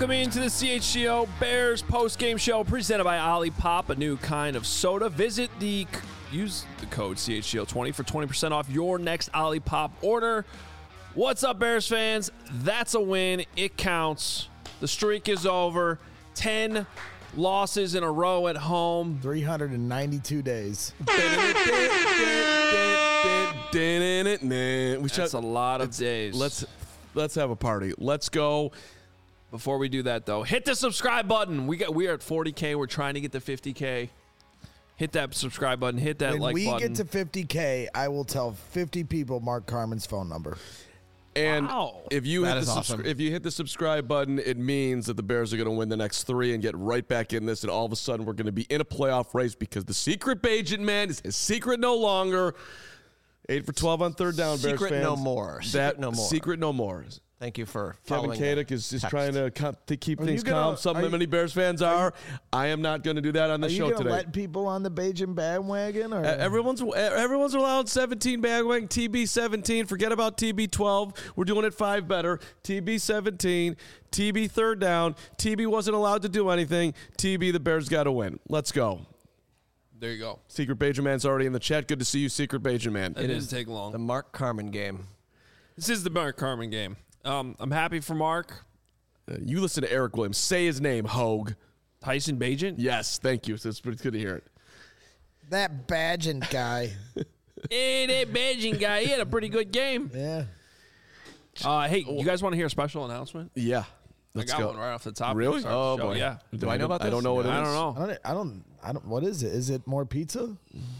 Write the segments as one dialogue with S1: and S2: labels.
S1: Welcome into the CHGO Bears post-game show presented by Olipop, a new kind of soda. Use the code CHGO20 for 20% off your next Olipop order. What's up, Bears fans? That's a win. It counts. The streak is over. 10 losses in a row at home.
S2: 392 days.
S1: That's a lot of days.
S3: Let's have a party. Let's go.
S1: Before we do that, though, hit the subscribe button. We are at 40K. We're trying to get to 50K. Hit that subscribe button. Hit that like button.
S2: When we get to 50K, I will tell 50 people Mark Carman's phone number.
S3: And
S1: wow.
S3: if you hit the subscribe button, it means that the Bears are going to win the next 3 and get right back in this. And all of a sudden, we're going to be in a playoff race because the secret Bajan man is a secret no longer. 8 for 12 on third down, Bears fans.
S4: Secret no more.
S3: Secret no more.
S4: Thank you for
S3: Kevin
S4: following.
S3: Kadick is just trying to keep things calm. Many Bears fans are. I am not going to do that on the show today.
S2: Are you going to let people on the Bajan bandwagon? Or?
S3: Everyone's allowed 17 bandwagon. TB 17. Forget about TB 12. We're doing it 5 better. TB 17. TB third down. TB wasn't allowed to do anything. TB, the Bears got to win. Let's go.
S1: There you go.
S3: Secret Bajan Man's already in the chat. Good to see you, Secret Bajan Man.
S1: It didn't take long.
S4: The Mark Carman game.
S1: This is the Mark Carman game. I'm happy for Mark.
S3: You listen to Eric Williams. Say his name, Hogue.
S1: Tyson Bagent?
S3: Yes, thank you. It's pretty good to hear it.
S2: That Bagent guy.
S1: Hey, that Bagent guy. He had a pretty good game.
S2: Yeah.
S1: Hey, you guys want to hear a special announcement?
S3: Yeah.
S1: I got one right off the top.
S3: Really?
S1: Oh,
S3: boy.
S1: Yeah.
S3: Do I know about this? I don't know what it is.
S1: I don't know.
S2: I don't. What is it? Is it more pizza?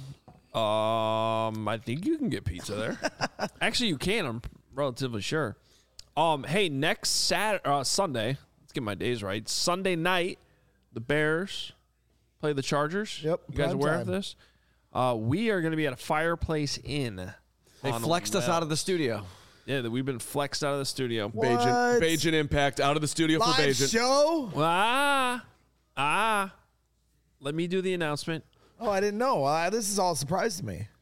S1: I think you can get pizza there. Actually, you can. I'm relatively sure. Hey, next Sunday. Let's get my days right. Sunday night, the Bears play the Chargers.
S2: Yep.
S1: You guys aware of this? We are going to be at a Fireplace Inn.
S4: They flexed us out of the studio.
S1: Yeah, we've been flexed out of the studio.
S3: Bajan Impact out of the studio
S2: Live
S3: for Bajan.
S2: Show?
S1: Let me do the announcement.
S2: Oh, I didn't know. This is all a surprise to me.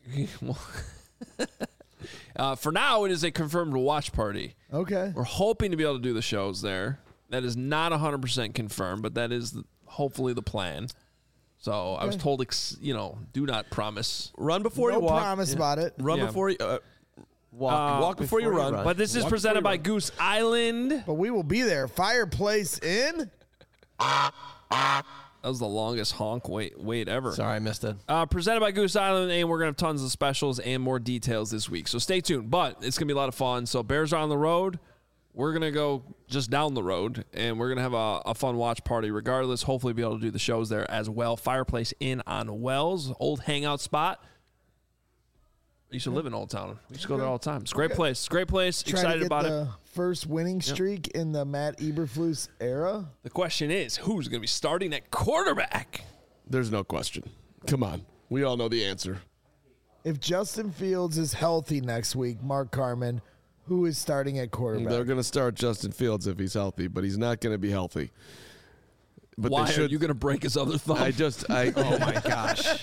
S1: For now, it is a confirmed watch party.
S2: Okay.
S1: We're hoping to be able to do the shows there. That is not 100% confirmed, but that is hopefully the plan. So I was told, do not promise.
S3: Run before you walk.
S2: No promise about it.
S3: Run before you walk before you run.
S1: But this is presented by Goose Island.
S2: But we will be there. Fireplace Inn.
S1: That was the longest honk wait ever.
S4: Sorry, I missed it.
S1: Presented by Goose Island, and we're going to have tons of specials and more details this week. So stay tuned. But it's going to be a lot of fun. So Bears are on the road. We're going to go just down the road, and we're going to have a fun watch party regardless. Hopefully be able to do the shows there as well. Fireplace Inn on Wells, old hangout spot. I used to live in Old Town. We used to go there all the time. It's a great place. It's a great place. Excited about it.
S2: First winning streak in the Matt Eberflus era.
S1: The question is, who's going to be starting at quarterback?
S3: There's no question. Come on. We all know the answer.
S2: If Justin Fields is healthy next week, Mark Carman, who is starting at quarterback?
S3: They're going to start Justin Fields if he's healthy, but he's not going to be healthy. But
S1: why are you going to break his other thumb?
S3: Oh, my gosh.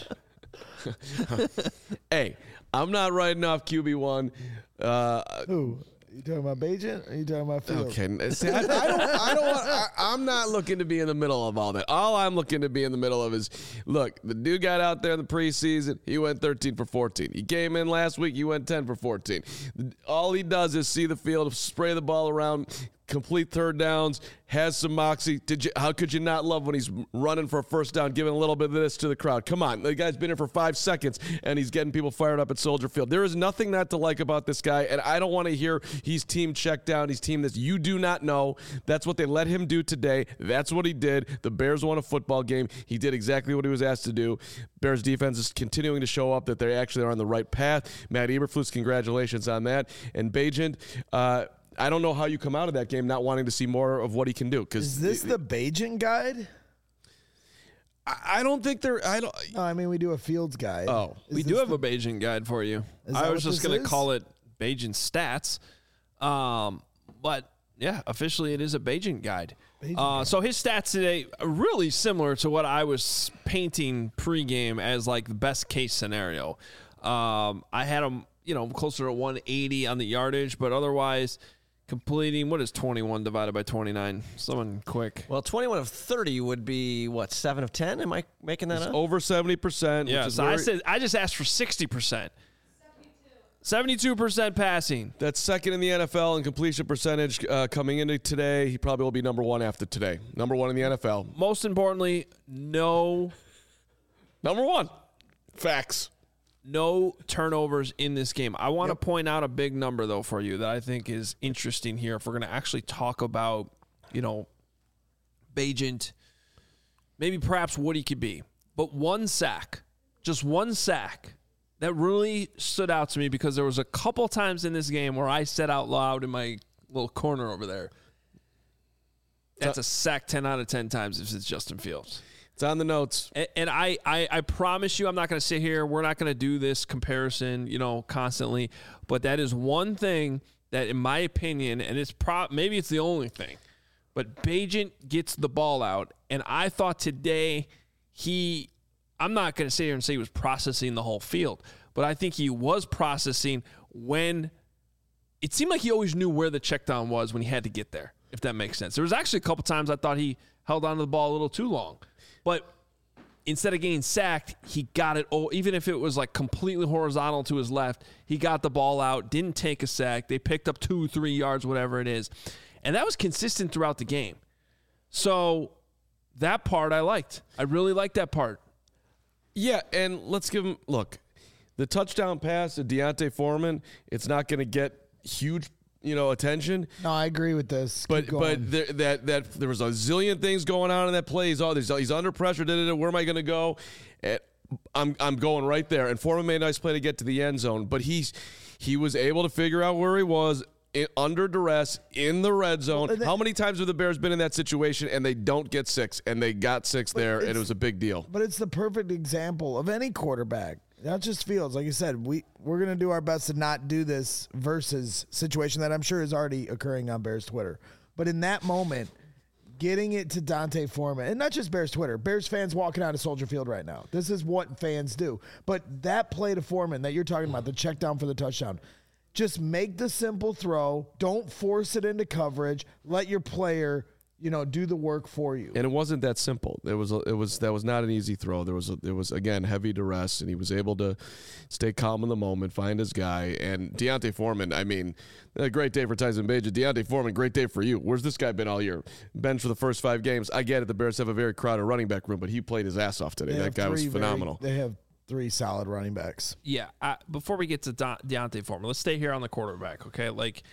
S3: Hey, I'm not writing off QB1.
S2: Who? You talking about Bajan or you talking about Fields?
S3: Okay. See, I'm not looking to be in the middle of all that. All I'm looking to be in the middle of is, look, the dude got out there in the preseason. He went 13 for 14. He came in last week. He went 10 for 14. All he does is see the field, spray the ball around, complete third downs, has some moxie. How could you not love when he's running for a first down, giving a little bit of this to the crowd? Come on. The guy's been here for 5 seconds, and he's getting people fired up at Soldier Field. There is nothing not to like about this guy, and I don't want to hear he's team checked down, he's team this. You do not know. That's what they let him do today. That's what he did. The Bears won a football game. He did exactly what he was asked to do. Bears defense is continuing to show up that they actually are on the right path. Matt Eberflus, congratulations on that. And Bagent, I don't know how you come out of that game not wanting to see more of what he can do.
S2: Is this the Bajan guide?
S3: I don't think they're.
S2: No, I mean, we do a Fields guide.
S3: Oh,
S1: we do have a Bajan guide for you. I was just going to call it Bajan Stats. But yeah, officially it is a Bajan guide. So his stats today are really similar to what I was painting pregame as like the best case scenario. I had him, closer to 180 on the yardage, but otherwise completing, what is 21 divided by 29? Someone quick.
S4: Well, 21 of 30 would be, what, 7 of 10? Am I making that
S3: It's
S4: up?
S3: over 70%.
S1: Yeah,
S3: which is
S1: so I just asked for 60%. 72% passing.
S3: That's second in the NFL in completion percentage coming into today. He probably will be number one after today. Number one in the NFL.
S1: Most importantly, no
S3: Facts.
S1: turnovers in this game. I want to point out a big number, though, for you that I think is interesting here. If we're going to actually talk about, Bagent, maybe perhaps what he could be. But one sack, just one sack, that really stood out to me because there was a couple times in this game where I said out loud in my little corner over there, that's a sack 10 out of 10 times if it's Justin Fields.
S3: It's on the notes.
S1: And I promise you I'm not going to sit here. We're not going to do this comparison, constantly. But that is one thing that, in my opinion, and it's maybe it's the only thing, but Bagent gets the ball out. And I thought today I'm not going to sit here and say he was processing the whole field, but I think he was processing when it seemed like he always knew where the check down was when he had to get there, if that makes sense. There was actually a couple times I thought he held onto the ball a little too long. But instead of getting sacked, he got it. Even if it was like completely horizontal to his left, he got the ball out, didn't take a sack. They picked up 2-3 yards, whatever it is. And that was consistent throughout the game. So that part I liked. I really liked that part.
S3: Yeah, and let's give him, look, the touchdown pass to D'Onta Foreman, it's not going to get huge, attention.
S2: No, I agree with this.
S3: But there was a zillion things going on in that play. He's under pressure. Where am I going to go? I'm going right there. And Foreman made a nice play to get to the end zone. But he was able to figure out where he was under duress in the red zone. How many times have the Bears been in that situation and they don't get 6? And they got 6 there, and it was a big deal.
S2: But it's the perfect example of any quarterback. Not just Fields. Like you said, we're going to do our best to not do this versus situation that I'm sure is already occurring on Bears Twitter. But in that moment, getting it to D'Onta Foreman, and not just Bears Twitter, Bears fans walking out of Soldier Field right now. This is what fans do. But that play to Foreman that you're talking about, the check down for the touchdown, just make the simple throw. Don't force it into coverage. Let your player, do the work for you.
S3: And it wasn't that simple. That was not an easy throw. There was again heavy duress, and he was able to stay calm in the moment, find his guy. And D'Onta Foreman, I mean, a great day for Tyson Bagent. D'Onta Foreman, great day for you. Where's this guy been all year? Bench for the first 5 games. I get it. The Bears have a very crowded running back room, but he played his ass off today. That guy was phenomenal.
S2: They have 3 solid running backs.
S1: Yeah. Before we get to D'Onta Foreman, let's stay here on the quarterback, okay?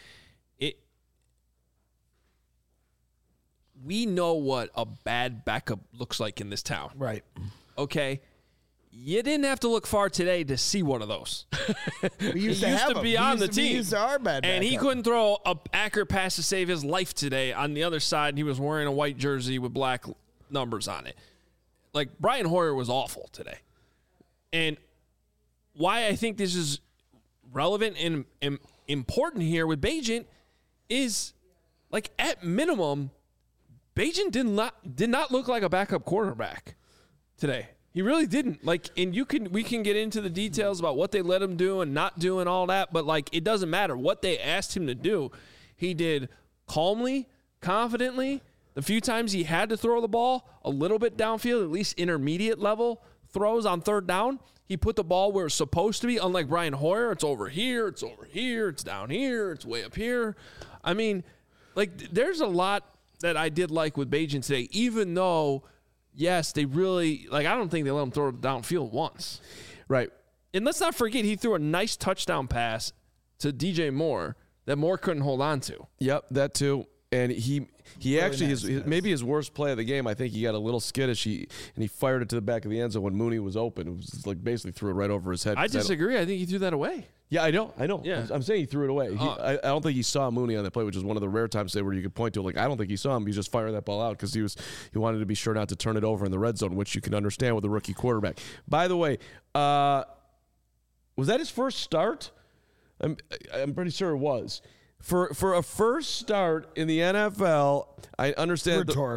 S1: We know what a bad backup looks like in this town.
S2: Right.
S1: Okay? You didn't have to look far today to see one of those.
S2: We used to be on the team. We used to our bad
S1: and
S2: backup.
S1: he couldn't throw an accurate pass to save his life today. On the other side, he was wearing a white jersey with black numbers on it. Like, Brian Hoyer was awful today. And why I think this is relevant and important here with Bagent is, like, at minimum, Bagent did not look like a backup quarterback today. He really didn't. Like, and we can get into the details about what they let him do and not do and all that, but like, it doesn't matter what they asked him to do. He did calmly, confidently. The few times he had to throw the ball a little bit downfield, at least intermediate level throws on third down, he put the ball where it's supposed to be. Unlike Brian Hoyer, it's over here, it's down here, it's way up here. I mean, like, there's a lot that I did like with Bagent today, even though, yes, they really, like, I don't think they let him throw it downfield once.
S3: Right.
S1: And let's not forget, he threw a nice touchdown pass to DJ Moore that Moore couldn't hold on to.
S3: Yep, that too. And he
S2: Really
S3: actually,
S2: nice
S3: maybe his worst play of the game, I think he got a little skittish. And he fired it to the back of the end zone when Mooney was open. It was like basically threw it right over his head.
S1: I disagree. I think he threw that away.
S3: Yeah, I know.
S1: Yeah.
S3: I'm saying he threw it away. I don't think he saw Mooney on that play, which is one of the rare times where you could point to it. Like, I don't think he saw him. He just fired that ball out because he wanted to be sure not to turn it over in the red zone, which you can understand with a rookie quarterback. By the way, was that his first start? I'm pretty sure it was. For a first start in the NFL, I understand.
S2: Rhetorical.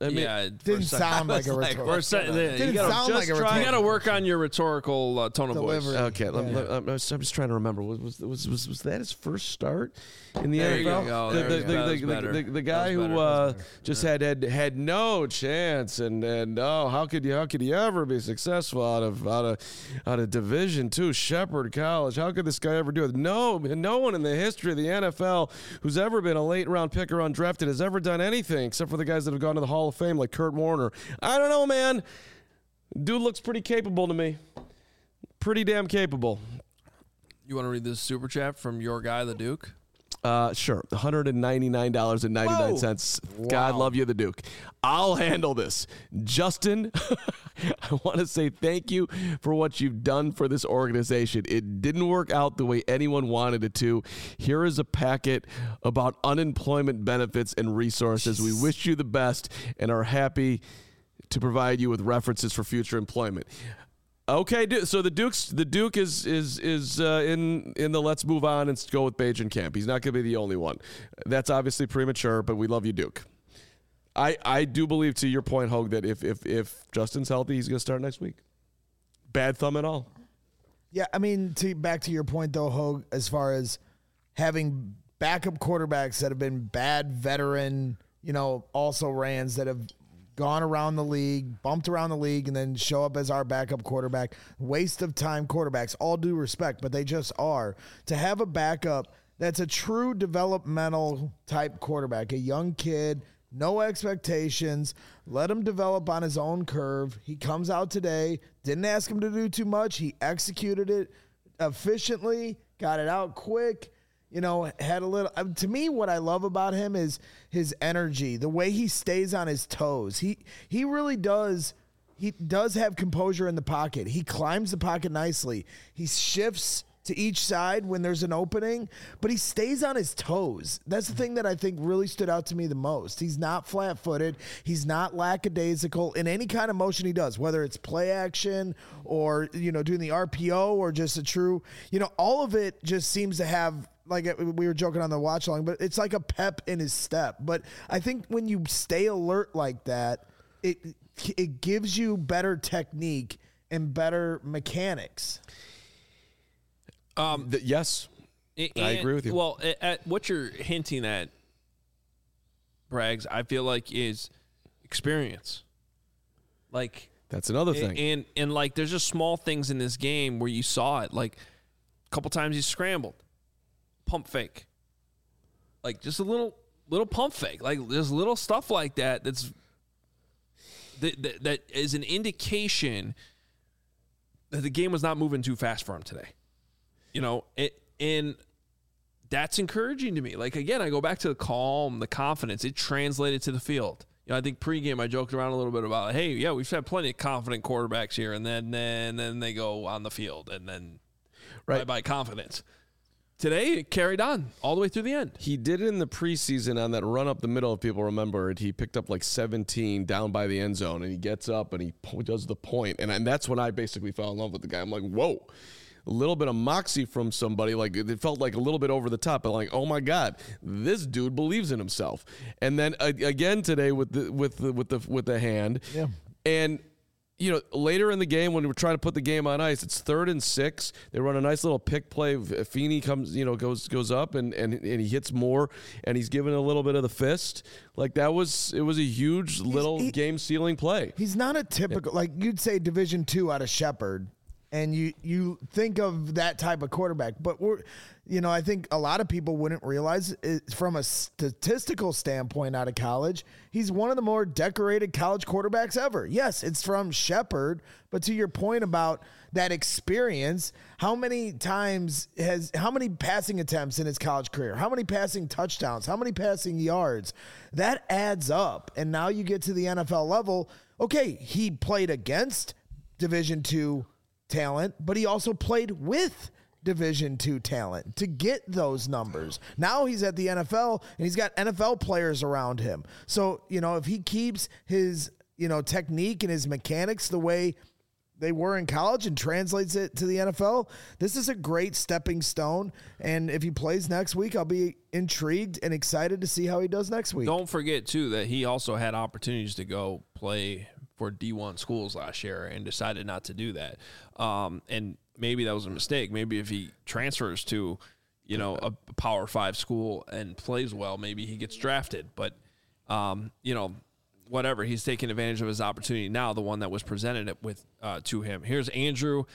S3: I mean,
S1: yeah,
S2: Didn't sound like a rhetorical.
S1: you
S2: sound like a rhetorical.
S1: got to work on your rhetorical tone of voice.
S2: Delivery.
S3: Okay, I'm just trying to remember. Was that his first start in the
S1: There you
S3: NFL?
S1: go. That was better.
S3: The guy
S1: That was
S3: who
S1: better.
S3: just had no chance, and how could you ever be successful out of Division II Shepherd College? How could this guy ever do it? No one in the history of the NFL who's ever been a late round pick or undrafted has ever done anything except for the guys that have gone to the Hall of Fame like Kurt Warner. I don't know, man. Dude looks pretty capable to me. Pretty damn capable.
S1: You want to read this super chat from your guy, the Duke?
S3: Sure. $199.99. God love you, the Duke. I'll handle this. Justin, I want to say thank you for what you've done for this organization. It didn't work out the way anyone wanted it to. Here is a packet about unemployment benefits and resources. We wish you the best and are happy to provide you with references for future employment. Okay, so the Duke is in the let's move on and go with Bajan camp. He's not going to be the only one. That's obviously premature, but we love you, Duke. I do believe, to your point, Hogue, that if Justin's healthy, he's going to start next week. Bad thumb at all.
S2: Yeah, I mean, back to your point, though, Hogue, as far as having backup quarterbacks that have been bad veteran, also rans that have gone around the league, bumped around the league, and then show up as our backup quarterback. Waste of time quarterbacks, all due respect, but they just are. To have a backup that's a true developmental type quarterback, a young kid, no expectations, let him develop on his own curve. He comes out today, didn't ask him to do too much. He executed it efficiently, got it out quick. Had a little. To me, what I love about him is his energy, the way he stays on his toes. He really does. He does have composure in the pocket. He climbs the pocket nicely. He shifts to each side when there's an opening, but he stays on his toes. That's the thing that I think really stood out to me the most. He's not flat-footed. He's not lackadaisical in any kind of motion he does, whether it's play action or, doing the RPO or just a true, all of it just seems to have, like we were joking on the watch along, but it's like a pep in his step. But I think when you stay alert like that, it gives you better technique and better mechanics.
S3: Yes, I agree with you.
S1: Well, at what you're hinting at, Braggs, I feel like is experience. Like
S3: that's another thing.
S1: And like there's just small things in this game where you saw it. Like a couple times he scrambled, pump fake. Like just a little pump fake. Like there's little stuff like that that is an indication that the game was not moving too fast for him today. And that's encouraging to me. Like, again, I go back to the calm, the confidence. It translated to the field. I think pregame I joked around a little bit about, hey, yeah, we've had plenty of confident quarterbacks here, and then they go on the field, and then bye-bye confidence. Today, it carried on all the way through the end.
S3: He did it in the preseason on that run up the middle, if people remember it. He picked up like 17 down by the end zone, and he gets up and he does the point. And that's when I basically fell in love with the guy. I'm like, whoa. A little bit of moxie from somebody, like it felt like a little bit over the top, but like, oh my God, this dude believes in himself. And then again today with the hand,
S2: yeah.
S3: And later in the game when we're trying to put the game on ice, it's 3rd and 6. They run a nice little pick play. Feeney comes, goes up and he hits more, and he's given a little bit of the fist. Like it was a huge little game sealing play.
S2: He's not a typical like you'd say Division II out of Shepherd. And you think of that type of quarterback, but I think a lot of people wouldn't realize from a statistical standpoint out of college, he's one of the more decorated college quarterbacks ever. Yes, it's from Shepherd, but to your point about that experience, how many passing attempts in his college career, how many passing touchdowns, how many passing yards, that adds up. And now you get to the NFL level. Okay, he played against Division II talent, but he also played with Division II talent to get those numbers. Now he's at the NFL and he's got NFL players around him. So, if he keeps his, technique and his mechanics the way they were in college and translates it to the NFL, this is a great stepping stone. And if he plays next week, I'll be intrigued and excited to see how he does next week.
S1: Don't forget, too, that he also had opportunities to go play for D1 schools last year and decided not to do that. And maybe that was a mistake. Maybe if he transfers to, a Power 5 school and plays well, maybe he gets drafted. But, whatever, he's taking advantage of his opportunity now, the one that was presented to him. Here's Andrew,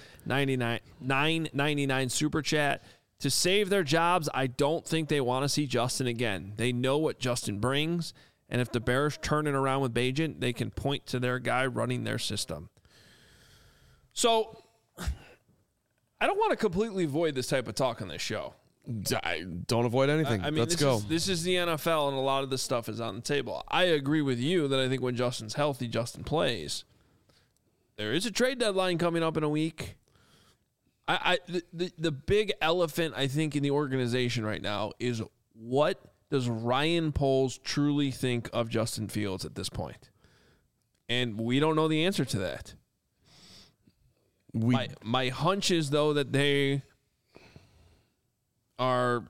S1: $9.99 super chat. To save their jobs, I don't think they want to see Justin again. They know what Justin brings, and if the Bears turn it around with Bagent, they can point to their guy running their system. So I don't want to completely avoid this type of talk on this show.
S3: Don't avoid anything. Let's go.
S1: This is the NFL, and a lot of this stuff is on the table. I agree with you that I think when Justin's healthy, Justin plays. There is a trade deadline coming up in a week. The big elephant, I think, in the organization right now is, what does Ryan Poles truly think of Justin Fields at this point? And we don't know the answer to that. My hunch is, though, that they are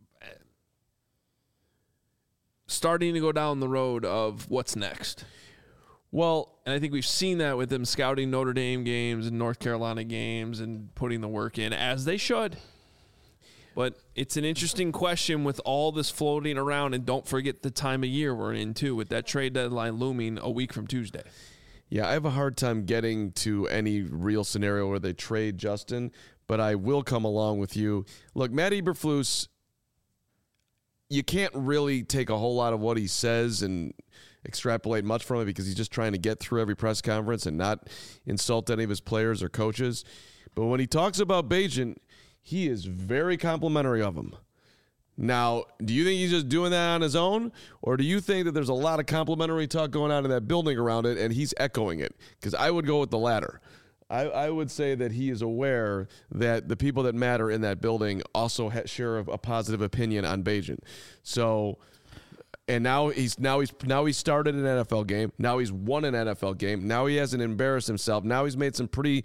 S1: starting to go down the road of what's next. Well, and I think we've seen that with them scouting Notre Dame games and North Carolina games and putting the work in, as they should. But it's an interesting question with all this floating around, and don't forget the time of year we're in, too, with that trade deadline looming a week from Tuesday.
S3: Yeah, I have a hard time getting to any real scenario where they trade Justin, but I will come along with you. Look, Matt Eberflus, you can't really take a whole lot of what he says and extrapolate much from it, because he's just trying to get through every press conference and not insult any of his players or coaches. But when he talks about Bagent, he is very complimentary of him. Now, do you think he's just doing that on his own, or do you think that there's a lot of complimentary talk going on in that building around it and he's echoing it? Because I would go with the latter. I would say that he is aware that the people that matter in that building also share a positive opinion on Bagent. So, and now he's started an NFL game. Now he's won an NFL game. Now he hasn't embarrassed himself. Now he's made some pretty,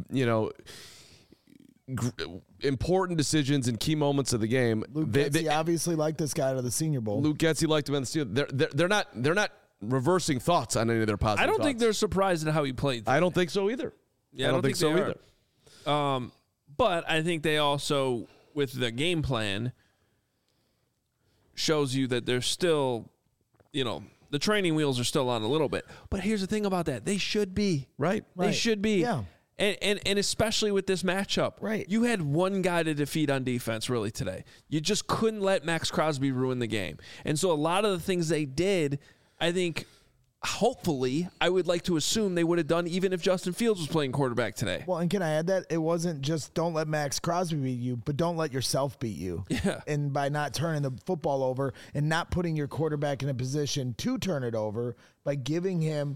S3: important decisions in key moments of the game.
S2: Luke Getsy obviously liked this guy to the Senior Bowl.
S3: Luke Getsy liked him in the Senior. They're not reversing thoughts on any of their positive.
S1: I don't
S3: thoughts.
S1: think they're surprised at how he played today.
S3: I don't think so either.
S1: Yeah, I don't think so either. But I think they also, with the game plan, shows you that there's still, the training wheels are still on a little bit. But here's the thing about that. They should be.
S3: Right.
S1: They should be.
S2: Yeah.
S1: And especially with this matchup.
S2: Right.
S1: You had one guy to defeat on defense, really, today. You just couldn't let Max Crosby ruin the game. And so a lot of the things they did, I think, hopefully, I would like to assume they would have done even if Justin Fields was playing quarterback today.
S2: Well, and can I add that? It wasn't just don't let Max Crosby beat you, but don't let yourself beat you.
S1: Yeah.
S2: And by not turning the football over and not putting your quarterback in a position to turn it over, by giving him,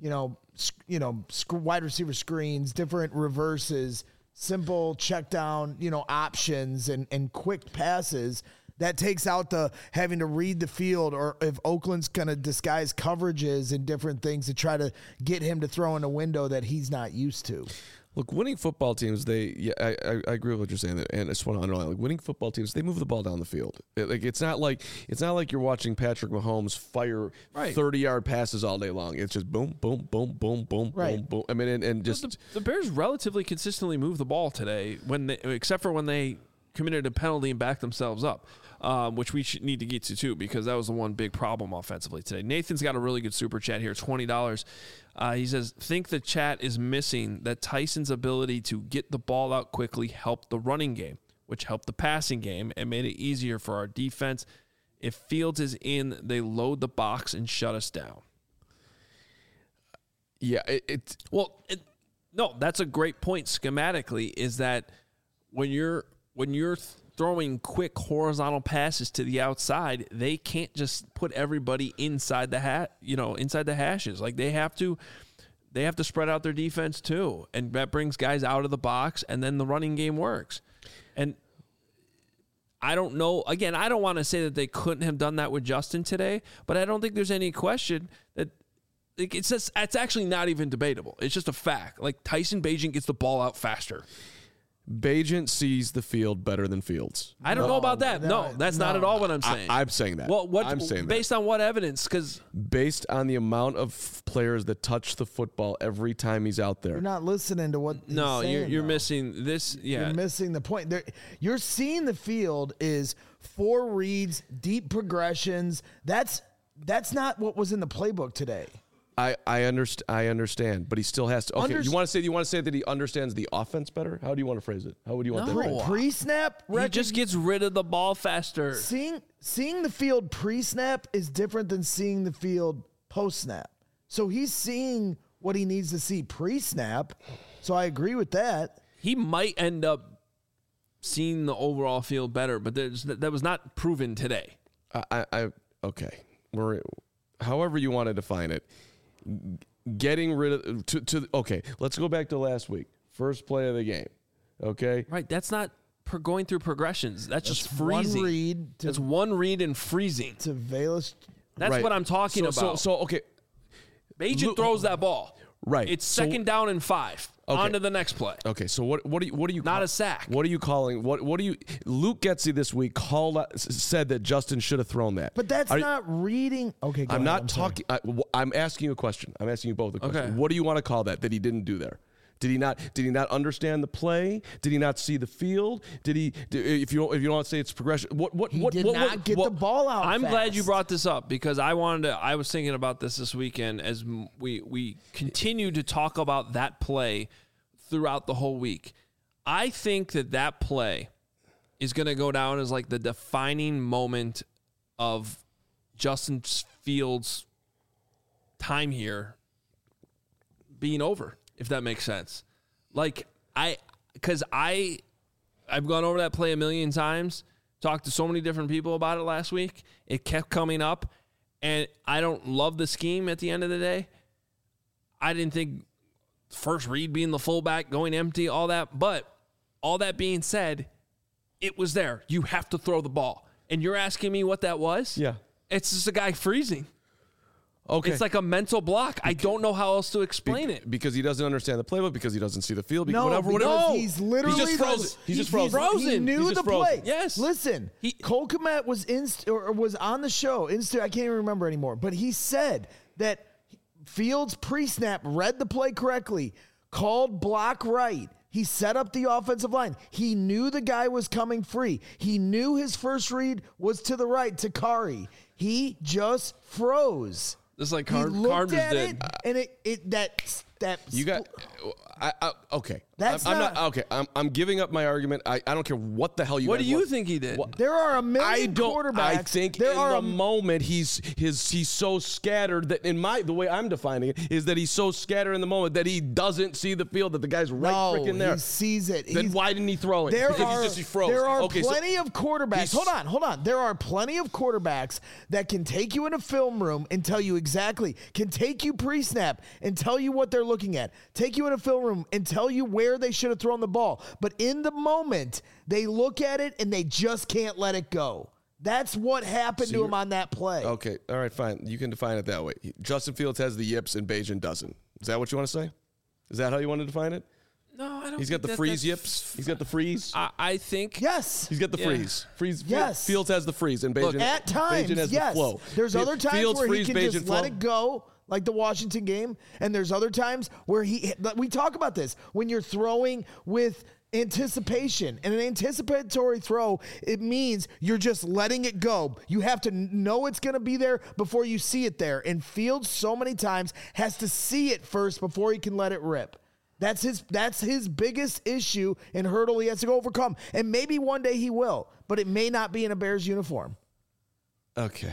S2: wide receiver screens, different reverses, simple check down, options and quick passes. That takes out the having to read the field, or if Oakland's going to disguise coverages and different things to try to get him to throw in a window that he's not used to.
S3: Look, winning football teams, I agree with what you're saying, and I just want to underline, winning football teams, they move the ball down the field. It's not like you're watching Patrick Mahomes fire 30-yard passes all day long. It's just boom, boom, boom, boom, boom, boom, boom. I mean, and just
S1: the Bears relatively consistently moved the ball today, except for when they committed a penalty and backed themselves up, which we need to get to too, because that was the one big problem offensively today. Nathan's got a really good super chat here, $20. He says, think the chat is missing that Tyson's ability to get the ball out quickly helped the running game, which helped the passing game and made it easier for our defense. If Fields is in, they load the box and shut us down.
S3: Yeah,
S1: no, that's a great point schematically, is that when you're throwing quick horizontal passes to the outside, they can't just put everybody inside the inside the hashes. Like they have to spread out their defense too, and that brings guys out of the box, and then the running game works. And I don't know. Again, I don't want to say that they couldn't have done that with Justin today, but I don't think there's any question that it's actually not even debatable. It's just a fact. Like Tyson Bagent gets the ball out faster.
S3: Bagent sees the field better than Fields.
S1: I don't know about that. No, that's not at all what I'm saying.
S3: I'm saying that.
S1: Well,
S3: I'm saying
S1: based on what evidence? Because
S3: based on the amount of players that touch the football every time he's out there.
S2: You're not listening to what. He's saying,
S1: you're
S2: though.
S1: missing this. Yeah,
S2: You're missing the point. You're seeing the field is 4 reads, deep progressions. That's not what was in the playbook today.
S3: I understand, but he still has to. Okay, you want to say that he understands the offense better? How do you want to phrase it? How would you want that?
S2: Pre-snap,
S1: he just gets rid of the ball faster.
S2: Seeing the field pre-snap is different than seeing the field post-snap. So he's seeing what he needs to see pre-snap. So I agree with that.
S1: He might end up seeing the overall field better, but that was not proven today.
S3: Okay. However you want to define it. Getting rid of okay, let's go back to last week. First play of the game. Okay?
S1: Right, that's not going through progressions. That's just freezing.
S2: One read.
S1: It's one read and freezing.
S2: To Velus.
S1: That's
S3: right.
S1: what I'm talking about.
S3: So okay.
S1: Bagent throws that ball.
S3: Right.
S1: It's second down and 5.
S3: Okay.
S1: On to the next play.
S3: Okay, so what are you
S1: not a sack.
S3: What are you calling? What do you Luke Getsy this week said that Justin should have thrown that.
S2: But that's not reading. Okay,
S3: I'm not talking. I'm asking you a question. I'm asking you both a question.
S1: Okay.
S3: What do you want to call that he didn't do there? Did he not understand the play? Did he not see the field? If you don't want to say it's progression,
S2: He did not get the ball out.
S1: I'm
S2: fast.
S1: glad you brought this up because I was thinking about this weekend as we continue to talk about that play throughout the whole week. I think that play is going to go down as like the defining moment of Justin Fields' time here being over. If that makes sense. Like, I've gone over that play a million times, talked to so many different people about it last week. It kept coming up, and I don't love the scheme at the end of the day. I didn't think first read being the fullback, going empty, all that. But all that being said, it was there. You have to throw the ball. And you're asking me what that was?
S3: Yeah.
S1: It's just a guy freezing.
S3: Okay.
S1: It's like a mental block. I don't know how else to explain it.
S3: Because he doesn't understand the playbook, because he doesn't see the field,
S2: No,
S3: whatever.
S2: He's literally
S3: just frozen. He's just frozen.
S2: He knew the play.
S1: Yes.
S2: Listen, Cole Kmet was on the show. I can't even remember anymore. But he said that Fields pre-snap read the play correctly, called block right. He set up the offensive line. He knew the guy was coming free. He knew his first read was to the right to Kari. He just froze.
S1: Just like
S2: He
S1: Carm
S2: looked
S1: just
S2: at
S1: did.
S2: it, and that
S3: You got okay.
S2: That's
S3: I'm
S2: not
S3: okay. I'm giving up my argument. I don't care what the hell you.
S1: What
S3: guys
S1: do you
S3: want.
S1: think he did?
S2: There are a million quarterbacks.
S3: I think
S2: there
S3: in
S2: are
S3: the moment he's so scattered that the way I'm defining it is that he's so scattered in the moment that he doesn't see the field, that the guy's right freaking there.
S2: He sees it.
S3: Then why didn't he throw it? Because he froze.
S2: There are
S3: okay,
S2: plenty of quarterbacks. Hold on. There are plenty of quarterbacks that can take you in a film room and tell you exactly, can take you pre-snap and tell you what they're looking at, take you in a film room and tell you where they should have thrown the ball. But in the moment, they look at it and they just can't let it go. That's what happened to him on that play.
S3: Okay, all right, fine. You can define it that way. Justin Fields has the yips and Bagent doesn't. Is that what you want to say? Is that how you want to define it?
S1: No, I don't.
S3: He's got the freeze yips. He's got the freeze.
S1: I think.
S2: Yes.
S3: He's got the freeze.
S2: Yes.
S3: Fields has the freeze, and Bagent,
S2: At times,
S3: Bagent has
S2: yes.
S3: the flow.
S2: There's other times
S3: Fields,
S2: where
S3: freeze,
S2: he can
S3: Bagent,
S2: just
S3: flow.
S2: let it go, like the Washington game. And there's other times where we talk about this, when you're throwing with anticipation. And an anticipatory throw, it means you're just letting it go. You have to know it's going to be there before you see it there. And Fields so many times has to see it first before he can let it rip. That's his biggest issue and hurdle he has to go overcome. And maybe one day he will, but it may not be in a Bears uniform.
S3: Okay,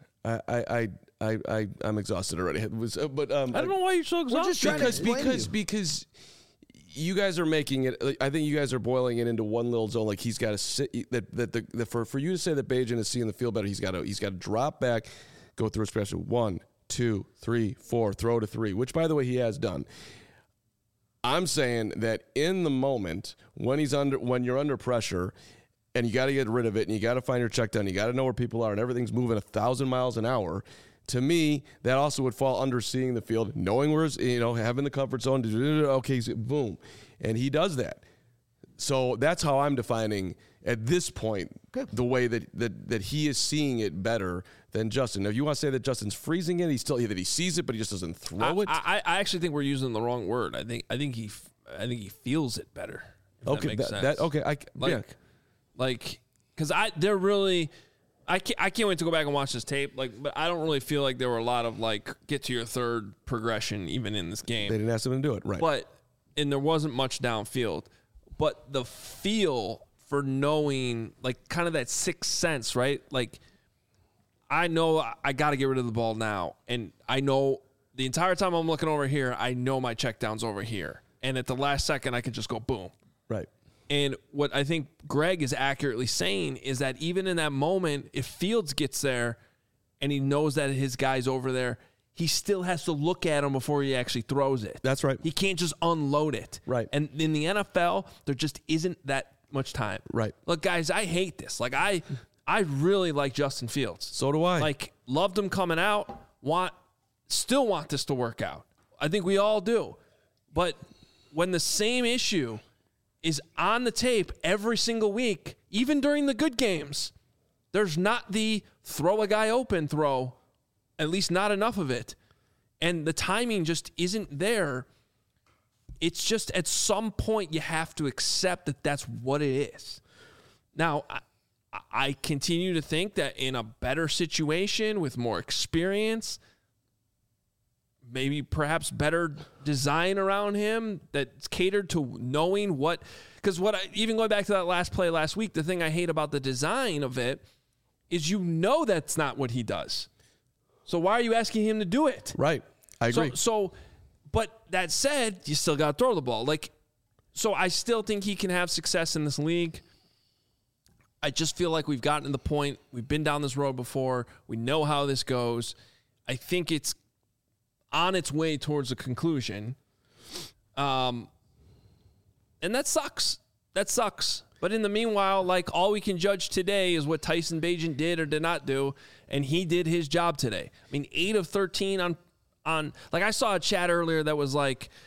S3: I'm exhausted already.
S1: I don't know why you're so exhausted.
S2: just trying to explain
S3: because you guys are making it. I think you guys are boiling it into one little zone. Like he's got to sit. For you to say that Bagent is seeing the field better, he's got to drop back, go through a special 1, 2, 3, 4, throw to 3, which by the way he has done. I'm saying that in the moment when you're under pressure and you got to get rid of it and you got to find your check down, you got to know where people are and everything's moving 1,000 miles an hour, To me, that also would fall under seeing the field, knowing where, having the comfort zone. Okay, boom. And he does that. So that's how I'm defining at this point the way that he is seeing it better than Justin. Now, if you want to say that Justin's freezing it, that he sees it, but he just doesn't throw it.
S1: I actually think we're using the wrong word. I think he feels it better. If that makes sense. Because I can't wait to go back and watch this tape. But I don't really feel like there were a lot of get to your third progression even in this game.
S3: They didn't ask him to do it, right?
S1: And there wasn't much downfield. But the feel for knowing, kind of that sixth sense, right? I know I got to get rid of the ball now. And I know the entire time I'm looking over here, I know my check down's over here. And at the last second, I can just go boom.
S3: Right.
S1: And what I think Greg is accurately saying is that even in that moment, if Fields gets there and he knows that his guy's over there, he still has to look at him before he actually throws it.
S3: That's right.
S1: He can't just unload it.
S3: Right.
S1: And in the NFL, there just isn't that much time.
S3: Right.
S1: Look, guys, I hate this. I really like Justin Fields.
S3: So do I.
S1: Loved him coming out. Still want this to work out. I think we all do. But when the same issue is on the tape every single week, even during the good games, there's not the throw a guy open throw, at least not enough of it. And the timing just isn't there. It's just at some point you have to accept that that's what it is. Now, I continue to think that in a better situation with more experience, maybe perhaps better design around him that's catered to knowing what, because even going back to that last play last week, the thing I hate about the design of it is that's not what he does. So why are you asking him to do it?
S3: Right. I agree.
S1: But that said, you still got to throw the ball. So I still think he can have success in this league. I just feel like we've gotten to the point, we've been down this road before, we know how this goes. I think it's on its way towards a conclusion. And that sucks. But in the meanwhile, all we can judge today is what Tyson Bagent did or did not do, and he did his job today. 8 of 13 on I saw a chat earlier that was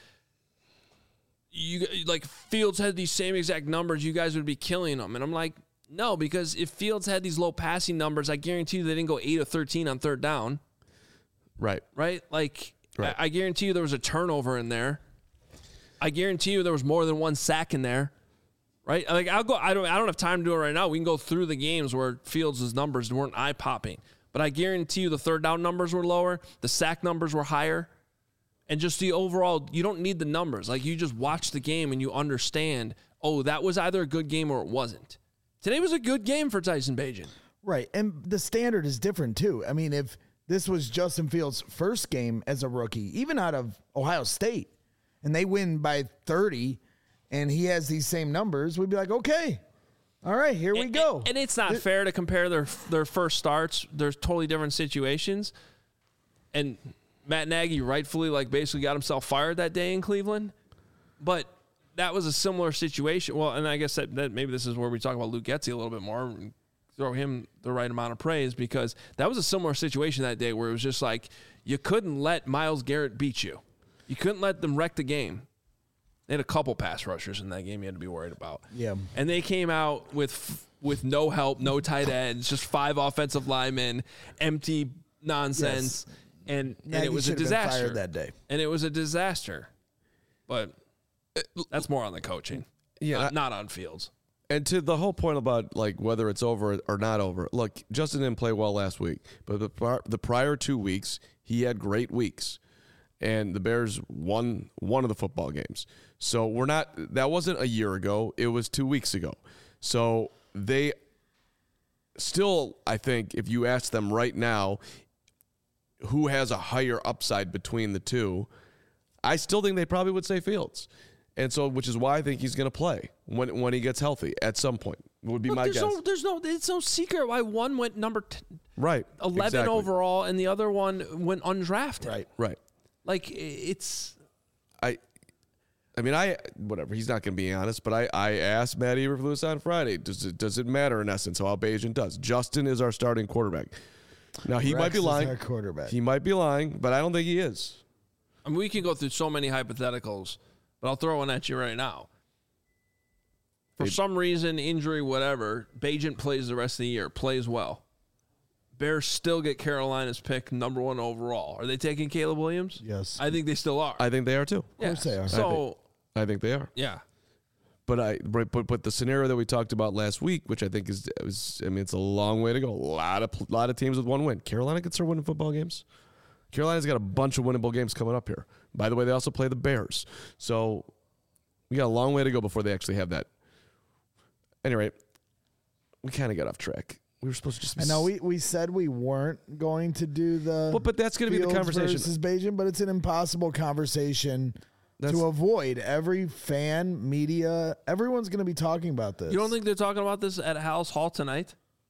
S1: Fields had these same exact numbers, you guys would be killing them. And I'm like, no, because if Fields had these low passing numbers, I guarantee you they didn't go 8 of 13 on third down.
S3: Right.
S1: Right?
S3: Right.
S1: I guarantee you there was a turnover in there. I guarantee you there was more than one sack in there. Right? I don't have time to do it right now. We can go through the games where Fields' numbers weren't eye-popping. But I guarantee you the third down numbers were lower, the sack numbers were higher, and just the overall, you don't need the numbers. You just watch the game and you understand, that was either a good game or it wasn't. Today was a good game for Tyson Bagent.
S2: Right, and the standard is different too. If this was Justin Fields' first game as a rookie, even out of Ohio State, and they win by 30, and he has these same numbers, we'd be like, okay, all right, here we go.
S1: And it's not fair to compare their first starts. There's totally different situations. And Matt Nagy rightfully basically got himself fired that day in Cleveland. But that was a similar situation. Well, and I guess that maybe this is where we talk about Luke Getsy a little bit more and throw him the right amount of praise, because that was a similar situation that day where it was just you couldn't let Myles Garrett beat you. You couldn't let them wreck the game. They had a couple pass rushers in that game you had to be worried about.
S2: Yeah.
S1: And they came out with no help, no tight ends, just 5 offensive linemen, empty nonsense. Yes. And it was a disaster.
S2: Fired that day.
S1: And it was a disaster. But that's more on the coaching.
S3: Yeah.
S1: Not on Fields.
S3: And to the whole point about whether it's over or not over, look, Justin didn't play well last week, but the prior 2 weeks, he had great weeks. And the Bears won one of the football games. So that wasn't a year ago. It was 2 weeks ago. So they still, I think, if you ask them right now, who has a higher upside between the two, I still think they probably would say Fields. And so, which is why I think he's going to play when he gets healthy at some point, would be my guess.
S1: It's no secret why one went number 11
S3: exactly.
S1: overall and the other one went undrafted.
S3: Right. Whatever. He's not going to be honest, but I asked Matt Eberflus on Friday, does it matter in essence how Bagent does? Justin is our starting quarterback. Now, he might be
S2: Rex is
S3: lying.
S2: our quarterback.
S3: He might be lying, but I don't think he is.
S1: I mean, we can go through so many hypotheticals, but I'll throw one at you right now. For some reason, injury, whatever, Bagent plays the rest of the year, plays well. Bears still get Carolina's pick, number 1 overall. Are they taking Caleb Williams?
S2: Yes.
S1: I think they still are.
S3: I think they are too.
S2: Of course they are.
S1: So,
S3: I think they are.
S1: yeah.
S3: But the scenario that we talked about last week, which I think it's a long way to go. A lot of teams with 1 win. Carolina can start winning football games. Carolina's got a bunch of winnable games coming up here. By the way, they also play the Bears. So we got a long way to go before they actually have that. Anyway, we kind of got off track. We were supposed to just.
S2: I know we said we weren't going to do the.
S3: But that's going to be the
S2: Fields
S3: conversation.
S2: versus Bagent, but it's an impossible conversation to avoid. Every fan, media, everyone's going to be talking about this.
S1: You don't think they're talking about this at House Hall tonight?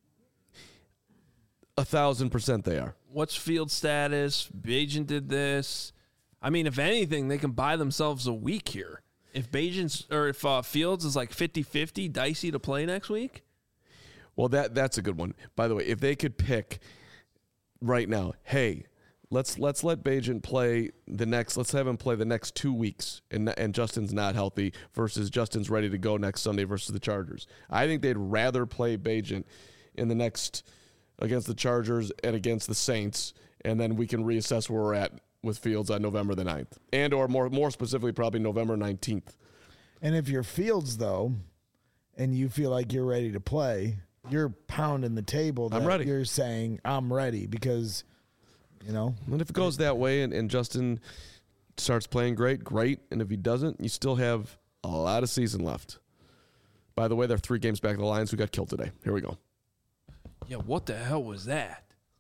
S3: 1,000% they are.
S1: What's field status? Bagent did this. I mean, if anything, they can buy themselves a week here. If Fields is like 50-50, dicey to play next week.
S3: Well, that's a good one. By the way, if they could pick right now, hey, let's let Bagent play let's have him play the next 2 weeks, and Justin's not healthy versus Justin's ready to go next Sunday versus the Chargers. I think they'd rather play Bagent in the next against the Chargers and against the Saints, and then we can reassess where we're at with Fields on November the 9th, and or more specifically probably November 19th.
S2: And if you're Fields though, and you feel like you're ready to play, you're pounding the table.
S3: I'm ready.
S2: You're saying I'm ready because,
S3: And if it goes that way and Justin starts playing great. And if he doesn't, you still have a lot of season left. By the way, they're 3 games back of the Lions who got killed today. Here we go.
S1: Yeah, what the hell was that?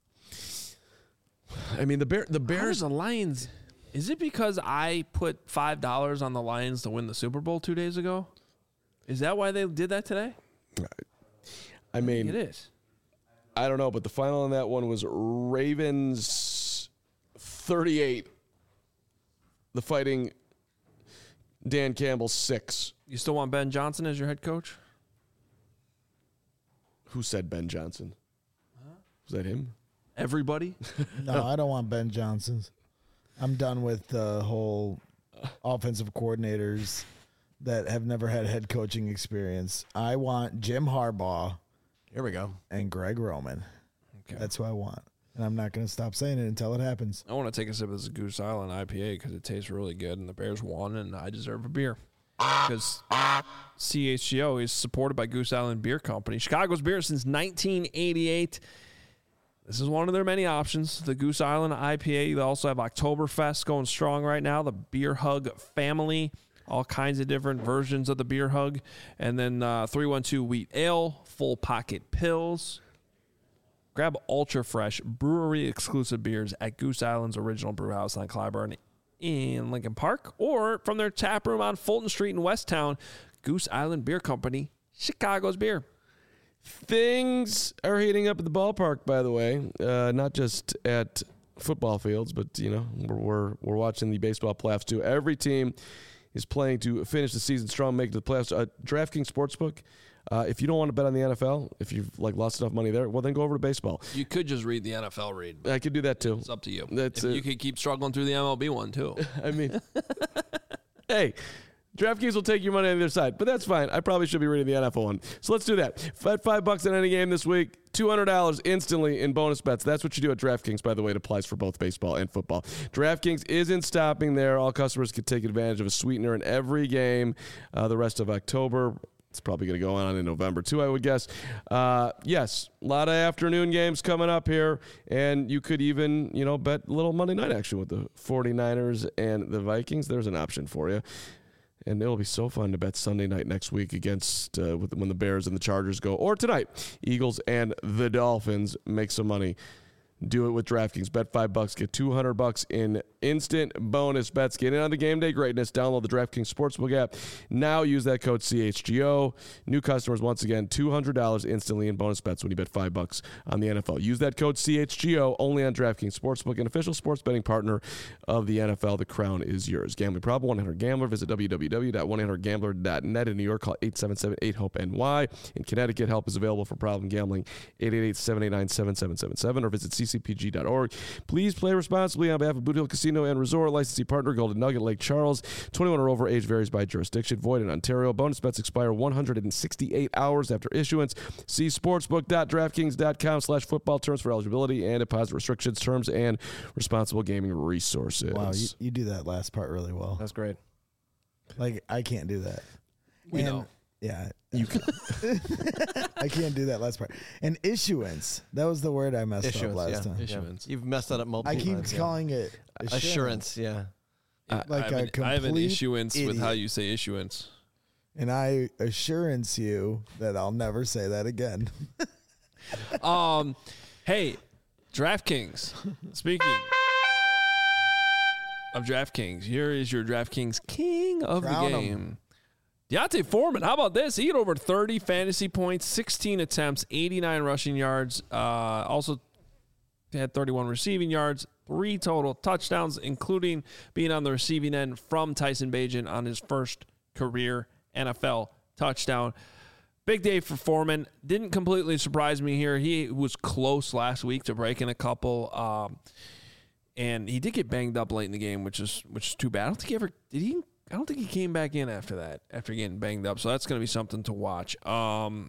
S3: I mean, the
S1: How
S3: Bears.
S1: does the Lions? Is it because I put $5 on the Lions to win the Super Bowl 2 days ago? Is that why they did that today?
S3: I mean,
S1: It is.
S3: I don't know, but the final on that one was Ravens 38. The Fighting Dan Campbell 6.
S1: You still want Ben Johnson as your head coach?
S3: Who said Ben Johnson? Was that him?
S1: Everybody?
S2: no, I don't want Ben Johnson's. I'm done with the whole offensive coordinators that have never had head coaching experience. I want Jim Harbaugh.
S4: Here we go.
S2: And Greg Roman.
S1: Okay.
S2: That's who I want. And I'm not going to stop saying it until it happens.
S1: I want to take a sip of this Goose Island IPA because it tastes really good, and the Bears won, and I deserve a beer. Because CHGO is supported by Goose Island Beer Company. Chicago's beer since 1988. This is one of their many options. The Goose Island IPA. They also have Oktoberfest going strong right now. The Beer Hug family. All kinds of different versions of the Beer Hug. And then 312 Wheat Ale. Full Pocket Pills. Grab Ultra Fresh brewery exclusive beers at Goose Island's original brew house on Clybourne in Lincoln Park, or from their tap room on Fulton Street in Westtown. Goose Island Beer Company, Chicago's beer.
S3: Things are heating up at the ballpark, by the way, not just at football fields, but we're watching the baseball playoffs too. Every team is playing to finish the season strong, make it to the playoffs. DraftKings Sportsbook. If you don't want to bet on the NFL, if you've lost enough money there, well, then go over to baseball.
S1: You could just read the NFL read.
S3: I could do that too.
S1: It's up to you.
S3: You
S1: could keep struggling through the MLB one too.
S3: I mean, hey, DraftKings will take your money on the other side, but that's fine. I probably should be reading the NFL one. So let's do that. Bet $5 on any game this week, $200 instantly in bonus bets. That's what you do at DraftKings, by the way. It applies for both baseball and football. DraftKings isn't stopping there. All customers can take advantage of a sweetener in every game the rest of October. It's probably going to go on in November, too, I would guess. Yes, a lot of afternoon games coming up here, and you could even, bet a little Monday night action with the 49ers and the Vikings. There's an option for you. And it'll be so fun to bet Sunday night next week against when the Bears and the Chargers go. Or tonight, Eagles and the Dolphins. Make some money. Do it with DraftKings. Bet $5, get $200 in instant bonus bets. Get in on the game day greatness. Download the DraftKings Sportsbook app. Now use that code CHGO. New customers, once again, $200 instantly in bonus bets when you bet $5 on the NFL. Use that code CHGO only on DraftKings Sportsbook, an official sports betting partner of the NFL. The crown is yours. Gambling problem? 1-800-GAMBLER. Visit www.1800gambler.net. In New York, call 877-8-HOPE-NY. In Connecticut, help is available for problem gambling. 888-789-7777 or visit ccpg.org. Please play responsibly on behalf of Boot Hill Casino and Resort. Licensee partner Golden Nugget Lake Charles. 21 or over. Age varies by jurisdiction. Void in Ontario. Bonus bets expire 168 hours after issuance. See sportsbook.draftkings.com/football terms for eligibility and deposit restrictions, terms, and responsible gaming resources.
S2: Wow, you do that last part really well.
S4: That's great.
S2: Like, I can't do that.
S1: We know.
S2: Yeah.
S3: You can.
S2: I can't do that last part. And issuance. That was the word I messed up last time.
S1: Issuance.
S4: You've messed that up multiple
S2: I keep
S4: times.
S2: calling it
S4: Assurance, yeah.
S2: Like
S1: I have an
S2: complete
S1: issuance with how
S2: idiot.
S1: you say issuance.
S2: And I assurance you that I'll never say that again.
S1: Hey, DraftKings. Speaking of DraftKings, here is your DraftKings king of
S2: Crown
S1: the
S2: 'em.
S1: game. Deontay Foreman, how about this? He had over 30 fantasy points, 16 attempts, 89 rushing yards. Also had 31 receiving yards, 3 total touchdowns, including being on the receiving end from Tyson Bagent on his first career NFL touchdown. Big day for Foreman. Didn't completely surprise me here. He was close last week to breaking a couple, and he did get banged up late in the game, which is too bad. I don't think he ever did. I don't think he came back in after that, after getting banged up. So that's going to be something to watch. But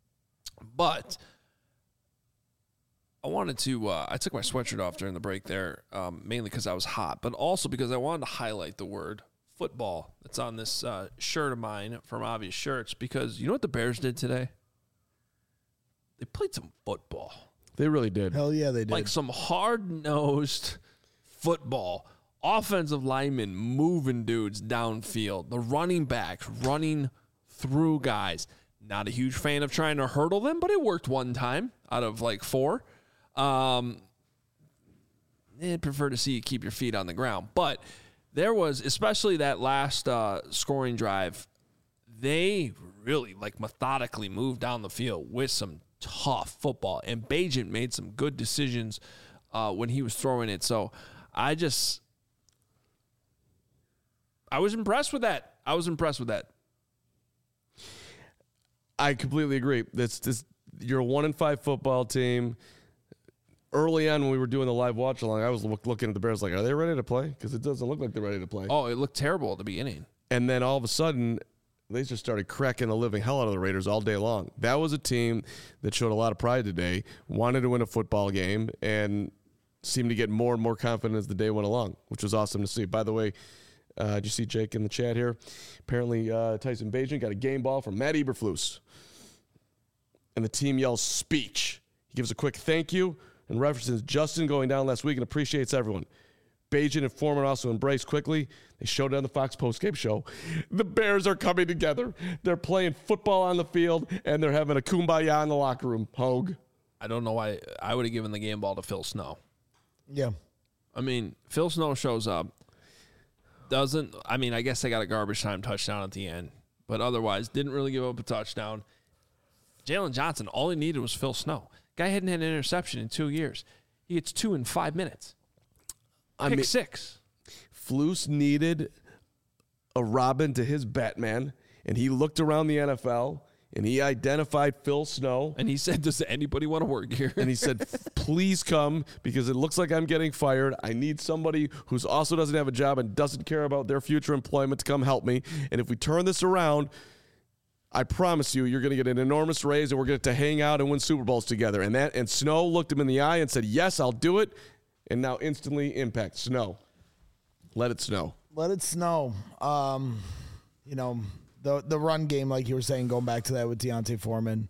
S1: I wanted to. I took my sweatshirt off during the break there, mainly because I was hot, but also because I wanted to highlight the word football that's on this shirt of mine from Obvious Shirts, because you know what the Bears did today? They played some football.
S3: They really did.
S2: Hell yeah, they did.
S1: Like some hard-nosed football. Offensive linemen moving dudes downfield. The running backs running through guys. Not a huge fan of trying to hurdle them, but it worked one time out of like 4. I'd prefer to see you keep your feet on the ground. But there was, especially that last scoring drive, they really like methodically moved down the field with some tough football. And Bagent made some good decisions when he was throwing it. So I was impressed with that.
S3: I completely agree. You're a 1-5 football team. Early on when we were doing the live watch along, I was looking at the Bears like, are they ready to play? Because it doesn't look like they're ready to play.
S1: Oh, it looked terrible at the beginning.
S3: And then all of a sudden, they just started cracking the living hell out of the Raiders all day long. That was a team that showed a lot of pride today, wanted to win a football game, and seemed to get more and more confident as the day went along, which was awesome to see. By the way, did you see Jake in the chat here? Apparently, Tyson Bagent got a game ball from Matt Eberflus. And the team yells speech. He gives a quick thank you and references Justin going down last week and appreciates everyone. Bagent and Foreman also embraced quickly. They showed it on the Fox postgame show. The Bears are coming together. They're playing football on the field, and they're having a kumbaya in the locker room. Hogue.
S1: I don't know why I would have given the game ball to Phil Snow.
S2: yeah.
S1: I mean, Phil Snow shows up. I guess they got a garbage time touchdown at the end, but otherwise didn't really give up a touchdown. Jalen Johnson, all he needed was Phil Snow. Guy hadn't had an interception in 2 years. He gets 2 in 5 minutes. Pick 6.
S3: Flus needed a Robin to his Batman, and he looked around the NFL, and he identified Phil Snow.
S1: And he said, does anybody want to work here?
S3: And he said, please come, because it looks like I'm getting fired. I need somebody who also doesn't have a job and doesn't care about their future employment to come help me. And if we turn this around, I promise you're going to get an enormous raise, and we're going to hang out and win Super Bowls together. And Snow looked him in the eye and said, yes, I'll do it. And now instantly impact. Snow. Let it snow.
S2: Let it snow. The run game, like you were saying, going back to that with Deontay Foreman.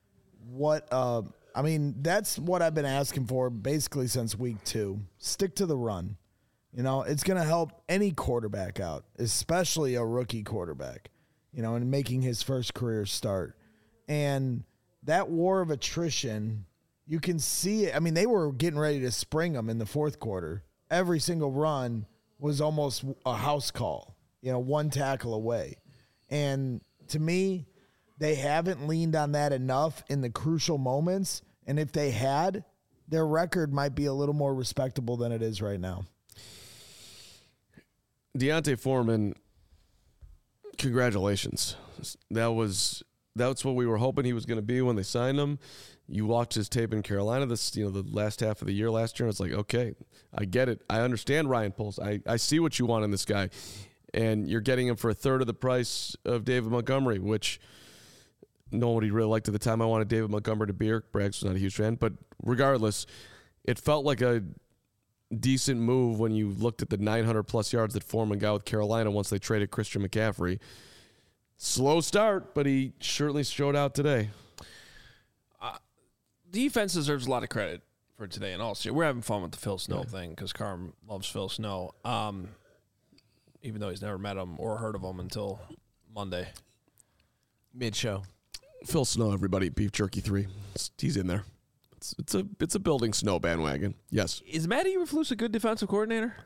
S2: That's what I've been asking for basically since week 2. Stick to the run. It's going to help any quarterback out, especially a rookie quarterback, in making his first career start. And that war of attrition, you can see it. I mean, they were getting ready to spring them in the fourth quarter. Every single run was almost a house call, one tackle away. And to me, they haven't leaned on that enough in the crucial moments. And if they had, their record might be a little more respectable than it is right now.
S3: Deontay Foreman, congratulations. That was That's what we were hoping he was going to be when they signed him. You watched his tape in Carolina the last half of the year last year, and it's like, okay, I get it. I understand Ryan Poles. I see what you want in this guy. And you're getting him for a third of the price of David Montgomery, which nobody really liked at the time. I wanted David Montgomery to be here. Braggs was not a huge fan. But regardless, it felt like a decent move when you looked at the 900-plus yards that Foreman got with Carolina once they traded Christian McCaffrey. Slow start, but he certainly showed out today.
S1: Defense deserves a lot of credit for today and all. We're having fun with the Phil Snow thing because Carm loves Phil Snow, even though he's never met him or heard of him until Monday.
S4: Mid-show.
S3: Phil Snow, everybody, Beef Jerky 3. He's in there. It's a building Snow bandwagon. Yes.
S1: Is Matt Eberflus a good defensive coordinator?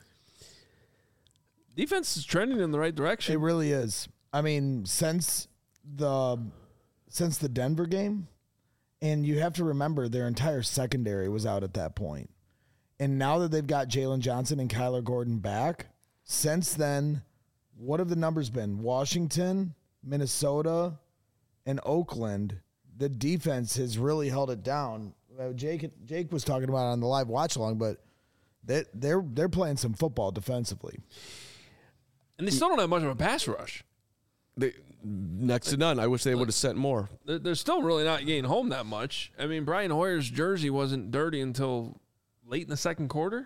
S1: Defense is trending in the right direction.
S2: It really is. I mean, since the Denver game, and you have to remember their entire secondary was out at that point. And now that they've got Jalen Johnson and Kyler Gordon back, since then, what have the numbers been? Washington, Minnesota, and Oakland. The defense has really held it down. Jake was talking about it on the live watch along, but they're playing some football defensively.
S1: And they still don't have much of a pass rush.
S3: Next to none. I wish they would have sent more.
S1: They're still really not getting home that much. I mean, Brian Hoyer's jersey wasn't dirty until late in the second quarter.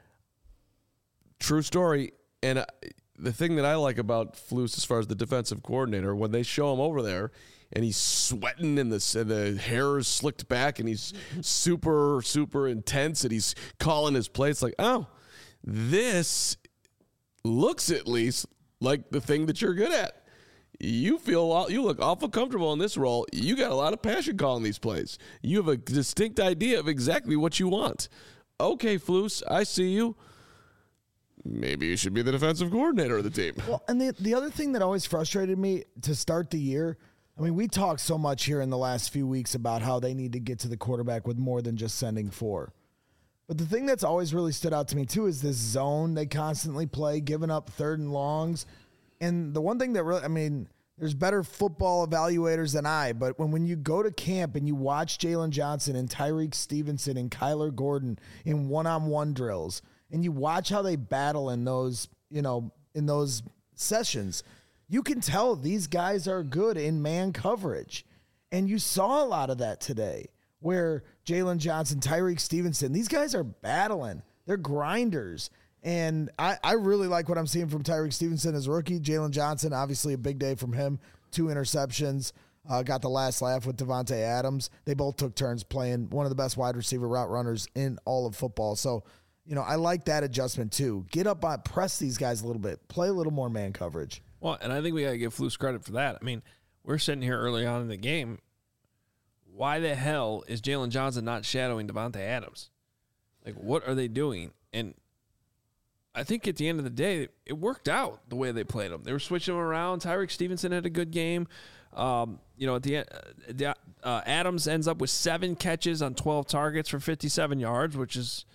S3: True story. And the thing that I like about Flus as far as the defensive coordinator, when they show him over there and he's sweating and the hair is slicked back and he's super, super intense and he's calling his play, it's like, oh, this looks at least like the thing that you're good at. You look awful comfortable in this role. You got a lot of passion calling these plays. You have a distinct idea of exactly what you want. Okay, Flus, I see you. Maybe you should be the defensive coordinator of the team.
S2: Well, and the other thing that always frustrated me to start the year, I mean, we talked so much here in the last few weeks about how they need to get to the quarterback with more than just sending 4. But the thing that's always really stood out to me, too, is this zone they constantly play, giving up 3rd and longs. And the one thing that really, I mean, there's better football evaluators than I, but when you go to camp and you watch Jalen Johnson and Tyreek Stevenson and Kyler Gordon in one-on-one drills, and you watch how they battle in those, in those sessions, you can tell these guys are good in man coverage. And you saw a lot of that today where Jalen Johnson, Tyreek Stevenson, these guys are battling. They're grinders. And I really like what I'm seeing from Tyreek Stevenson as a rookie. Jalen Johnson, obviously a big day from him. 2 interceptions. Got the last laugh with Devontae Adams. They both took turns playing one of the best wide receiver route runners in all of football. So, I like that adjustment too. Get up on, press these guys a little bit. Play a little more man coverage.
S1: Well, and I think we got to give Flus credit for that. I mean, we're sitting here early on in the game. Why the hell is Jalen Johnson not shadowing Devontae Adams? Like, what are they doing? And I think at the end of the day, it worked out the way they played him. They were switching him around. Tyreek Stevenson had a good game. At the end, Adams ends up with 7 catches on 12 targets for 57 yards, which is,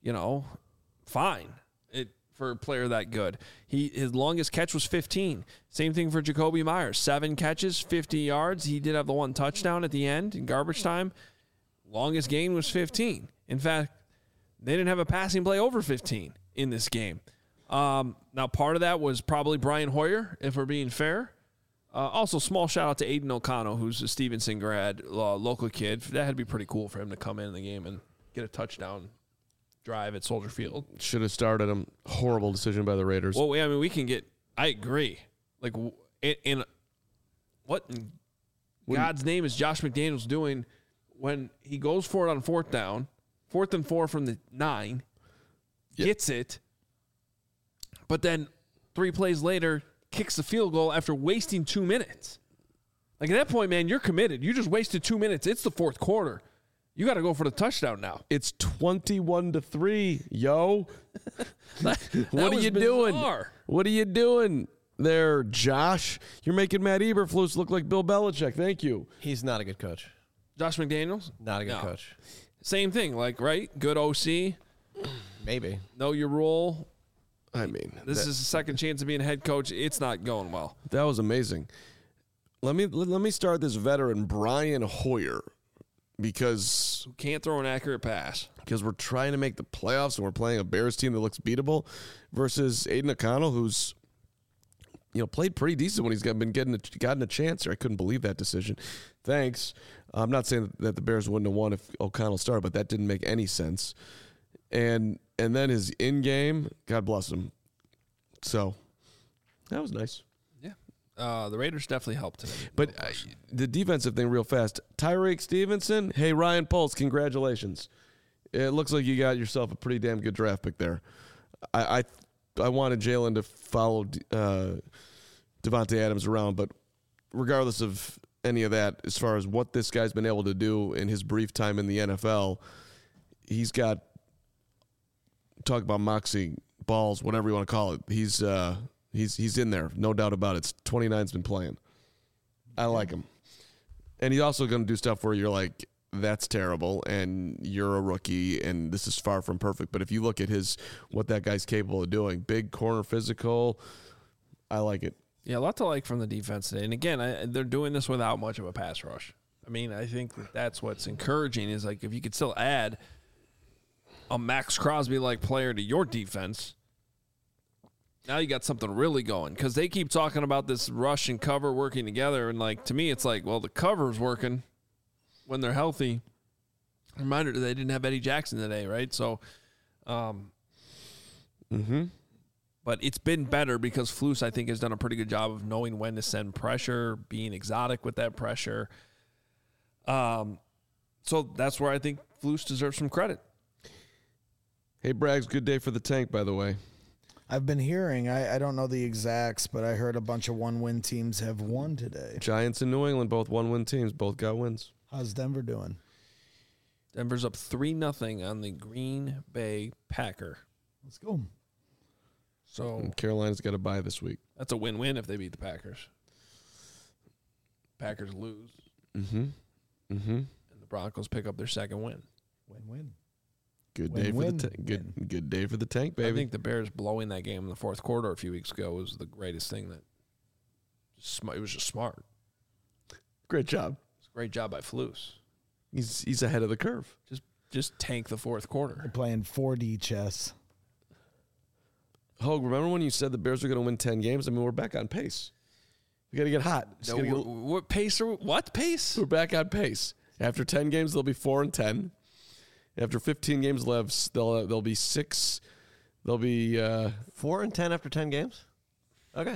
S1: fine for a player that good. His longest catch was 15. Same thing for Jacoby Myers. 7 catches, 50 yards. He did have the 1 touchdown at the end in garbage time. Longest gain was 15. In fact, they didn't have a passing play over 15 in this game. Now, part of that was probably Brian Hoyer, if we're being fair. Also, small shout out to Aiden O'Connell, who's a Stevenson grad, local kid. That had to be pretty cool for him to come in the game and get a touchdown drive at Soldier Field.
S3: Should have started him. Horrible decision by the Raiders.
S1: Well, I mean, I agree. Like, in what in God's name is Josh McDaniels doing when he goes for it on 4th down, 4th and 4 from the 9, gets it, but then 3 plays later kicks the field goal after wasting 2 minutes. Like, at that point, man, you're committed. You just wasted 2 minutes. It's the 4th quarter. You got to go for the touchdown now.
S3: It's 21-3, yo. What are you doing? What are you doing there, Josh? You're making Matt Eberflus look like Bill Belichick. Thank you.
S4: He's not a good coach.
S1: Josh McDaniels?
S4: Not a good coach.
S1: Same thing, right? Good OC.
S4: Maybe.
S1: Know your role.
S3: I mean,
S1: this is a second chance of being a head coach. It's not going well.
S3: That was amazing. let me start this veteran Brian Hoyer because
S1: Can't throw an accurate pass.
S3: we're trying to make the playoffs and we're playing a Bears team that looks beatable versus Aiden O'Connell, who's played pretty decent when he's gotten a chance. Or I couldn't believe that decision. Thanks. I'm not saying that the Bears wouldn't have won if O'Connell started, but that didn't make any sense. And then his in game, God bless him. So that was nice.
S1: The Raiders definitely helped today.
S3: But the defensive thing real fast. Tyreek Stevenson. Hey, Ryan Poles, congratulations. It looks like you got yourself a pretty damn good draft pick there. I wanted Jalen to follow Devontae Adams around, but regardless of any of that, as far as what this guy's been able to do in his brief time in the NFL, he's got, talk about moxie, balls, whatever you want to call it. He's in there, no doubt about it. 29's been playing. I like him. And he's also going to do stuff where you're like, that's terrible, and you're a rookie, and this is far from perfect. But if you look at what that guy's capable of doing, big corner physical, I like it.
S1: Yeah, a lot to like from the defense today. And again, they're doing this without much of a pass rush. I mean, I think that's what's encouraging is like if you could still add a Max Crosby-like player to your defense, now you got something really going because they keep talking about this rush and cover working together. And, like, to me, it's like, well, the cover's working when they're healthy. Reminder, they didn't have Eddie Jackson today, right? So, but it's been better because Flus, I think, has done a pretty good job of knowing when to send pressure, being exotic with that pressure. So that's where I think Flus deserves some credit.
S3: Hey, Braggs, good day for the tank, by the way.
S2: I've been hearing, I don't know the exacts, but I heard a bunch of one-win teams have won today.
S3: Giants and New England, both one-win teams, both got wins.
S2: How's Denver doing?
S1: Denver's up 3-0 on the Green Bay Packer.
S2: Let's go.
S1: So
S3: And Carolina's got a bye this week.
S1: that's a win-win if they beat the Packers. Packers lose. And the Broncos pick up their second win.
S2: Win-win.
S3: Good day for the tank. Good day for the tank, baby.
S1: I think the Bears blowing that game in the fourth quarter a few weeks ago was the greatest thing. It was just smart.
S3: Great job.
S1: It's a great job by Flus.
S3: He's ahead of the curve.
S1: Just tank the fourth quarter.
S2: They're playing 4D chess.
S3: Hogue, remember when you said the Bears were going to win 10 games? I mean, we're back on pace. We got to get hot.
S1: What pace? What pace?
S3: We're back on pace. After 10 games, they'll be 4-10. After 15 games left, they'll be 6. They'll be
S4: 4-10 after 10 games. Okay.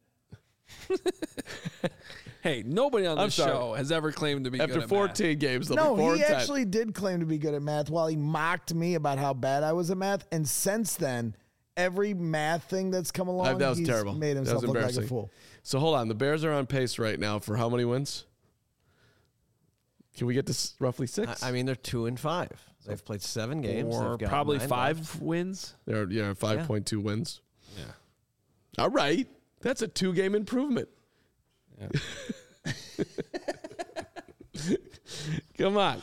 S1: Hey, nobody on this show has ever claimed to be
S3: after
S1: good at
S3: 14
S1: math.
S3: games. They'll be 4-10.
S2: No, he actually did claim to be good at math while he mocked me about how bad I was at math. And since then, every math thing that's come along,
S3: that was
S2: he's
S3: terrible.
S2: made himself
S3: That was
S2: look like a
S3: embarrassing.
S2: fool.
S3: So hold on. The Bears are on pace right now for how many wins? Can we get to roughly 6?
S4: I mean, they're 2-5. They've played 7 games.
S1: Or
S4: They've got
S1: probably
S4: 9
S1: 5
S4: left.
S1: wins.
S3: They're 5.2 wins.
S1: Yeah.
S3: All right. That's a 2-game improvement.
S1: Yeah.
S3: Come on.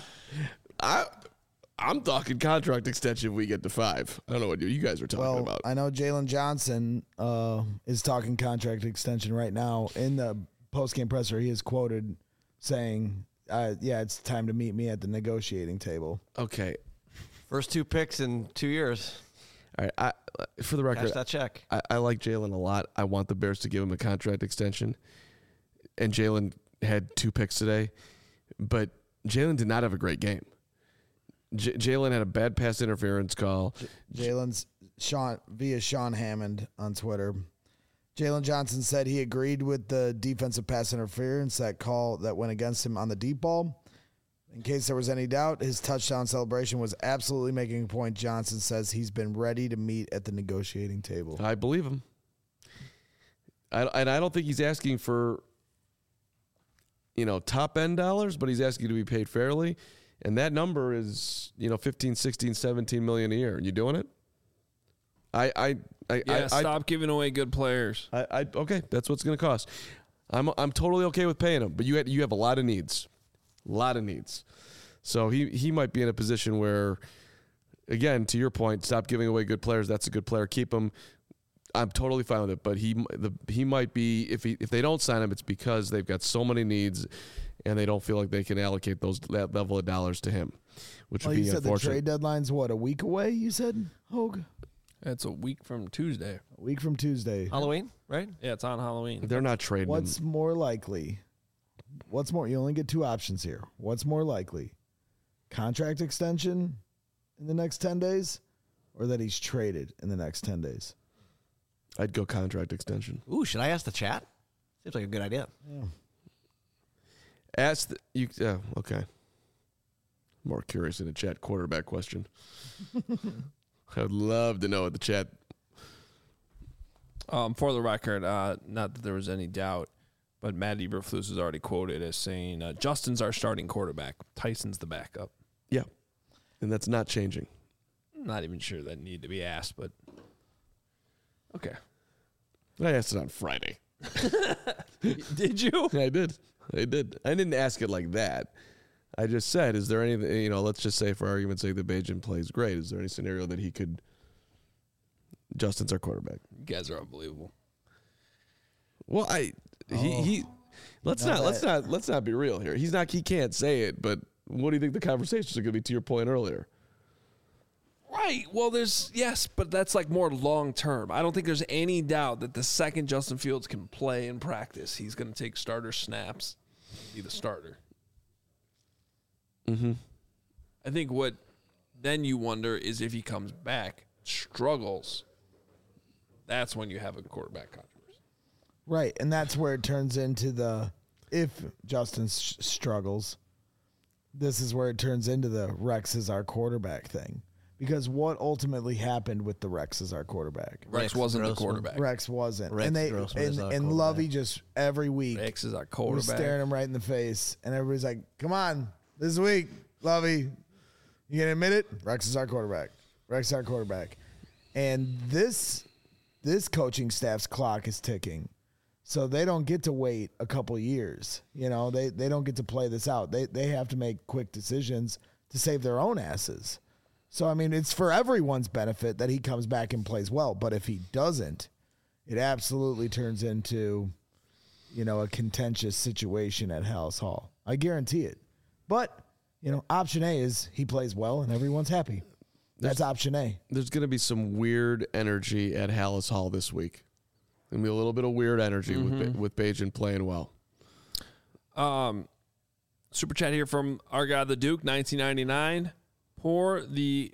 S3: I'm talking contract extension if we get to 5. I don't know what you guys are talking about.
S2: I know Jalen Johnson is talking contract extension right now. In the post-game presser, he is quoted saying, it's time to meet me at the negotiating table.
S3: Okay.
S4: First 2 picks in 2 years.
S3: All right. For the record,
S4: Cash that check.
S3: I like Jalen a lot. I want the Bears to give him a contract extension. And Jalen had 2 picks today. But Jalen did not have a great game. Jalen had a bad pass interference call.
S2: Jalen's via Sean Hammond on Twitter. Jalen Johnson said he agreed with the defensive pass interference, that call that went against him on the deep ball. In case there was any doubt, his touchdown celebration was absolutely making a point. Johnson says he's been ready to meet at the negotiating table.
S3: I believe him. And I don't think he's asking for, top end dollars, but he's asking to be paid fairly. And that number is, 15, 16, 17 million a year. You doing it?
S1: Stop giving away good players.
S3: Okay, that's what's going to cost. I'm totally okay with paying him, but you have a lot of needs. So he might be in a position where, again, to your point, stop giving away good players. That's a good player. Keep him. I'm totally fine with it, but he might be if they don't sign him, it's because they've got so many needs, and they don't feel like they can allocate that level of dollars to him, which would be
S2: you said
S3: unfortunate.
S2: the trade deadline's what, a week away? You said, Hogue?
S1: It's a week from Tuesday.
S2: A week from Tuesday.
S4: Halloween, right?
S1: Yeah, it's on Halloween.
S3: They're not trading
S2: What's
S3: him.
S2: more likely? What's more? You only get two options here. What's more likely? Contract extension in the next 10 days, or that he's traded in the next 10 days?
S3: I'd go contract extension.
S4: Ooh, should I ask the chat? Seems like a good idea.
S3: Ask you. Okay. More curious in the chat quarterback question. I would love to know what the chat.
S1: For the record, not that there was any doubt, but Matt Eberflus is already quoted as saying, Justin's our starting quarterback. Tyson's the backup.
S3: Yeah, and that's not changing.
S1: I'm not even sure that needed to be asked, but okay.
S3: I asked it on Friday.
S1: Did you?
S3: I did. I didn't ask it like that. I just said, is there anything, let's just say for argument's sake that Bajan plays great. Is there any scenario that he could, Justin's our quarterback?
S1: You guys are unbelievable.
S3: Well, let's not be real here. He can't say it, but what do you think the conversations are going to be to your point earlier?
S1: Right. Well, yes, but that's like more long term. I don't think there's any doubt that the second Justin Fields can play in practice, he's going to take starter snaps, be the starter.
S3: Mm-hmm.
S1: I think what then you wonder is if he comes back, struggles, that's when you have a quarterback controversy.
S2: Right, and that's where it turns into if Justin struggles, this is where it turns into the Rex is our quarterback thing. Because what ultimately happened with the Rex is our quarterback?
S1: Rex wasn't the quarterback.
S2: Rex wasn't.
S4: Rex
S2: and
S4: Grossman is our
S2: and
S4: quarterback.
S2: Lovey just every week
S1: Rex is our
S2: was
S1: quarterback.
S2: staring him right in the face, and everybody's like, "Come on, this week, Lovey, you gonna admit it? Rex is our quarterback. Rex is our quarterback." And this coaching staff's clock is ticking, so they don't get to wait a couple years. They don't get to play this out. They have to make quick decisions to save their own asses. So, I mean, it's for everyone's benefit that he comes back and plays well. But if he doesn't, it absolutely turns into, a contentious situation at Hallis Hall. I guarantee it. But, option A is he plays well and everyone's happy. That's option A.
S3: There's going to be some weird energy at Hallis Hall this week. Going to be a little bit of weird energy with Bajan playing well.
S1: Super chat here from our guy, the Duke, 1999. Pour the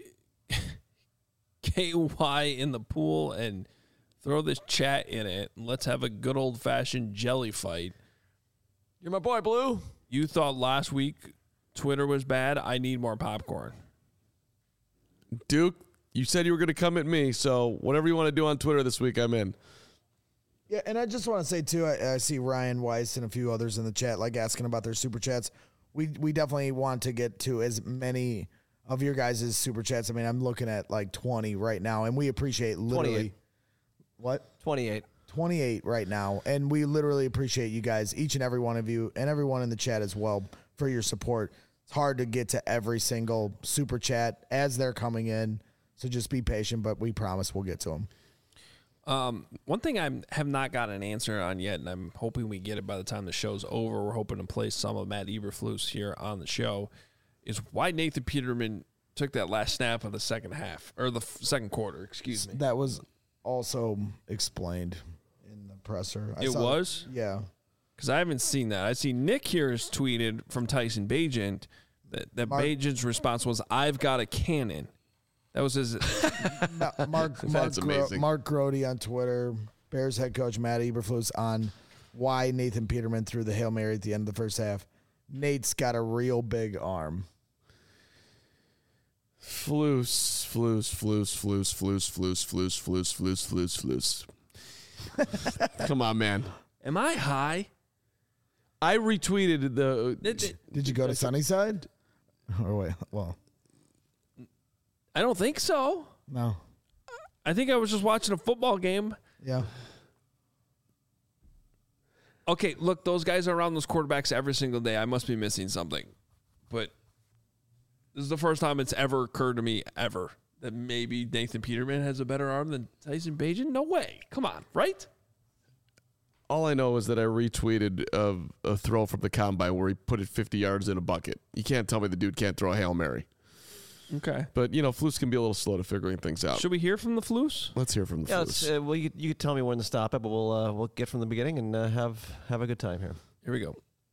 S1: KY in the pool and throw this chat in it. Let's have a good old-fashioned jelly fight.
S4: You're my boy, Blue.
S1: You thought last week Twitter was bad. I need more popcorn.
S3: Duke, you said you were going to come at me, so whatever you want to do on Twitter this week, I'm in.
S2: Yeah, and I just want to say, too, I see Ryan Weiss and a few others in the chat, asking about their super chats. We definitely want to get to as many of your guys' super chats. I mean, I'm looking at 20 right now, and we appreciate literally
S4: 28.
S2: What?
S4: 28
S2: right now, and we literally appreciate you guys, each and every one of you, and everyone in the chat as well, for your support. It's hard to get to every single super chat as they're coming in, so just be patient, but we promise we'll get to them.
S1: One thing I have not got an answer on yet, and I'm hoping we get it by the time the show's over. We're hoping to play some of Matt Eberflus here on the show. Is why Nathan Peterman took that last snap of the second half, or the second quarter, excuse me.
S2: That was also explained in the presser.
S1: It was?
S2: Yeah.
S1: Because I haven't seen that. I see Nick here has tweeted from Tyson Bagent that Bagent's response was, "I've got a cannon." That was his.
S2: No, Mark
S3: amazing.
S2: Mark Grody on Twitter, Bears head coach Matt Eberflus on why Nathan Peterman threw the Hail Mary at the end of the first half. Nate's got a real big arm.
S3: Floos. Come on, man.
S1: Am I high?
S3: I retweeted the.
S2: Did you go to Sunnyside? Or wait, well,
S1: I don't think so.
S2: no.
S1: I think I was just watching a football game.
S2: Yeah.
S1: Okay, look, those guys are around those quarterbacks every single day. I must be missing something. But this is the first time it's ever occurred to me, ever, that maybe Nathan Peterman has a better arm than Tyson Bagent? No way. Come on, right?
S3: All I know is that I retweeted a throw from the combine where he put it 50 yards in a bucket. You can't tell me the dude can't throw a Hail Mary.
S1: Okay.
S3: But, Flus can be a little slow to figuring things out.
S1: Should we hear from the Flus?
S3: Let's hear from the Flus.
S4: Well, you can tell me when to stop it, but we'll get from the beginning and have a good time here.
S1: Here we go.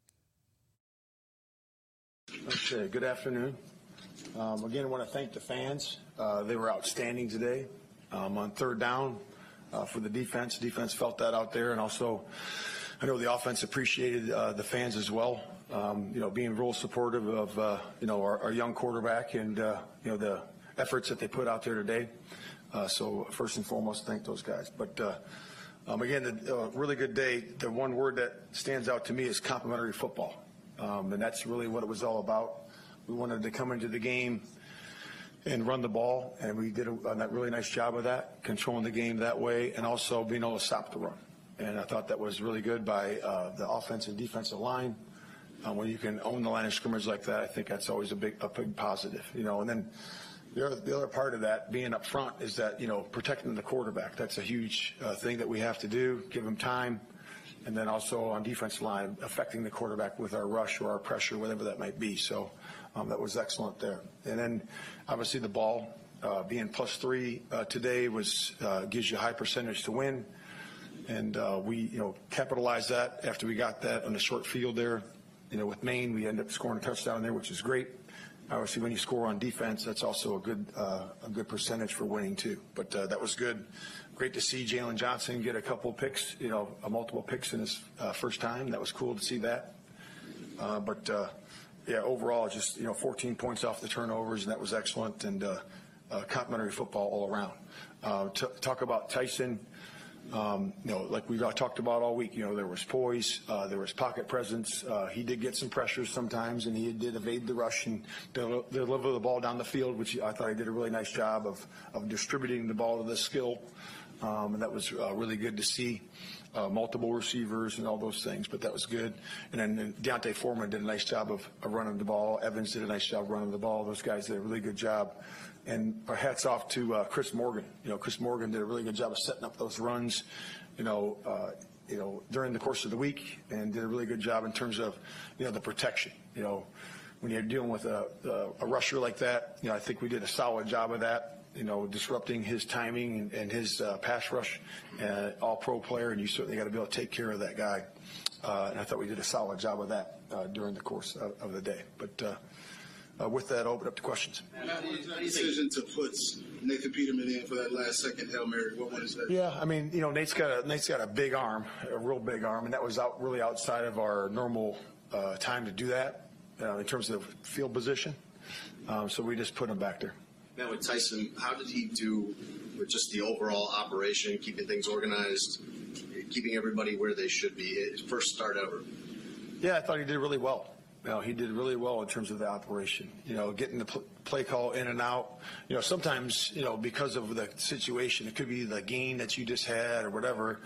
S5: Okay, good afternoon. Again, I want to thank the fans. They were outstanding today on third down for the defense. Defense felt that out there, and also I know the offense appreciated the fans as well. Being real supportive of our young quarterback and the efforts that they put out there today. So first and foremost, thank those guys. But again, a really good day. The one word that stands out to me is complimentary football, and that's really what it was all about. We wanted to come into the game and run the ball, and we did a really nice job of that, controlling the game that way, and also being able to stop the run. And I thought that was really good by the offensive and defensive line. When you can own the line of scrimmage like that, I think that's always a big positive. And then the other part of that, being up front, is that protecting the quarterback. That's a huge thing that we have to do. Give him time. And then also on defensive line, affecting the quarterback with our rush or our pressure, whatever that might be. So that was excellent there. And then obviously the ball being +3 today gives you a high percentage to win. And we capitalized that after we got that on the short field there. With Maine, we ended up scoring a touchdown there, which is great. Obviously, when you score on defense, that's also a good percentage for winning too. But that was good. Great to see Jalen Johnson get a couple picks, multiple picks in his first time. That was cool to see that. Overall, just 14 points off the turnovers, and that was excellent. And complimentary football all around. Talk about Tyson. Like we've talked about all week, there was poise, there was pocket presence. He did get some pressures sometimes, and he did evade the rush and deliver the ball down the field, which I thought he did a really nice job of distributing the ball to the skill. And that was really good to see. Multiple receivers and all those things, but that was good. And then Deontay Foreman did a nice job of running the ball. Evans did a nice job running the ball. Those guys did a really good job. And our hats off to Chris Morgan. Chris Morgan did a really good job of setting up those runs, during the course of the week, and did a really good job in terms of, the protection. When you're dealing with a rusher like that, I think we did a solid job of that. Disrupting his timing and his pass rush, all-pro player, and you certainly got to be able to take care of that guy. And I thought we did a solid job of that during the course of the day. But with that, I'll open up to questions.
S6: The decision to put Nathan Peterman in for that last second Hail Mary, what is that?
S5: Yeah, I mean, Nate's got a big arm, a real big arm, and that was really outside of our normal time to do that in terms of field position. So we just put him back there.
S6: Now with Tyson, how did he do with just the overall operation, keeping things organized, keeping everybody where they should be? His first start ever.
S5: Yeah, I thought he did really well. He did really well in terms of the operation. Getting the play call in and out. Sometimes, because of the situation, it could be the gain that you just had or whatever.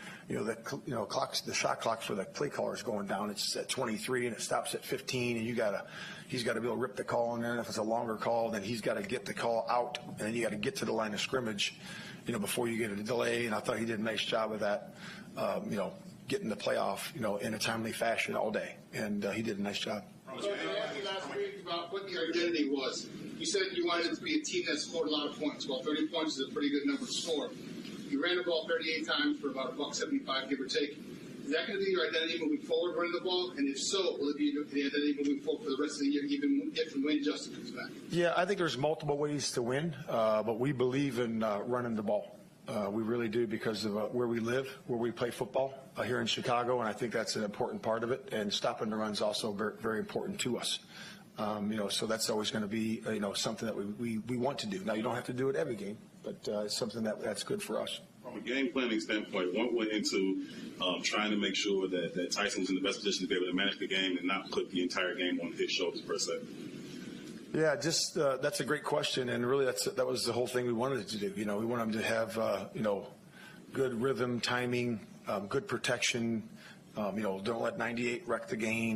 S5: The shot clock for the play caller is going down. It's at 23 and it stops at 15, and he's got to be able to rip the call in there. And if it's a longer call, then he's got to get the call out, and then you got to get to the line of scrimmage, before you get a delay. And I thought he did a nice job of that. Getting the playoff, in a timely fashion all day, and he did a nice job.
S6: So I asked you last week about what the identity was. You said you wanted it to be a team that scored a lot of points. Well, 30 points is a pretty good number to score. You ran the ball 38 times for about $175, give or take. Is that going to be your identity moving forward, running the ball? And if so, will it be the identity moving forward for the rest of the year, even if and when Justin comes back? Yeah,
S5: I think there's multiple ways to win, but we believe in running the ball. We really do, because of where we live, where we play football here in Chicago, and I think that's an important part of it. And stopping the run is also very, very important to us. So that's always going to be something that we want to do. Now, you don't have to do it every game, but it's something that's good for us.
S7: From a game planning standpoint, what went into trying to make sure that Tyson was in the best position to be able to manage the game and not put the entire game on his shoulders per se?
S5: Yeah, just that's a great question, and really that was the whole thing we wanted to do. We want him to have good rhythm, timing, good protection. Don't let 98 wreck the game.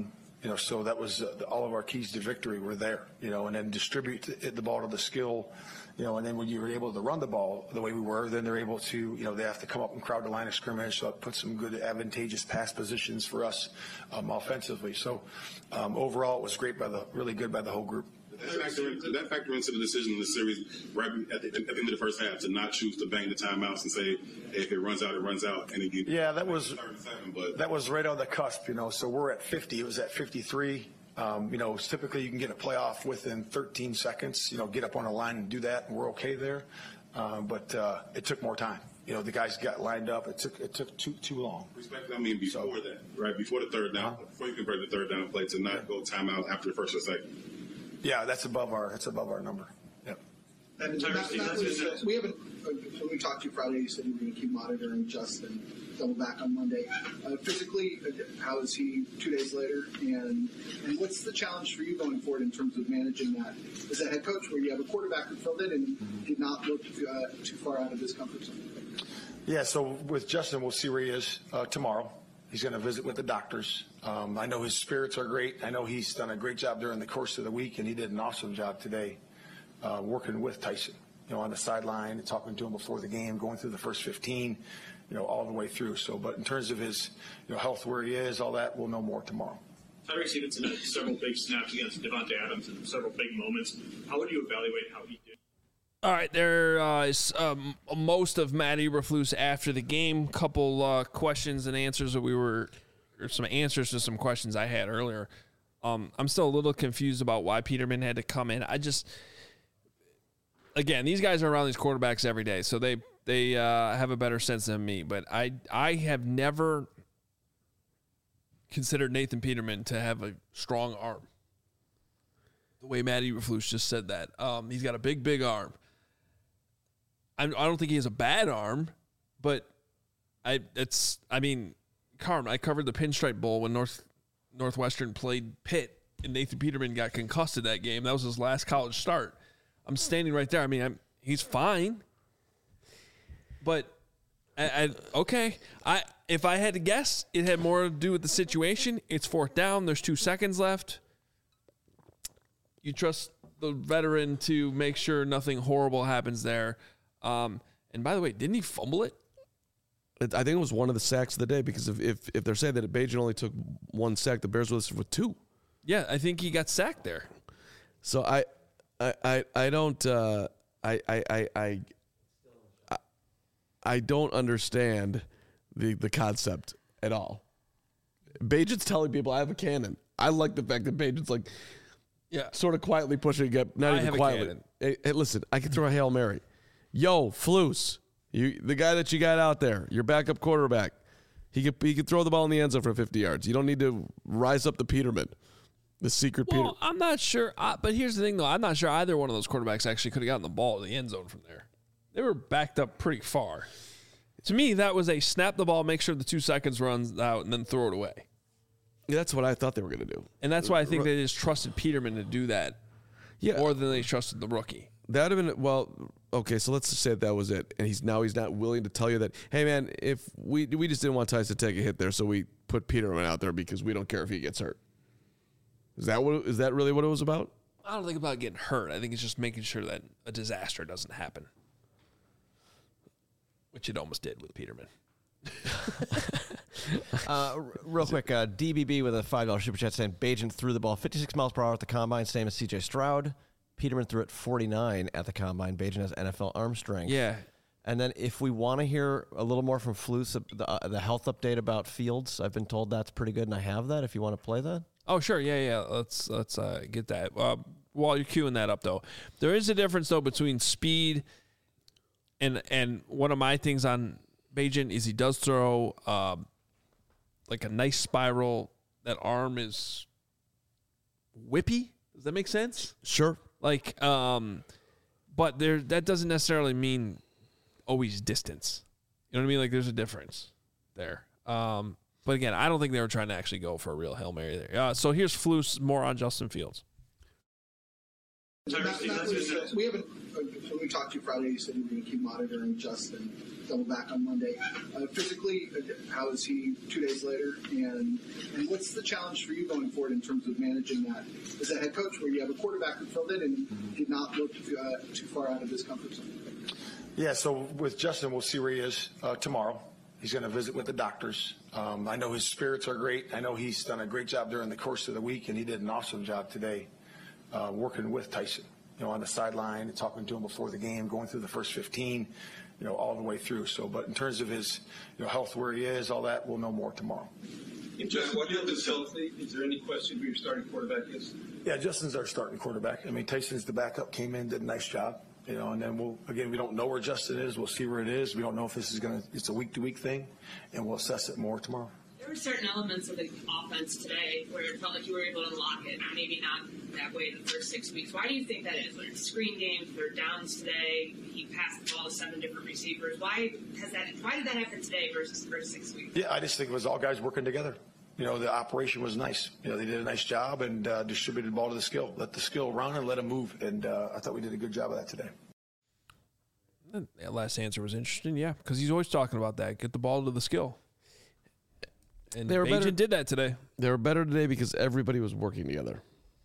S5: So that was all of our keys to victory were there, and then distribute the ball to the skill, and then when you were able to run the ball the way we were, then they're able to, they have to come up and crowd the line of scrimmage, so it puts some good advantageous pass positions for us offensively. So overall, it was really good by the whole group.
S7: Did that factor into the decision in the series right at the end of the first half to not choose to bang the timeouts and say, hey, if it runs out, it runs out? And
S5: that was right on the cusp, So we're at 50. It was at 53. Typically you can get a playoff within 13 seconds, get up on a line and do that, and we're okay there. But it took more time. The guys got lined up. It took too long.
S7: Respectfully, before that, right? Before the third down, before you convert the third down play to not go timeout after the first or second.
S5: Yeah, that's above our number. Yep.
S6: And when we talked to you Friday, you said you were going to keep monitoring Justin, double back on Monday. Physically, how is he 2 days later? And what's the challenge for you going forward in terms of managing that as a head coach, where you have a quarterback who filled in and did not look too far out of his comfort zone?
S5: Yeah, so with Justin, we'll see where he is tomorrow. He's going to visit with the doctors. I know his spirits are great. I know he's done a great job during the course of the week, and he did an awesome job today working with Tyson, on the sideline and talking to him before the game, going through the first 15, all the way through. So, but in terms of his health, where he is, all that, we'll know more tomorrow.
S8: Tyreek Stevenson had several big snaps against Devontae Adams in several big moments. How would you evaluate how he did?
S1: All right, there is most of Matt Eberflus after the game. Couple questions and answers or some answers to some questions I had earlier. I'm still a little confused about why Peterman had to come in. Again, these guys are around these quarterbacks every day, so they have a better sense than me. But I have never considered Nathan Peterman to have a strong arm. The way Matt Eberflus just said that. He's got a big arm. I don't think he has a bad arm, but Carm, I covered the Pinstripe Bowl when Northwestern played Pitt, and Nathan Peterman got concussed in that game. That was his last college start. I'm standing right there. He's fine, but okay. If I had to guess, it had more to do with the situation. It's fourth down. There's 2 seconds left. You trust the veteran to make sure nothing horrible happens there. And by the way, didn't he fumble it?
S3: I think it was one of the sacks of the day, because if they're saying that Bajan only took 1 sack, the Bears were listed with 2.
S1: Yeah, I think he got sacked there.
S3: So I don't understand the concept at all. Bajan's telling people I have a cannon. I like the fact that Bajan's sort of quietly pushing it. Not even quietly. Hey, listen, I can throw a Hail Mary. Yo, Flus, the guy that you got out there, your backup quarterback, he could throw the ball in the end zone for 50 yards. You don't need to rise up the Peterman, the secret Peter.
S1: I'm not sure. But here's the thing, though. I'm not sure either one of those quarterbacks actually could have gotten the ball in the end zone from there. They were backed up pretty far. To me, that was a snap the ball, make sure the 2 seconds runs out, and then throw it away.
S3: Yeah, that's what I thought they were going to do.
S1: And that's why I think they just trusted Peterman to do that more than they trusted the rookie.
S3: That would have been, okay, so let's just say that was it. And he's not willing to tell you that, hey, man, if we just didn't want Tyson to take a hit there, so we put Peterman out there because we don't care if he gets hurt. Is that really what it was about?
S1: I don't think about getting hurt. I think it's just making sure that a disaster doesn't happen, which it almost did with Peterman.
S4: Real quick, DBB with a $5 super chat saying Bajan threw the ball 56 miles per hour at the combine, same as CJ Stroud. Peterman threw it 49 at the combine. Bajan has NFL arm strength.
S1: Yeah.
S4: And then if we want to hear a little more from Flus, the health update about Fields, I've been told that's pretty good, and I have that if you want to play that.
S1: Oh, sure. Yeah. Let's get that. While you're queuing that up, though, there is a difference, though, between speed and one of my things on Bajan is he does throw like a nice spiral. That arm is whippy. Does that make sense?
S3: Sure.
S1: Like, but that doesn't necessarily mean always distance. You know what I mean? Like, there's a difference there. But again, I don't think they were trying to actually go for a real Hail Mary there. So here's Flus more on Justin Fields.
S6: We haven't. When we talked to you Friday, you said you were going to keep monitoring Justin. Double back on Monday. Physically, how is he 2 days later? And what's the challenge for you going forward in terms of managing that as a head coach, where you have a quarterback who filled in and did not look too far out of his comfort zone?
S5: Yeah, so with Justin, we'll see where he is tomorrow. He's going to visit with the doctors. I know his spirits are great. I know he's done a great job during the course of the week, and he did an awesome job today working with Tyson, on the sideline and talking to him before the game, going through the first 15, all the way through. So, but in terms of his health, where he is, all that, we'll know more tomorrow.
S8: If Justin Fields is healthy, is there any question who your starting quarterback is?
S5: Yeah, Justin's our starting quarterback. I mean, Tyson's the backup, came in, did a nice job. And then we don't know where Justin is. We'll see where it is. We don't know if this is it's a week-to-week thing, and we'll assess it more tomorrow.
S9: There were certain elements of the offense today where it felt like you were able to unlock it. Maybe not that way in the first 6 weeks. Why do you think that is? Like screen games, third downs today. He passed the ball to 7 different receivers. Why did that happen today versus the first 6 weeks?
S5: Yeah, I just think it was all guys working together. The operation was nice. They did a nice job and distributed the ball to the skill. Let the skill run and let him move. And I thought we did a good job of that today.
S1: That last answer was interesting, yeah, because he's always talking about that. Get the ball to the skill. And Bajan did that today.
S3: They were better today because everybody was working together.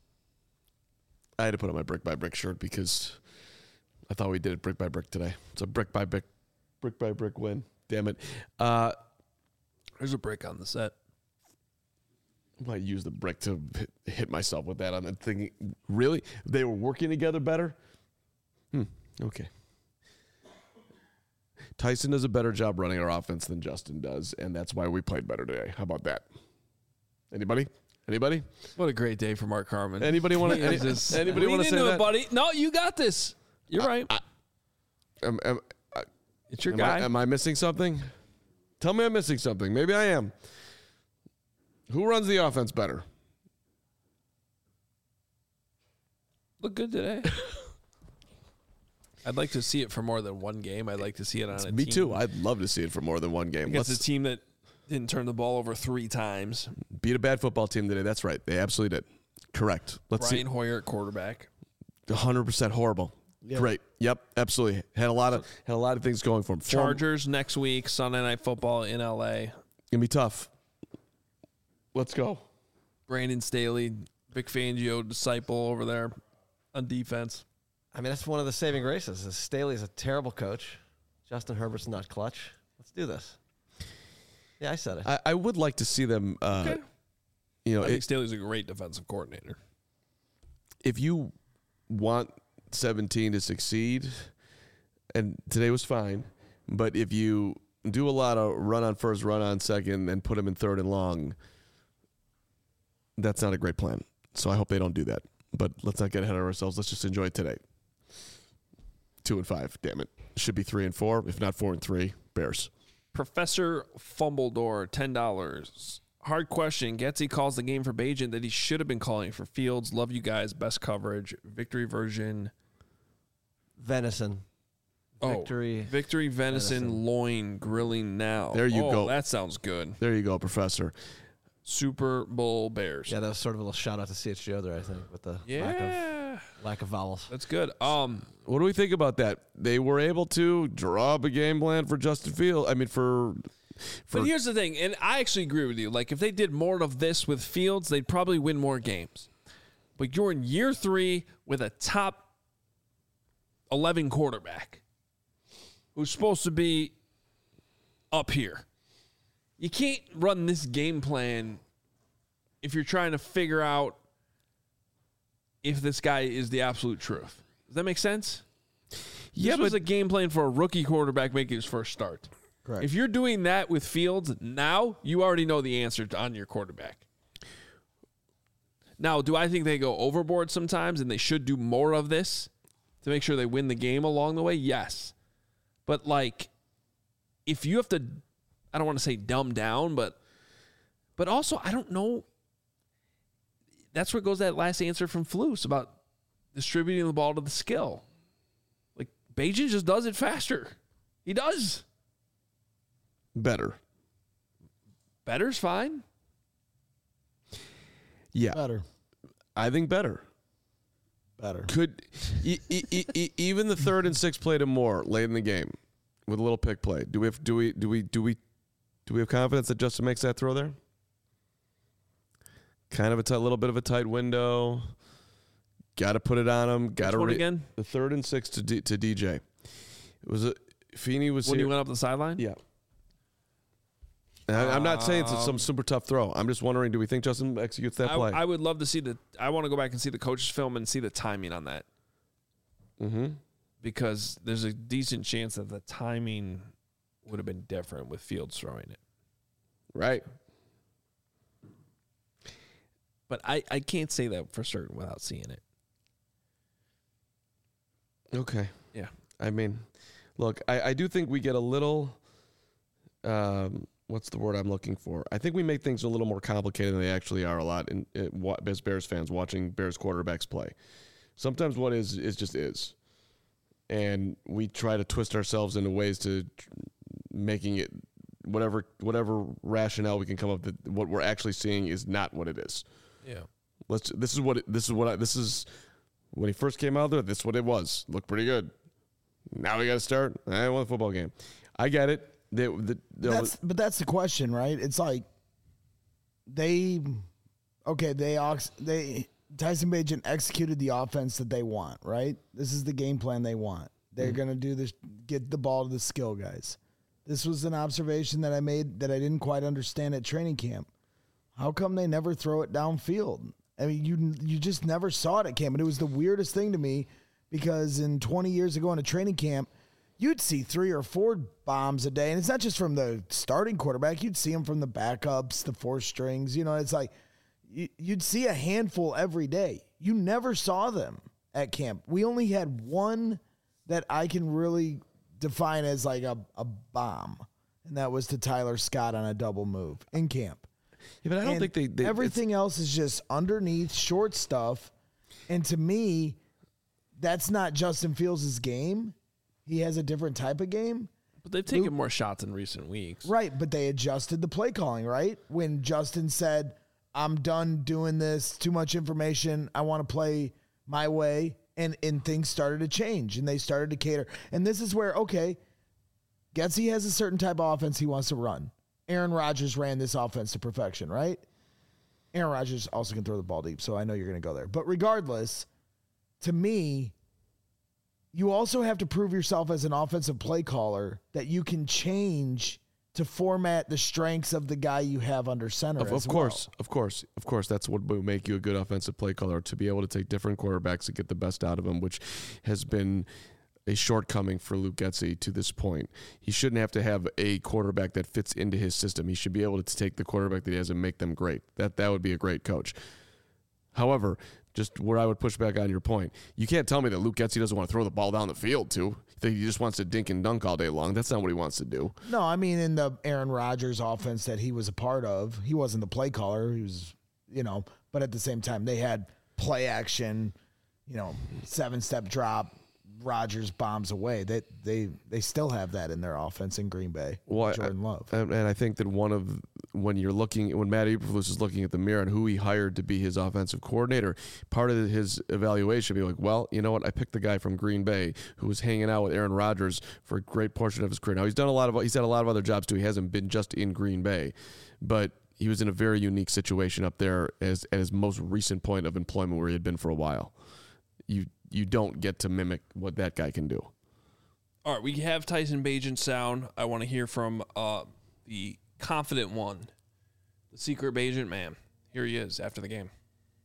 S3: I had to put on my brick by brick shirt because I thought we did it brick by brick today. It's a brick by brick win. Damn it.
S1: There's a brick on the set.
S3: I might use the brick to hit myself with that on the thing. Really? They were working together better? Okay. Tyson does a better job running our offense than Justin does, and that's why we played better today. How about that? Anybody?
S1: What a great day for Mark Harmon.
S3: Anybody want to say that?
S1: Buddy. No, you got this. You're right. It's your guy.
S3: Am I missing something? Tell me I'm missing something. Maybe I am. Who runs the offense better?
S1: Look good today. I'd like to see it for more than one game. I'd like to see it on a team.
S3: Me too. I'd love to see it for more than one game.
S1: Against a team that didn't turn the ball over 3 times.
S3: Beat a bad football team today. That's right. They absolutely did. Correct.
S1: Brian Hoyer at quarterback.
S3: 100% horrible. Yep. Great. Yep. Absolutely. Had a lot of things going for him.
S1: Chargers next week. Sunday Night Football in LA.
S3: Gonna be tough. Let's go.
S1: Brandon Staley, Vic Fangio disciple over there on defense.
S4: I mean, that's one of the saving graces. Staley's a terrible coach. Justin Herbert's not clutch. Let's do this. Yeah, I said it.
S3: I would like to see them.
S1: Okay. I think Staley's a great defensive coordinator.
S3: If you want 17 to succeed, and today was fine, but if you do a lot of run on first, run on second, and put them in third and long, that's not a great plan. So I hope they don't do that. But let's not get ahead of ourselves. Let's just enjoy it today. 2-5. Damn it. Should be 3-4, if not 4-3. Bears.
S1: Professor Fumbledore, $10. Hard question. Getsy calls the game for Bajan that he should have been calling for Fields. Love you guys. Best coverage. Victory version.
S4: Venison.
S1: Victory venison loin grilling now.
S3: There you go.
S1: That sounds good.
S3: There you go, Professor.
S1: Super Bowl Bears.
S4: Yeah, that was sort of a little shout out to CHGO there, I think, with the lack of vowels.
S1: That's good.
S3: What do we think about that? They were able to draw up a game plan for Justin Fields. I mean,
S1: But here's the thing, and I actually agree with you. Like, if they did more of this with Fields, they'd probably win more games. But you're in year 3 with a top 11 quarterback who's supposed to be up here. You can't run this game plan if you're trying to figure out if this guy is the absolute truth. Does that make sense?
S3: Yeah,
S1: this was a game plan for a rookie quarterback making his first start.
S4: Correct.
S1: If you're doing that with Fields now, you already know the answer on your quarterback. Now, do I think they go overboard sometimes and they should do more of this to make sure they win the game along the way? Yes. But, like, if you have to, I don't want to say dumb down, but also I don't know. That's where goes that last answer from Flus about distributing the ball to the skill. Like, Bajan just does it faster. He does. Better's fine.
S3: Yeah.
S2: Better.
S3: I think better.
S2: better.
S3: Could even the 3rd and 6 play to Moore late in the game with a little pick play? Do we have confidence that Justin makes that throw there? Kind of a little bit of a tight window. Got to put it on him. Got to
S1: again.
S3: The 3rd and 6 to DJ. It was Feeney was
S1: when
S3: here.
S1: you went up the sideline.
S3: Yeah. I'm not saying it's some super tough throw. I'm just wondering, do we think Justin executes that play?
S1: I would love to see I want to go back and see the coach's film and see the timing on that.
S3: Mm-hmm.
S1: Because there's a decent chance that the timing would have been different with Fields throwing it.
S3: Right.
S1: But I can't say that for certain without seeing it.
S3: Okay.
S1: Yeah.
S3: I mean, look, I do think we get a little, what's the word I'm looking for? I think we make things a little more complicated than they actually are a lot as Bears fans watching Bears quarterbacks play. Sometimes what is just is. And we try to twist ourselves into ways to making it whatever rationale we can come up with. What we're actually seeing is not what it is.
S1: Yeah.
S3: This is when he first came out there, this is what it was. Looked pretty good. Now we got to start. I won the football game. I get it. But
S2: that's the question, right? It's like Tyson Bagent executed the offense that they want, right? This is the game plan they want. They're going to do this, get the ball to the skill guys. This was an observation that I made that I didn't quite understand at training camp. How come they never throw it downfield? I mean, you just never saw it at camp. And it was the weirdest thing to me because 20 years ago in a training camp, you'd see 3 or 4 bombs a day. And it's not just from the starting quarterback. You'd see them from the backups, the 4 strings. You know, it's like you'd see a handful every day. You never saw them at camp. We only had one that I can really define as like a bomb, and that was to Tyler Scott on a double move in camp.
S3: Yeah, but I don't think they
S2: everything else is just underneath short stuff. And to me, that's not Justin Fields' game. He has a different type of game.
S1: But they've taken more shots in recent weeks.
S2: Right, but they adjusted the play calling, right? When Justin said, I'm done doing this, too much information, I want to play my way, and things started to change, and they started to cater. And this is where, okay, Getsy has a certain type of offense he wants to run. Aaron Rodgers ran this offense to perfection, right? Aaron Rodgers also can throw the ball deep, so I know you're going to go there. But regardless, to me, you also have to prove yourself as an offensive play caller that you can change to format the strengths of the guy you have under center.
S3: Of course. That's what will make you a good offensive play caller, to be able to take different quarterbacks to get the best out of them, which has been a shortcoming for Luke Getsy to this point. He shouldn't have to have a quarterback that fits into his system. He should be able to take the quarterback that he has and make them great. That would be a great coach. However, just where I would push back on your point, you can't tell me that Luke Getsy doesn't want to throw the ball down the field, too. That he just wants to dink and dunk all day long. That's not what he wants to do.
S2: No, I mean, in the Aaron Rodgers offense that he was a part of, he wasn't the play caller. He was, but at the same time, they had play action, 7-step drop, Rodgers bombs away. They still have that in their offense in Green Bay. Jordan Love.
S3: And I think that when Matt Eberflus is looking at the mirror and who he hired to be his offensive coordinator, part of his evaluation would be like, well, you know what? I picked the guy from Green Bay who was hanging out with Aaron Rodgers for a great portion of his career. Now he's had a lot of other jobs too. He hasn't been just in Green Bay, but he was in a very unique situation up there at his most recent point of employment where he had been for a while. You don't get to mimic what that guy can do.
S1: All right, we have Tyson Bagent sound. I want to hear from the confident one, the secret Bagent man. Here he is after the game.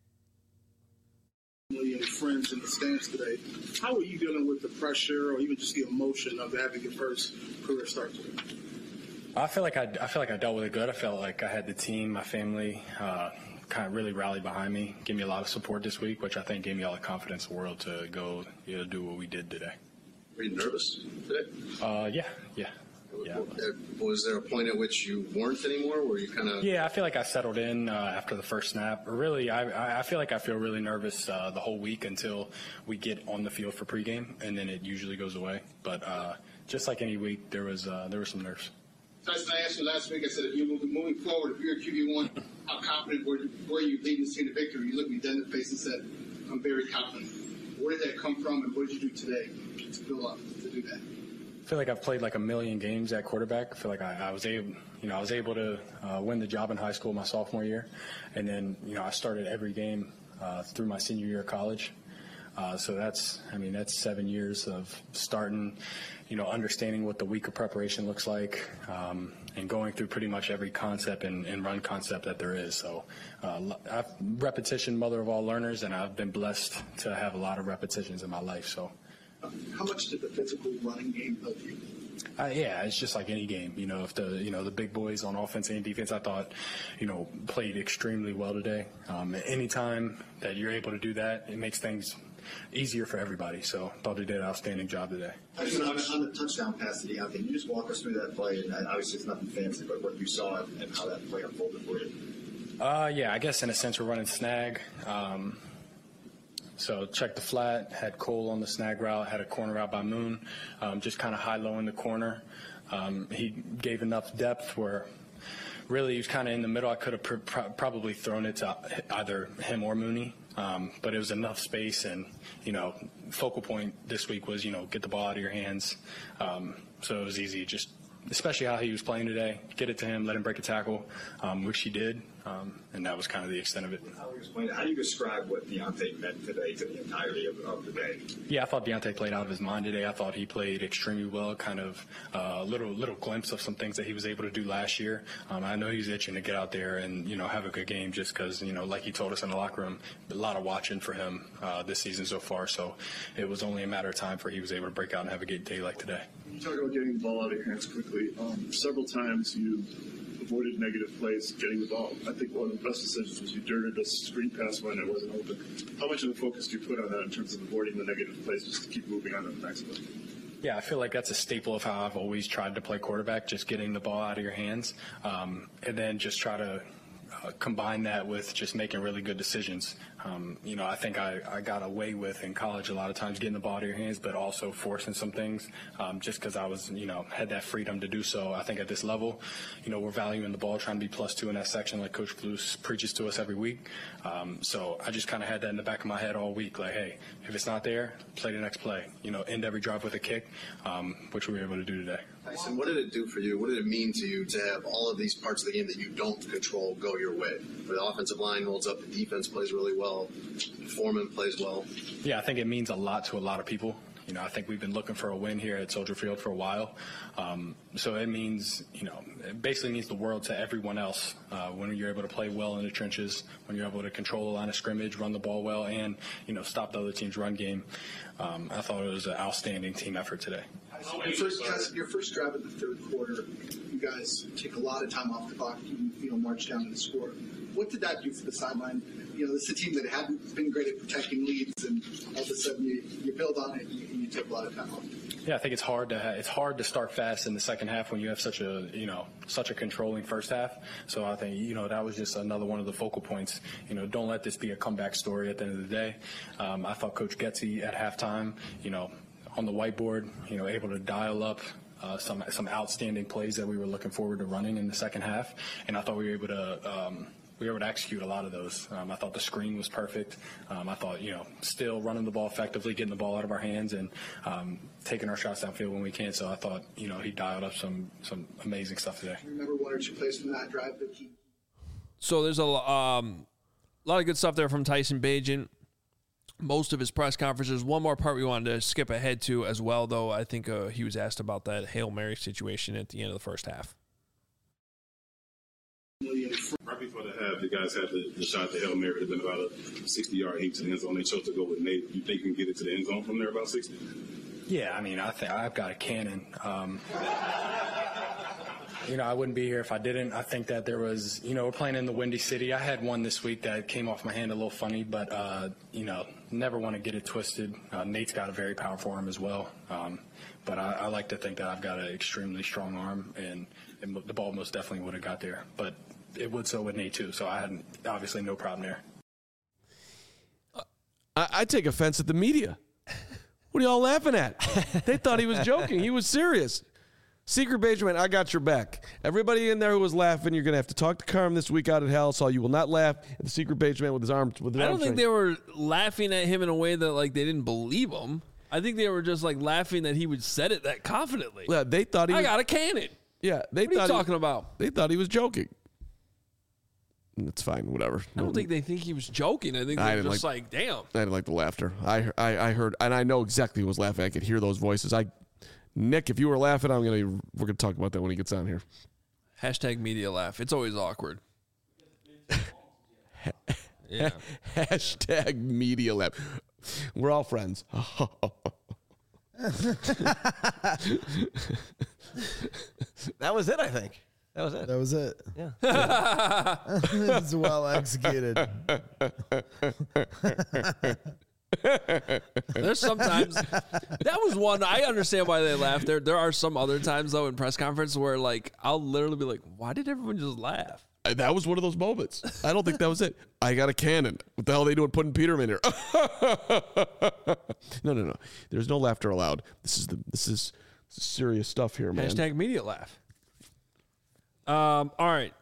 S6: And friends in the stands today. How are you dealing with the pressure or even just the emotion of having your first career start today?
S10: I feel like I dealt with it good. I felt like I had the team, my family, kind of really rallied behind me, gave me a lot of support this week, which I think gave me all the confidence in the world to go do what we did today.
S11: Were you nervous today?
S10: Yeah.
S11: Was there a point at which you weren't anymore? Were you kind of?
S10: Yeah, I feel like I settled in after the first snap. Really, I feel like I feel really nervous the whole week until we get on the field for pregame, and then it usually goes away. But just like any week, there was some nerves.
S6: Tyson, I asked you last week, I said, if you're moving forward, if you're a QB1, how confident were you leading this team to victory? You looked me dead in the face and said, I'm very confident. Where did that come from, and what did you do today to build up to do that?
S10: I feel like I've played like a million games at quarterback. I feel like I was able to win the job in high school my sophomore year, and then I started every game through my senior year of college. So that's 7 years of starting, understanding what the week of preparation looks like, and going through pretty much every concept and run concept that there is. So repetition, mother of all learners, and I've been blessed to have a lot of repetitions in my life. So.
S6: How much did the physical running game help you?
S10: Yeah, it's just like any game. If the big boys on offense and defense, I thought, played extremely well today. Anytime that you're able to do that, it makes things easier for everybody. So I thought they did an outstanding job today.
S12: On the touchdown pass to Deontay, can you just walk us through that play? And obviously it's nothing fancy, but what you saw and how that play unfolded for you.
S10: Yeah, I guess in a sense we're running snag. So check the flat, had Cole on the snag route, had a corner out by Moon, just kind of high-low in the corner. He gave enough depth where really he was kind of in the middle. I could have probably thrown it to either him or Mooney, but it was enough space. And, focal point this week was, get the ball out of your hands. So it was easy, just especially how he was playing today, get it to him, let him break a tackle, which he did. And that was kind of the extent of it.
S12: How do you describe what Deontay meant today to the entirety of the day?
S10: Yeah, I thought Deontay played out of his mind today. I thought he played extremely well, kind of little glimpse of some things that he was able to do last year. I know he's itching to get out there and, have a good game just because, like he told us in the locker room, a lot of watching for him this season so far. So it was only a matter of time for he was able to break out and have a good day like today.
S13: You talk about getting the ball out of your hands quickly. Several times you avoided negative plays getting the ball. I think one of the best decisions was you dirted a screen pass when it wasn't open. How much of a focus do you put on that in terms of avoiding the negative plays just to keep moving on to the next play?
S10: Yeah, I feel like that's a staple of how I've always tried to play quarterback, just getting the ball out of your hands, and then just try to combine that with just making really good decisions. I think I got away with in college a lot of times getting the ball out of your hands, but also forcing some things just because I was, had that freedom to do so. I think at this level, we're valuing the ball, trying to be +2 in that section like Coach Blues preaches to us every week. So I just kind of had that in the back of my head all week, like, hey, if it's not there, play the next play. End every drive with a kick, which we were able to do today.
S11: Tyson, what did it do for you? What did it mean to you to have all of these parts of the game that you don't control go your way? Where the offensive line holds up, the defense plays really well, Foreman plays well.
S10: Yeah, I think it means a lot to a lot of people. I think we've been looking for a win here at Soldier Field for a while. So it means, it basically means the world to everyone else when you're able to play well in the trenches, when you're able to control the line of scrimmage, run the ball well, and, stop the other team's run game. I thought it was an outstanding team effort today.
S6: Your first drive in the third quarter, you guys take a lot of time off the clock, march down and score. What did that do for the sideline? This is a team that hadn't been great at protecting leads, and all of a sudden you build on it and you take a lot of time off.
S10: Yeah, I think it's hard to start fast in the second half when you have such a controlling first half. So I think that was just another one of the focal points. Don't let this be a comeback story at the end of the day. I thought Coach Getsy at halftime, on the whiteboard, able to dial up some outstanding plays that we were looking forward to running in the second half, and I thought we were able to execute a lot of those. I thought the screen was perfect. I thought, still running the ball effectively, getting the ball out of our hands, and taking our shots downfield when we can. So I thought, he dialed up some amazing stuff today.
S6: Remember one or two plays from that drive that he.
S1: So there's a lot of good stuff there from Tyson Bagent. Most of his press conferences. One more part we wanted to skip ahead to as well, though. I think he was asked about that Hail Mary situation at the end of the first half.
S7: Right before the half, the guys had the shot at the Hail Mary. It had been about a 60-yard heat to the end zone. They chose to go with Nate. You think you can get it to the end zone from there about 60?
S10: Yeah, I think I've got a cannon. I wouldn't be here if I didn't. I think that there was, we're playing in the Windy City. I had one this week that came off my hand a little funny, but, never want to get it twisted. Nate's got a very powerful arm as well. But I like to think that I've got an extremely strong arm, and the ball most definitely would have got there. But it would so with Nate, too. So I had obviously no problem there.
S3: I take offense at the media. What are y'all laughing at? They thought he was joking. He was serious. Secret Benjamin, I got your back. Everybody in there who was laughing, you're going to have to talk to Carm this week out at Hell, so you will not laugh at the Secret Benjamin with his arms. I
S1: don't think they were laughing at him in a way that like they didn't believe him. I think they were just like laughing that he would said it that confidently.
S3: Yeah, they thought he.
S1: I got a cannon.
S3: Yeah, they
S1: what
S3: thought.
S1: What are you talking about?
S3: They thought he was joking. It's fine, whatever.
S1: I don't think they think he was joking. I think they're just like, damn.
S3: I didn't like the laughter. I heard, and I know exactly who was laughing. I could hear those voices. Nick, if you were laughing, we're gonna talk about that when he gets on here.
S1: Hashtag media laugh. It's always awkward.
S3: Yeah. Hashtag media laugh. We're all friends.
S4: That was it, I think. That was it.
S2: Yeah. It's well executed.
S1: There's sometimes that was one. I understand why they laugh. There are some other times though in press conference where like I'll literally be like, why did everyone just laugh?
S3: That was one of those moments. I don't think that was it. I got a cannon. What the hell are they doing putting Peterman here? No. There's no laughter allowed. This is serious stuff here, man.
S1: Hashtag media laugh. All right.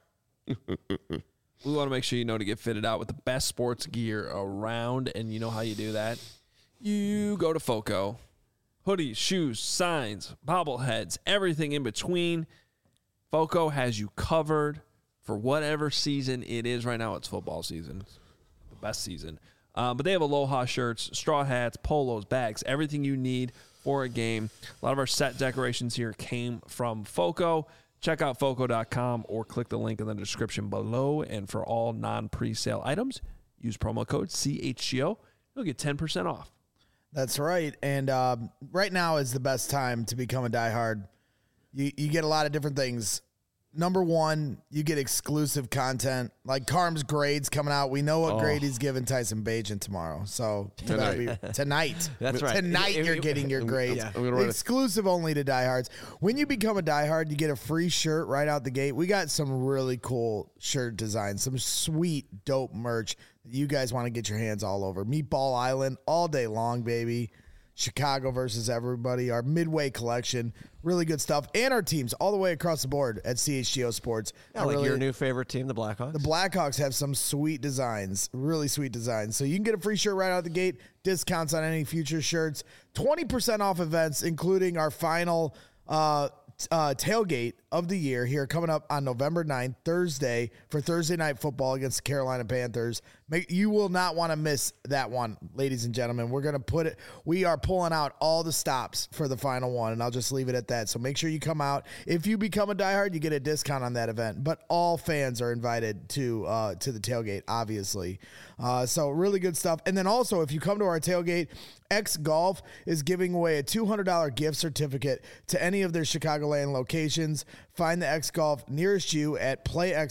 S1: We want to make sure you know to get fitted out with the best sports gear around, and you know how you do that. You go to FOCO. Hoodies, shoes, signs, bobbleheads, everything in between. FOCO has you covered for whatever season it is. Right now, it's football season. It's the best season. But they have Aloha shirts, straw hats, polos, bags, everything you need for a game. A lot of our set decorations here came from FOCO. Check out FOCO.com or click the link in the description below. And for all non-presale items, use promo code CHGO. You'll get 10% off.
S2: That's right. And right now is the best time to become a diehard. You get a lot of different things. Number one, you get exclusive content. Like Carm's grades coming out. We know what grade he's giving Tyson Bagent tomorrow. So tonight.
S4: That's right.
S2: Tonight you're getting your grades.
S3: Yeah.
S2: Exclusive only to diehards. When you become a diehard, you get a free shirt right out the gate. We got some really cool shirt designs, some sweet, dope merch that you guys want to get your hands all over. Meatball Island all day long, baby. Chicago versus everybody, our Midway collection, really good stuff, and our teams all the way across the board at CHGO Sports.
S4: Yeah, like your new favorite team, the Blackhawks.
S2: The Blackhawks have some sweet designs, really sweet designs. So you can get a free shirt right out the gate, discounts on any future shirts, 20% off events, including our final tailgate of the year here coming up on November 9th, Thursday, for Thursday Night Football against the Carolina Panthers. You will not want to miss that one, ladies and gentlemen. We are pulling out all the stops for the final one, and I'll just leave it at that. So make sure you come out. If you become a diehard, you get a discount on that event, but all fans are invited to the tailgate, obviously. So really good stuff. And then also, if you come to our tailgate, X Golf is giving away a $200 gift certificate to any of their Chicagoland locations. Find the X Golf nearest you at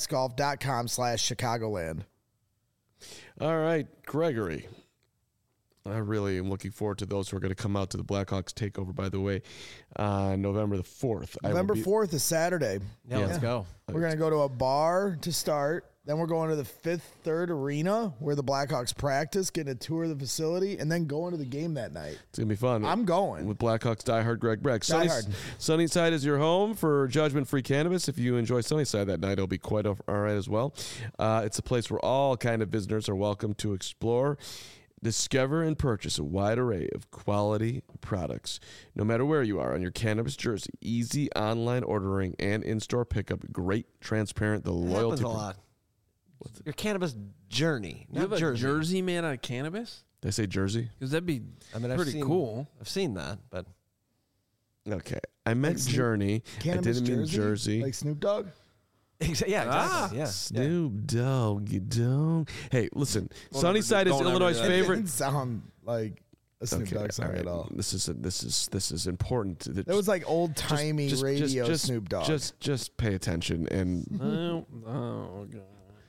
S2: playxgolf.com/Chicagoland.
S3: All right, Gregory. I really am looking forward to those who are going to come out to the Blackhawks takeover, by the way, November the 4th.
S2: November 4th is Saturday.
S4: Yeah, let's go.
S2: We're going to go to a bar to start. Then we're going to the Fifth Third Arena where the Blackhawks practice, getting a tour of the facility, and then going to the game that night.
S3: It's going to be fun.
S2: I'm going.
S3: With Blackhawks diehard Greg Breck.
S2: Sunnyside
S3: is your home for judgment-free cannabis. If you enjoy Sunnyside that night, it'll be quite all right as well. It's a place where all kind of visitors are welcome to explore, discover, and purchase a wide array of quality products. No matter where you are on your cannabis jersey, easy online ordering and in-store pickup, great, transparent, the loyalty.
S4: Happens a lot. Your cannabis journey,
S1: You have
S4: not
S1: a
S4: jersey.
S1: jersey made out of cannabis?
S3: Did I say jersey?
S1: Because that'd be pretty cool.
S4: I've seen that, but
S3: Okay. I meant Journey. I
S2: Cannabis
S3: didn't mean Jersey.
S2: Like Snoop Dogg?
S4: yeah, exactly. Yeah.
S3: Snoop Dogg, you don't. Hey, listen.
S1: Don't
S3: Sunnyside
S1: ever
S3: is
S1: do that.
S3: Illinois'
S2: It
S3: favorite.
S2: didn't sound like a Snoop Dogg song at all.
S3: This is important.
S2: That was like old-timey radio Snoop Dogg.
S3: Just pay attention and.
S1: Oh, God.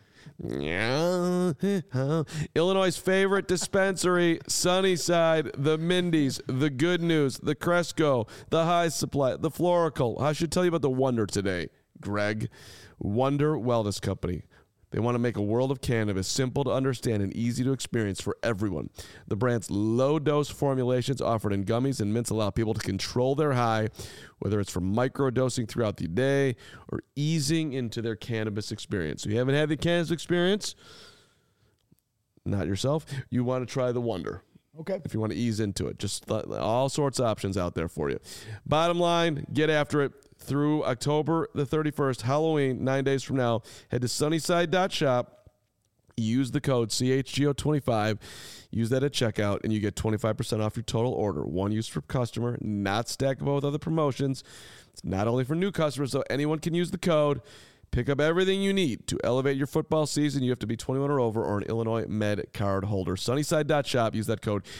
S3: Yeah. Illinois' favorite dispensary, Sunnyside, the Mindy's, the Good News, the Cresco, the High Supply, the Florical. I should tell you about the Wonder today, Greg. Wonder Wellness Company. They want to make a world of cannabis simple to understand and easy to experience for everyone. The brand's low-dose formulations offered in gummies and mints allow people to control their high, whether it's from micro-dosing throughout the day or easing into their cannabis experience. So you haven't had the cannabis experience, not yourself, you want to try the Wonder.
S2: Okay.
S3: If you want to ease into it, just all sorts of options out there for you. Bottom line, get after it. Through October the 31st, Halloween, 9 days from now, head to sunnyside.shop, use the code CHGO25, use that at checkout, and you get 25% off your total order. One use for customer, not stackable with other promotions. It's not only for new customers, so anyone can use the code. Pick up everything you need to elevate your football season. You have to be 21 or over or an Illinois Med card holder. Sunnyside.shop, use that code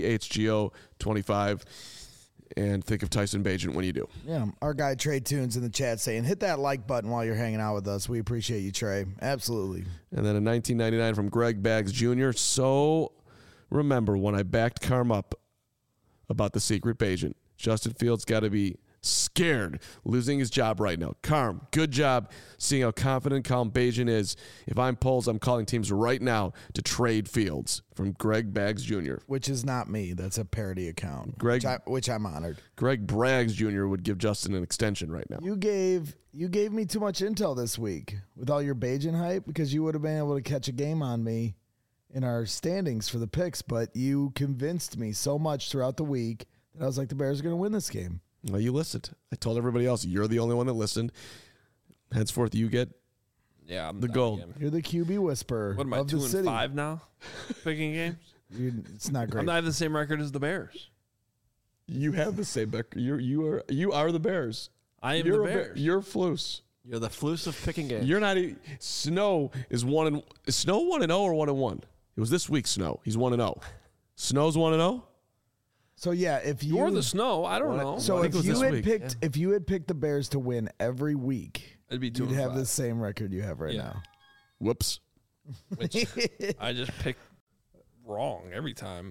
S3: CHGO25. And think of Tyson Bagent when you do.
S2: Yeah, our guy Trey Tunes in the chat saying, hit that like button while you're hanging out with us. We appreciate you, Trey. Absolutely.
S3: And then a 1999 from Greg Baggs Jr. So remember when I backed Carm up about the secret Bagent, Justin Fields got to be scared losing his job right now. Carm, good job seeing how confident calm Bagent is. If I'm Poles, I'm calling teams right now to trade Fields. From Greg Baggs Jr.
S2: Which is not me. That's a parody account.
S3: Greg,
S2: which I'm honored.
S3: Greg Braggs Jr. would give Justin an extension right now.
S2: You gave me too much intel this week with all your Bagent hype because you would have been able to catch a game on me in our standings for the picks, but you convinced me so much throughout the week that I was like, the Bears are going to win this game.
S3: Well, you listened. I told everybody else, you're the only one that listened. Henceforth, you get the gold.
S2: You're the QB whisperer.
S1: What am I,
S2: of
S1: 2-5 now? Picking games?
S2: It's not great.
S1: I'm not the same record as the Bears.
S3: You have the same record. You are the Bears.
S1: I am the Bears.
S3: You're Flus.
S4: You're the Flus of picking games.
S3: You're not. Snow is 1-0 or 1-1? It was this week. Snow. He's 1-0. Snow's 1-0.
S2: So yeah, if you're
S1: the Snow, I don't know.
S2: So if you had picked the Bears to win every week,
S1: it'd be
S2: you'd have the same record you have right now.
S3: Whoops.
S1: Which I just picked wrong every time.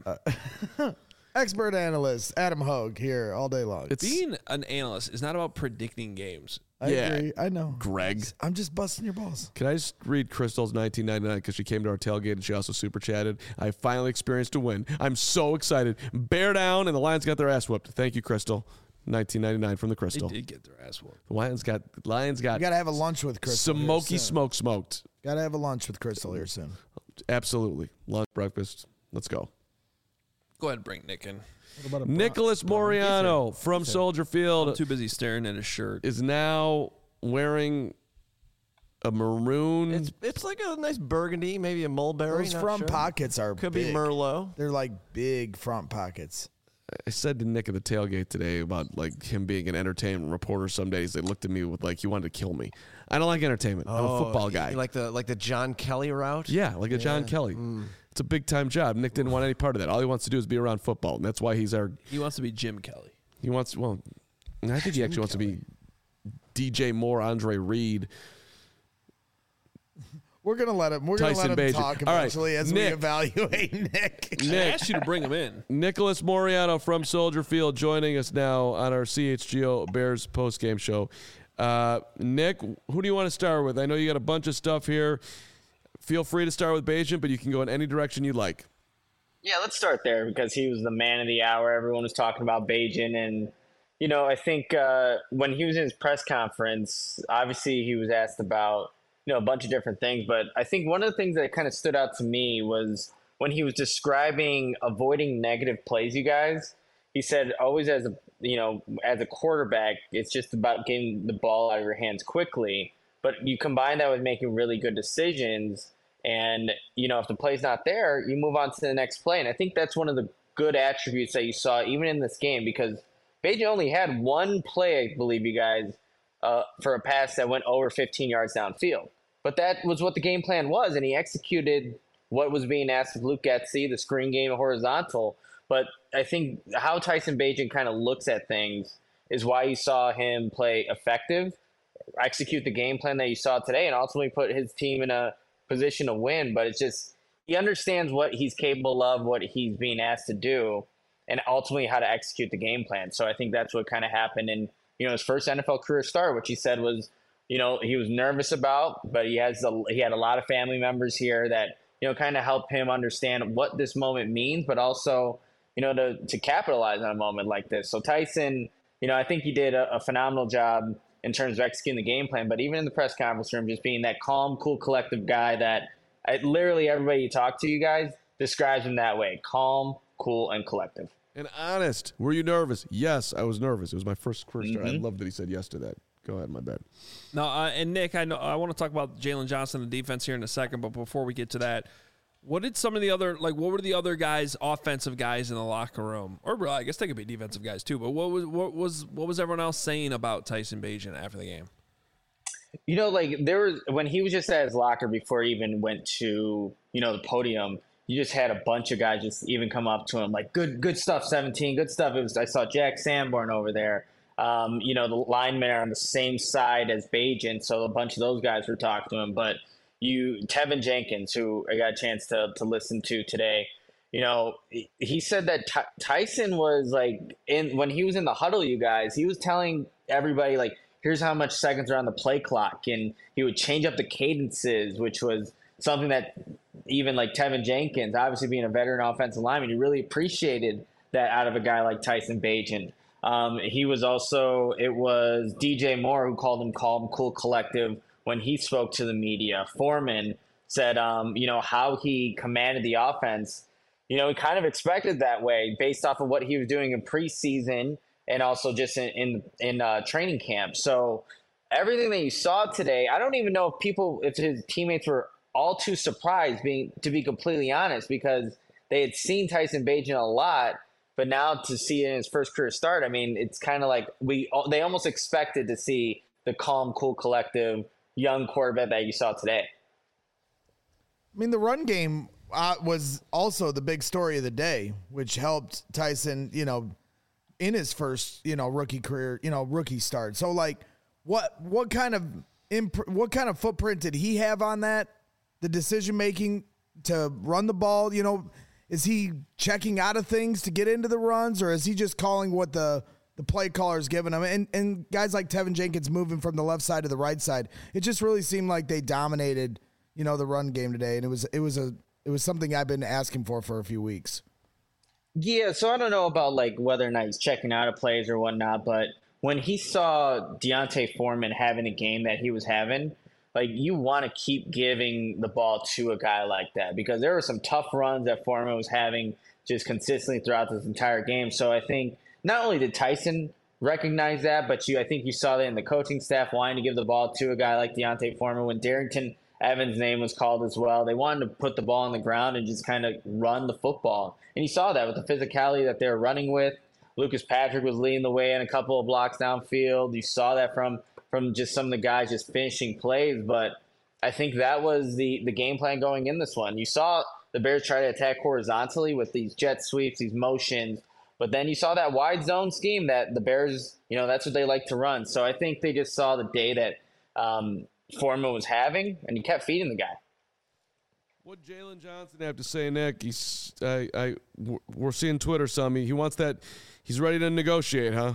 S2: Expert analyst Adam Hogue here all day long.
S1: Being an analyst is not about predicting games.
S2: I agree. I know.
S3: Greg.
S2: I'm just busting your balls.
S3: Can I just read Crystal's 1999 because she came to our tailgate and she also super chatted. I finally experienced a win. I'm so excited. Bear down, and the Lions got their ass whooped. Thank you, Crystal. 1999 from the Crystal.
S1: They did get their ass whooped.
S3: The Lions got.
S2: You got to have a lunch with Crystal.
S3: Smoky smoked.
S2: Got to have a lunch with Crystal here soon.
S3: Absolutely. Lunch, breakfast. Let's go.
S1: Go ahead and bring Nick in.
S3: Nicholas Moriano from Soldier Field.
S1: I'm too busy staring at his shirt.
S3: Is now wearing a maroon.
S4: It's like a nice burgundy, maybe a mulberry.
S2: Those front pockets are
S4: could
S2: big.
S4: be Merlot.
S2: They're like big front pockets.
S3: I said to Nick at the tailgate today about like him being an entertainment reporter. Some days they looked at me with like he wanted to kill me. I don't like entertainment. I'm a football guy.
S4: Like the John Kelly route.
S3: Yeah, like a John Kelly. It's a big time job. Nick didn't want any part of that. All he wants to do is be around football, and that's why he's our.
S1: He wants to be Jim Kelly.
S3: He wants. Well, I think he actually wants to be DJ Moore, Andre Reed.
S2: We're gonna let him. We're gonna let him talk eventually as we evaluate Nick.
S1: I asked you to bring him in.
S3: Nicholas Moriano from Soldier Field joining us now on our CHGO Bears postgame show. Nick, who do you want to start with? I know you got a bunch of stuff here. Feel free to start with Bagent, but you can go in any direction you'd like.
S14: Yeah, let's start there because he was the man of the hour. Everyone was talking about Bagent, and I think when he was in his press conference, obviously he was asked about a bunch of different things, but I think one of the things that kind of stood out to me was when he was describing avoiding negative plays. You guys, he said always as a quarterback, it's just about getting the ball out of your hands quickly. But you combine that with making really good decisions, and if the play's not there, you move on to the next play. And I think that's one of the good attributes that you saw even in this game, because Bagent only had one play, I believe, you guys, for a pass that went over 15 yards downfield. But that was what the game plan was, and he executed what was being asked of Luke Getsy, the screen game horizontal. But I think how Tyson Bagent kind of looks at things is why you saw him play effective, execute the game plan that you saw today, and ultimately put his team in a position to win. But it's just he understands what he's capable of, what he's being asked to do, and ultimately how to execute the game plan. So I think that's what kind of happened in his first NFL career start, which he said was he was nervous about, but he had a lot of family members here that, kind of help him understand what this moment means, but also, to capitalize on a moment like this. So Tyson, I think he did a phenomenal job in terms of executing the game plan, but even in the press conference room, just being that calm, cool, collective guy that literally everybody you talk to, you guys, describes him that way. Calm, cool, and collective.
S3: And honest. Were you nervous? Yes, I was nervous. It was my first career start. I love that he said yes to that. Go ahead, my bad.
S1: No, and Nick, I know I want to talk about Jalen Johnson and defense here in a second, but before we get to that, what did some of the other, what were the other guys, offensive guys in the locker room, or I guess they could be defensive guys too, but what was everyone else saying about Tyson Bagent after the game?
S14: When he was just at his locker before he even went to, the podium, you just had a bunch of guys just even come up to him like, good stuff, 17, good stuff. I saw Jack Sanborn over there. The linemen are on the same side as Bagent, so a bunch of those guys were talking to him, but Tevin Jenkins, who I got a chance to listen to today, he said that Tyson was when he was in the huddle, you guys, he was telling everybody here's how much seconds are on the play clock, and he would change up the cadences, which was something that even Tevin Jenkins, obviously being a veteran offensive lineman, he really appreciated that out of a guy like Tyson Bagent. It was DJ Moore who called him calm, cool, collective when he spoke to the media. Foreman said, how he commanded the offense. He kind of expected that way based off of what he was doing in preseason and also just in training camp. So everything that you saw today, I don't even know if his teammates were all too surprised, to be completely honest, because they had seen Tyson Bagent a lot, but now to see it in his first career start, I mean, it's kind of like they almost expected to see the calm, cool, collective young quarterback that you saw today.
S2: I mean, the run game was also the big story of the day, which helped Tyson, in his first, rookie career, rookie start. So what kind of footprint did he have on that? The decision making to run the ball, is he checking out of things to get into the runs, or is he just calling what the play caller's giving him? And guys like Tevin Jenkins moving from the left side to the right side, it just really seemed like they dominated, the run game today. And it was something I've been asking for a few weeks.
S14: Yeah, so I don't know about whether or not he's checking out of plays or whatnot, but when he saw Deontay Foreman having a game that he was having, you want to keep giving the ball to a guy like that, because there were some tough runs that Foreman was having just consistently throughout this entire game. So I think not only did Tyson recognize that, but I think you saw that in the coaching staff wanting to give the ball to a guy like Deontay Foreman. When Darrington Evans' name was called as well, they wanted to put the ball on the ground and just kind of run the football. And you saw that with the physicality that they were running with. Lucas Patrick was leading the way in a couple of blocks downfield. You saw that from just some of the guys just finishing plays. But I think that was the game plan going in this one. You saw the Bears try to attack horizontally with these jet sweeps, these motions. But then you saw that wide zone scheme that the Bears, that's what they like to run. So I think they just saw the day that Foreman was having, and he kept feeding the guy.
S3: What Jalen Johnson have to say, Nick? We're seeing Twitter some. He wants that. He's ready to negotiate, huh?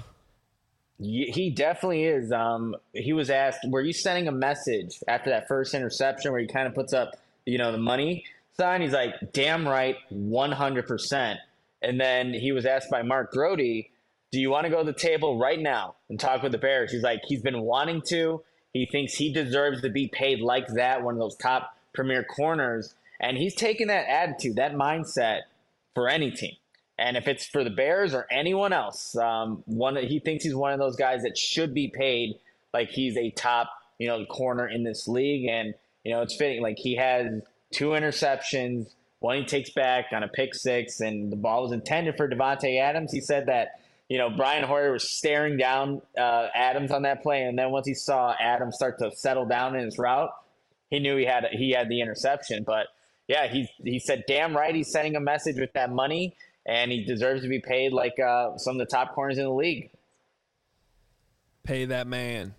S14: He definitely is. He was asked, were you sending a message after that first interception where he kind of puts up, the money sign? He's like, damn right, 100%. And then he was asked by Mark Grote, do you want to go to the table right now and talk with the Bears? He's like, he's been wanting to. He thinks he deserves to be paid like that, one of those top premier corners. And he's taken that attitude, that mindset for any team. And if it's for the Bears or anyone else, he thinks he's one of those guys that should be paid like he's a top, corner in this league. And, it's fitting. He has 2 interceptions, one he takes back on a pick six, and the ball was intended for Devontae Adams. He said that, Brian Hoyer was staring down Adams on that play. And then once he saw Adams start to settle down in his route, he knew he had the interception. But yeah, he said, damn right, he's sending a message with that money. And he deserves to be paid like some of the top corners in the league.
S1: Pay that man.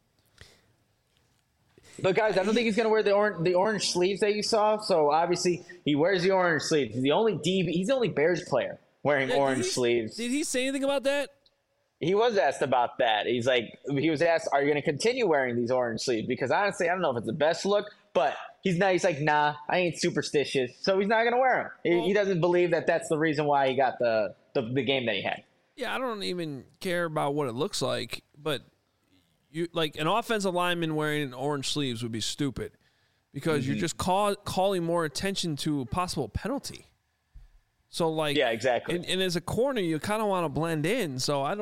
S14: But guys, I don't think he's going to wear the orange sleeves that you saw. So obviously, he wears the orange sleeves. He's the only Bears player wearing orange sleeves.
S1: Did he say anything about that?
S14: He was asked about that. He was asked, "Are you going to continue wearing these orange sleeves?" Because honestly, I don't know if it's the best look, but he's like, "Nah, I ain't superstitious," so he's not going to wear them. He doesn't believe that that's the reason why he got the game that he had.
S1: Yeah, I don't even care about what it looks like, but you like an offensive lineman wearing orange sleeves would be stupid because you're just calling more attention to a possible penalty. So like,
S14: yeah, exactly.
S1: And as a corner, you kind of want to blend in. So I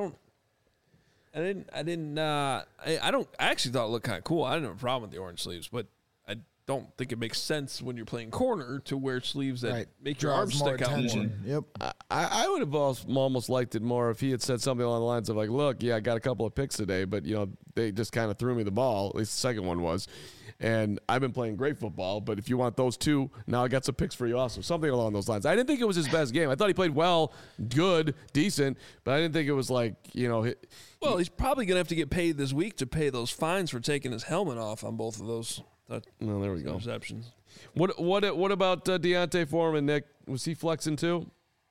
S1: actually thought it looked kind of cool. I didn't have a problem with the orange sleeves, but I don't think it makes sense when you're playing corner to wear sleeves that make your arms stick out more.
S2: Yep.
S3: I would have almost liked it more if he had said something along the lines of like, look, yeah, I got a couple of picks today, but they just kind of threw me the ball. At least the second one was. And I've been playing great football, but if you want those two, now I got some picks for you also. Something along those lines. I didn't think it was his best game. I thought he played well, good, decent, but I didn't think it was like,
S1: Well, he's probably going to have to get paid this week to pay those fines for taking his helmet off on both of those.
S3: Well, there we go.
S1: Interceptions.
S3: What about D'Onta Foreman, Nick? Was he flexing too?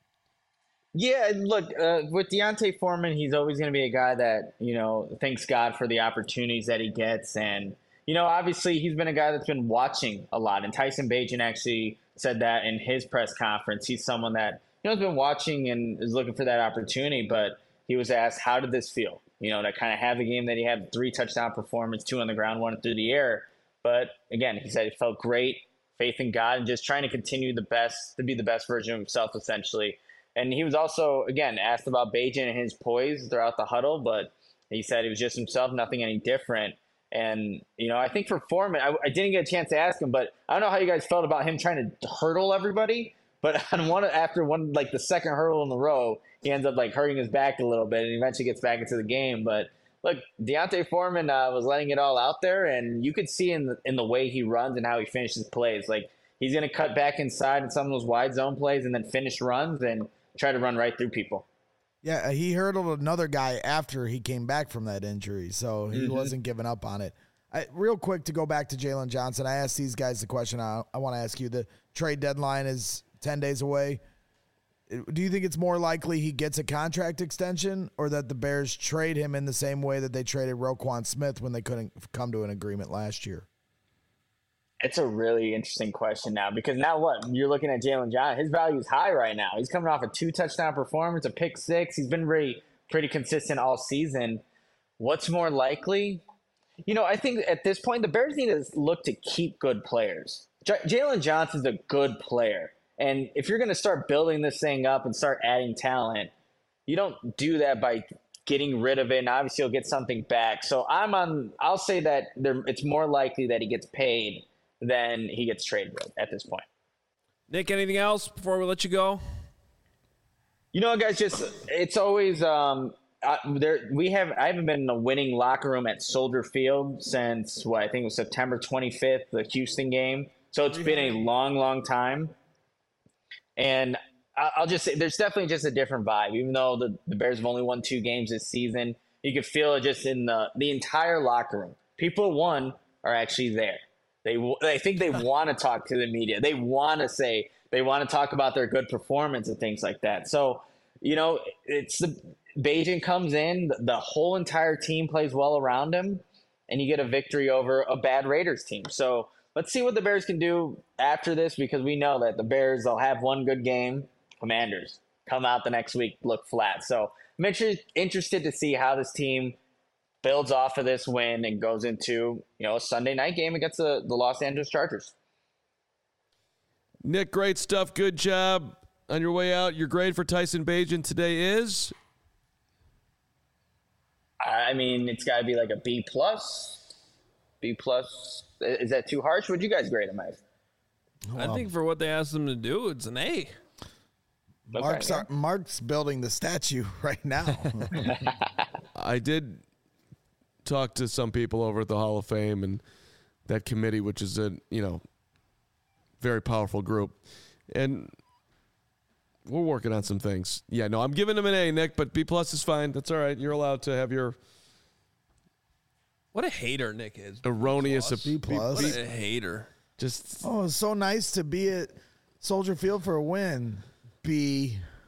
S14: Yeah, look, with D'Onta Foreman, he's always going to be a guy that, thanks God for the opportunities that he gets. And, obviously he's been a guy that's been watching a lot. And Tyson Bagent actually said that in his press conference. He's someone that, has been watching and is looking for that opportunity. But he was asked, how did this feel? To kind of have the game that he had, 3 touchdown performance, 2 on the ground, 1 through the air. But again, he said it felt great, faith in God, and just trying to continue to be the best version of himself, essentially. And he was also, again, asked about Bagent and his poise throughout the huddle, but he said he was just himself, nothing any different. And, I think for Foreman, I didn't get a chance to ask him, but I don't know how you guys felt about him trying to hurdle everybody. But after the second hurdle in the row, he ends up hurting his back a little bit and eventually gets back into the game. But look, D'Onta Foreman was letting it all out there, and you could see in the way he runs and how he finishes plays. Like, he's going to cut back inside in some of those wide zone plays and then finish runs and try to run right through people.
S2: Yeah, he hurdled another guy after he came back from that injury, so he wasn't giving up on it. Real quick, to go back to Jalen Johnson, I asked these guys the question I want to ask you. The trade deadline is 10 days away. Do you think it's more likely he gets a contract extension or that the Bears trade him in the same way that they traded Roquan Smith when they couldn't come to an agreement last year?
S14: It's a really interesting question now because now what? You're looking at Jalen Johnson. His value is high right now. He's coming off a 2-touchdown performance, a pick 6. He's been pretty consistent all season. What's more likely? I think at this point, the Bears need to look to keep good players. Jalen Johnson's a good player. And if you're going to start building this thing up and start adding talent, you don't do that by getting rid of it, and obviously you'll get something back. So I'll say that it's more likely that he gets paid than he gets traded at this point.
S1: Nick, anything else before we let you go?
S14: Guys, it's always I haven't been in a winning locker room at Soldier Field since I think it was September 25th, the Houston game. So it's been a long, long time. And I'll just say there's definitely just a different vibe. Even though the Bears have only won 2 games this season, you can feel it just in the entire locker room. People who won are actually there. I think they want to talk to the media. They want to talk about their good performance and things like that. So, it's Bagent comes in, the whole entire team plays well around him, and you get a victory over a bad Raiders team. So let's see what the Bears can do after this because we know that the Bears, they'll have one good game. Commanders come out the next week, look flat. So I'm interested to see how this team builds off of this win and goes into a Sunday night game against the Los Angeles Chargers.
S3: Nick, great stuff. Good job on your way out. Your grade for Tyson Bagent today is?
S14: I mean, it's got to be like a B+. B+. Is that too harsh? What'd you guys grade him as?
S1: I think for what they asked him to do, it's an A.
S2: Mark's building the statue right now.
S3: I did talk to some people over at the Hall of Fame and that committee, which is a very powerful group, and we're working on some things. Yeah, no, I'm giving him an A, Nick, but B+ is fine. That's all right. You're allowed to have your
S1: what a hater Nick is.
S3: Erroneous
S2: B+.
S1: What a hater.
S2: Just it's so nice to be at Soldier Field for a win. B.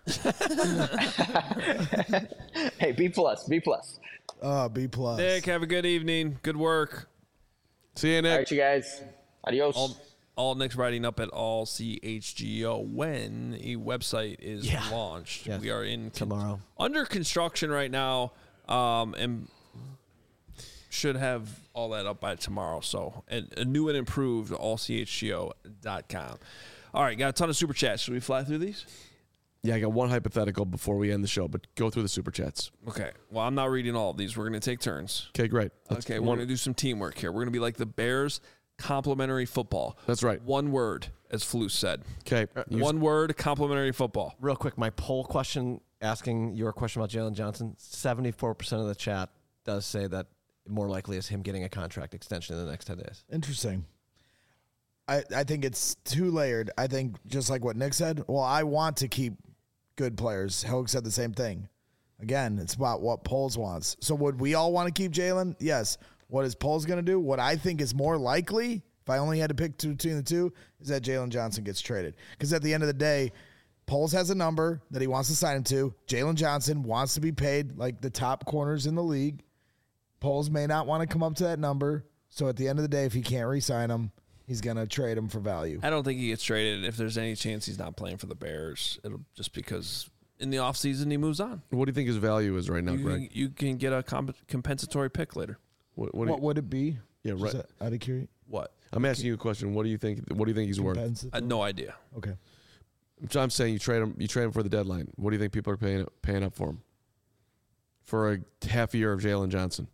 S14: Hey, B+.
S2: Oh, B+.
S1: Nick, have a good evening. Good work.
S3: See you, Nick.
S14: All right, you guys. Adios.
S1: All Nick's writing up at all CHGO when a website is launched.
S4: Yes.
S1: We are in
S4: tomorrow
S1: under construction right now, and should have all that up by tomorrow. So a new and improved allchgo.com. All right, got a ton of super chats. Should we fly through these?
S3: Yeah, I got one hypothetical before we end the show, but go through the super chats.
S1: Okay. Well, I'm not reading all of these. We're going to take turns.
S3: Okay, great.
S1: We're going to do some teamwork here. We're going to be like the Bears complimentary football.
S3: That's right.
S1: One word, as Flus said.
S3: Okay.
S1: One word, complimentary football.
S4: Real quick, my poll question asking your question about Jalen Johnson, 74% of the chat does say that more likely is him getting a contract extension in the next 10 days.
S2: Interesting. I think it's too layered. I think just like what Nick said, well, I want to keep good players. Hogue said the same thing. Again, it's about what Poles wants. So would we all want to keep Jalen? Yes. What is Poles going to do? What I think is more likely, if I only had to pick between the two, is that Jalen Johnson gets traded. Because at the end of the day, Poles has a number that he wants to sign him to. Jalen Johnson wants to be paid like the top corners in the league. Poles may not want to come up to that number. So at the end of the day, if he can't re-sign him, he's going to trade him for value.
S1: I don't think he gets traded. If there's any chance he's not playing for the Bears, it'll just because in the offseason he moves on.
S3: What do you think his value is right now, Greg?
S1: You can get a compensatory pick later.
S2: What would it be?
S3: Yeah, right.
S2: Out of curiosity.
S1: What?
S3: I'm asking you a question. What do you think? What do you think he's worth?
S1: I had no idea.
S2: Okay.
S3: I'm saying you trade him. You trade him for the deadline. What do you think people are paying up for him? For a half year of Jalen Johnson.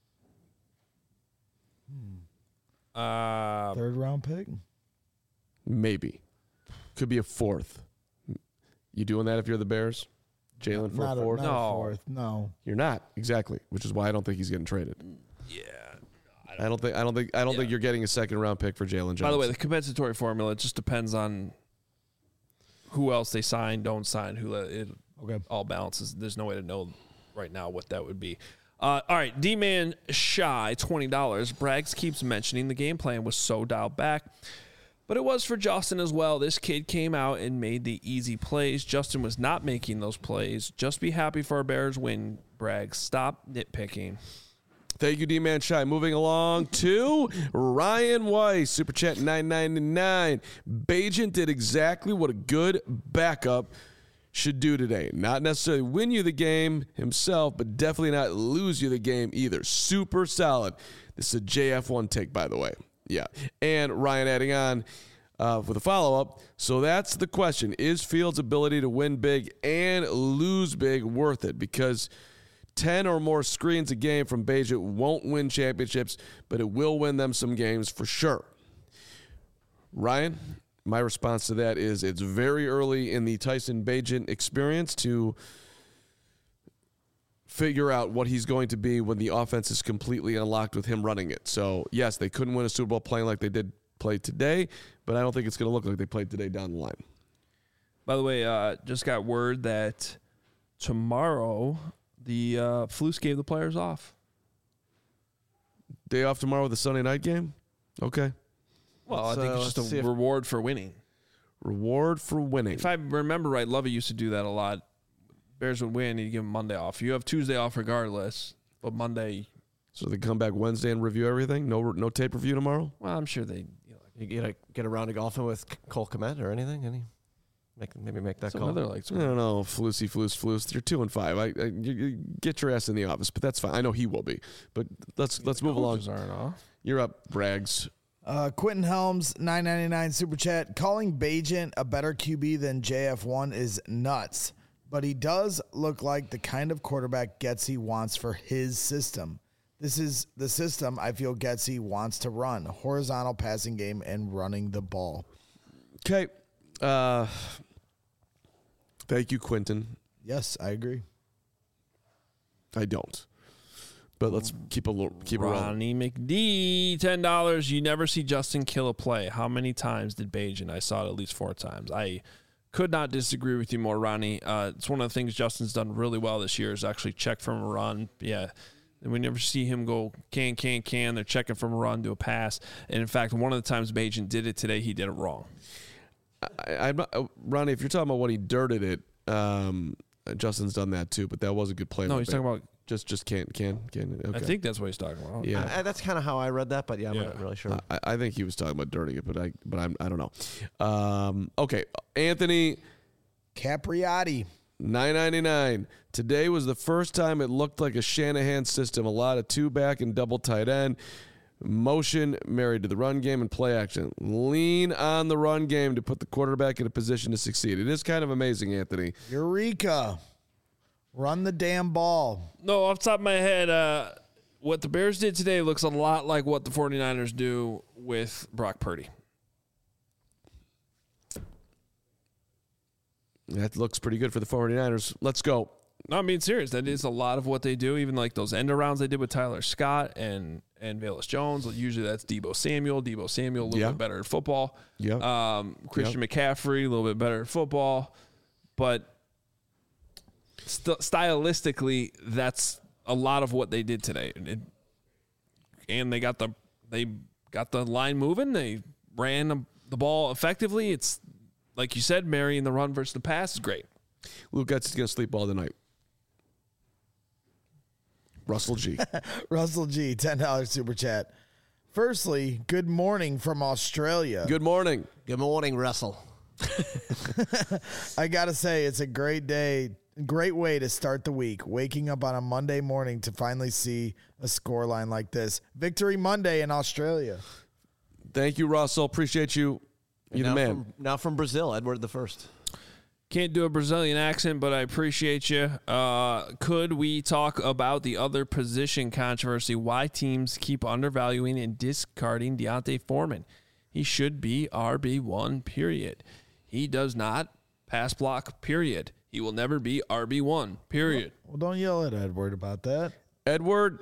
S2: Third round pick?
S3: Maybe. Could be a fourth. You doing that if you're the Bears? Jalen for a fourth?
S2: No.
S3: You're not. Exactly. Which is why I don't think he's getting traded.
S1: Yeah.
S3: I don't think you're getting a second round pick for Jalen Johnson.
S1: By the way, the compensatory formula, it just depends on who else they sign, don't sign, it all balances. There's no way to know right now what that would be. All right, D-Man Shy, $20. Braggs keeps mentioning the game plan was so dialed back, but it was for Justin as well. This kid came out and made the easy plays. Justin was not making those plays. Just be happy for our Bears win, Braggs. Stop nitpicking.
S3: Thank you, D-Man Shy. Moving along to Ryan Weiss, Super Chat $9.99. Bagent did exactly what a good backup should do today. Not necessarily win you the game himself, but definitely not lose you the game either. Super solid. This is a JF1 take, by the way. Yeah. And Ryan adding on with a follow-up. So that's the question. Is Fields' ability to win big and lose big worth it? Because 10 or more screens a game from Bagent won't win championships, but it will win them some games for sure. Ryan? My response to that is it's very early in the Tyson Bagent experience to figure out what he's going to be when the offense is completely unlocked with him running it. So, yes, they couldn't win a Super Bowl playing like they did play today, but I don't think it's going to look like they played today down the line.
S1: By the way, just got word that tomorrow the Flus gave the players off.
S3: Day off tomorrow with the Sunday night game? Okay.
S1: Well, I think it's just a reward for winning.
S3: Reward for winning.
S1: If I remember right, Lovey used to do that a lot. Bears would win, you give them Monday off. You have Tuesday off regardless, but Monday.
S3: So they come back Wednesday and review everything? No tape review tomorrow?
S1: Well, I'm sure they.
S4: You get around to golfing with Cole Kmet or anything? Maybe make that call.
S3: I don't know, Flus. You're 2-5. You get your ass in the office, but that's fine. I know he will be. But let's move along.
S1: Aren't off.
S3: You're up, Braggs.
S2: Quentin Helms, $9.99 super chat. Calling Bagent a better QB than JF1 is nuts, but he does look like the kind of quarterback Getsy wants for his system. This is the system I feel Getsy wants to run: horizontal passing game and running the ball.
S3: Okay. Thank you, Quentin.
S2: Yes, I agree.
S3: I don't. But let's keep around.
S1: Ronnie McD, $10. You never see Justin kill a play. How many times did Bagent? I saw it at least 4 times. I could not disagree with you more, Ronnie. It's one of the things Justin's done really well this year is actually check from a run. Yeah. And we never see him go can. They're checking from a run to a pass. And, in fact, one of the times Bagent did it today, he did it wrong.
S3: Ronnie, if you're talking about when he dirted it, Justin's done that too, but that was a good play.
S1: No, he's talking about
S3: just can't. Okay.
S1: I think that's what he's talking about.
S3: Yeah,
S4: that's kind of how I read that, but I'm not really sure.
S3: I think he was talking about dirting it, but I don't know. Okay, Anthony
S2: Capriotti.
S3: $9.99. Today was the first time it looked like a Shanahan system. A lot of 2-back and double tight end. Motion married to the run game and play action. Lean on the run game to put the quarterback in a position to succeed. It is kind of amazing, Anthony.
S2: Eureka. Run the damn ball.
S1: No, off the top of my head, what the Bears did today looks a lot like what the 49ers do with Brock Purdy.
S3: That looks pretty good for the 49ers. Let's go.
S1: No, I'm being serious. That is a lot of what they do. Even like those end arounds they did with Tyler Scott and Velus Jones. Usually that's Deebo Samuel. Deebo Samuel a little bit better at football.
S3: Yeah.
S1: Christian McCaffrey a little bit better at football. But stylistically, that's a lot of what they did today. And they got the line moving. They ran the ball effectively. It's like you said, marrying the run versus the pass is great.
S3: Luke Getz is going to sleep all the night. Russell G.
S2: Russell G, $10 super chat. Firstly, good morning from Australia.
S3: Good morning.
S4: Good morning, Russell.
S2: I got to say, it's a great day, great way to start the week. Waking up on a Monday morning to finally see a scoreline like this. Victory Monday in Australia.
S3: Thank you, Russell. Appreciate you. You're the man.
S4: Now from Brazil, Edward the First.
S1: Can't do a Brazilian accent, but I appreciate you. Could we talk about the other position controversy? Why teams keep undervaluing and discarding D'Onta Foreman? He should be RB1, period. He does not pass block, period. He will never be RB1, period.
S2: Well, don't yell at Edward about that.
S3: Edward,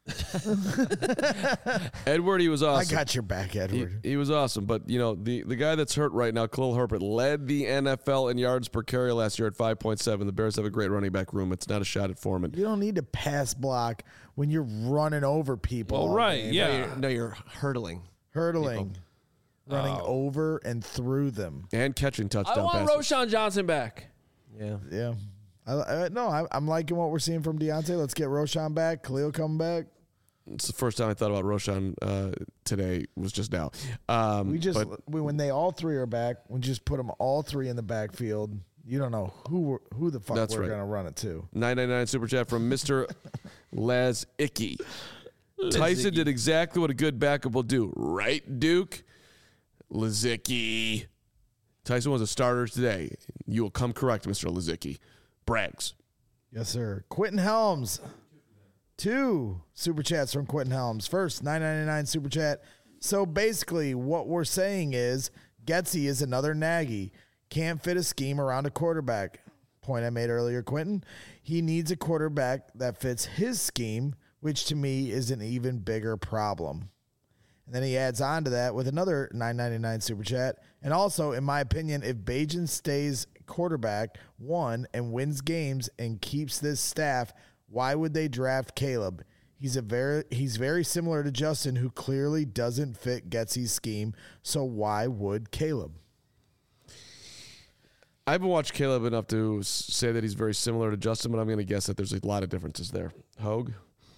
S3: he was awesome.
S2: I got your back, Edward.
S3: He was awesome. But, the guy that's hurt right now, Khalil Herbert, led the NFL in yards per carry last year at 5.7. The Bears have a great running back room. It's not a shot at Foreman.
S2: You don't need to pass block when you're running over people.
S1: Well, right, yeah.
S4: You're hurdling.
S2: Hurtling. Running over and through them.
S3: And catching touchdown
S1: I want
S3: passes.
S1: Roshan Johnson back.
S2: Yeah. I'm liking what we're seeing from D'Onta. Let's get Roshan back. Khalil coming back.
S3: It's the first time I thought about Roshan today was just now.
S2: When they all three are back, we just put them all three in the backfield. You don't know who the fuck we're going to run it to.
S3: $9.99 super chat from Mr. Laz Icky. Tyson did exactly what a good backup will do. Right, Duke? Lazicki. Tyson was a starter today. You will come correct, Mr. Lazicki. Brags.
S2: Yes, sir. Quentin Helms. 2 super chats from Quentin Helms. First, $9.99 super chat. So basically, what we're saying is Getsy is another Nagy. Can't fit a scheme around a quarterback. Point I made earlier, Quentin. He needs a quarterback that fits his scheme, which to me is an even bigger problem. And then he adds on to that with another $9.99 super chat. And also, in my opinion, if Bagent stays quarterback, one, and wins games and keeps this staff, why would they draft Caleb? He's very similar to Justin, who clearly doesn't fit Getsy's scheme. So why would Caleb?
S3: I haven't watched Caleb enough to say that he's very similar to Justin, but I'm going to guess that there's a lot of differences there. Hogue?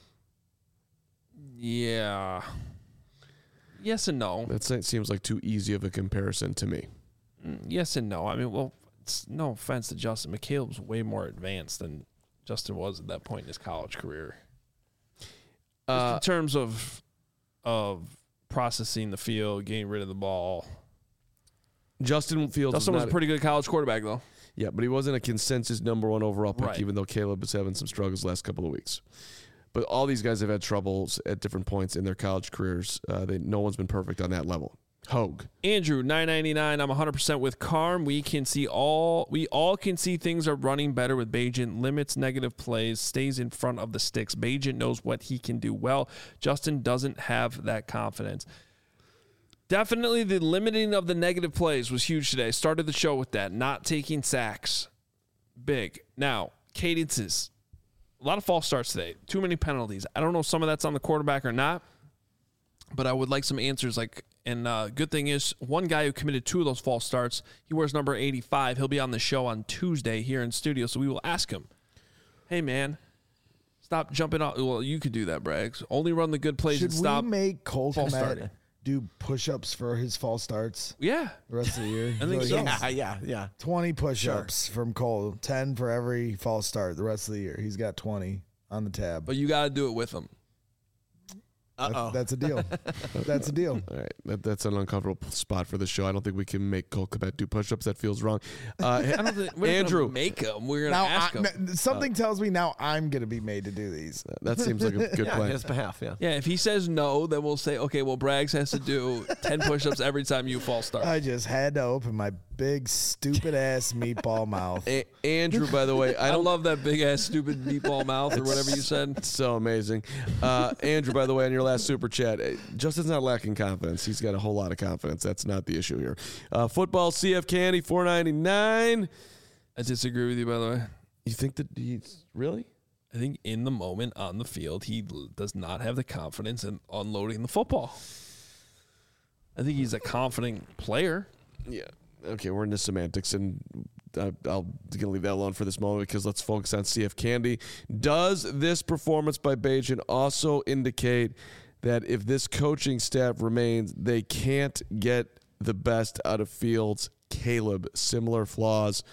S1: Yeah. Yes and no.
S3: That seems like too easy of a comparison to me.
S1: Yes and no. I mean, well, it's no offense to Justin, but Caleb's way more advanced than Justin was at that point in his college career. Just in terms of processing the field, getting rid of the ball.
S3: Justin was
S1: a pretty good college quarterback, though.
S3: Yeah, but he wasn't a consensus number 1 overall pick,
S1: Right.
S3: even though Caleb was having some struggles the last couple of weeks. But all these guys have had troubles at different points in their college careers. No one's been perfect on that level. Hogue.
S1: Andrew, $9.99. I'm 100% with Carm. We all can see things are running better with Bagent. Limits negative plays, stays in front of the sticks. Bagent knows what he can do well. Justin doesn't have that confidence. Definitely the limiting of the negative plays was huge today. Started the show with that. Not taking sacks. Big. Now, cadences. A lot of false starts today. Too many penalties. I don't know if some of that's on the quarterback or not, but I would like some answers. Like, And good thing is, one guy who committed 2 of those false starts, he wears number 85. He'll be on the show on Tuesday here in studio, so we will ask him, hey, man, stop jumping off. Well, you could do that, Braggs. Only run the good plays and stop.
S2: Should we make Cole
S1: false
S2: Kmet
S1: starting.
S2: do push-ups for his false starts?
S1: Yeah.
S2: The rest of the year?
S1: I think so.
S4: Yeah.
S2: 20 push-ups from Cole, 10 for every false start the rest of the year. He's got 20 on the tab.
S1: But you got to do it with him.
S2: That's a deal. That's a deal.
S3: All right, that's an uncomfortable spot for the show. I don't think we can make Cole Kmet do push-ups. That feels wrong.
S1: I don't think we're
S3: Andrew,
S1: gonna make him. We're gonna ask him.
S2: Something tells me now I'm going to be made to do these.
S3: That seems like a good plan.
S4: On his behalf, yeah.
S1: Yeah, if he says no, then we'll say, okay, well, Braggs has to do 10 push-ups every time you false start.
S2: I just had to open my big, stupid-ass meatball mouth.
S3: Andrew, by the way,
S1: I love that big-ass stupid meatball mouth or whatever you said.
S3: It's so amazing. Andrew, by the way, on your last super chat, Justin's not lacking confidence. He's got a whole lot of confidence. That's not the issue here. Football CF Candy, $4.99.
S1: I disagree with you, by the way.
S3: You think that he's really?
S1: I think in the moment on the field, he does not have the confidence in unloading the football. I think he's a confident player.
S3: Yeah. Okay, we're into semantics, and I'm going to leave that alone for this moment because let's focus on CF Candy. Does this performance by Bajan also indicate that if this coaching staff remains, they can't get the best out of Fields, Caleb, similar flaws?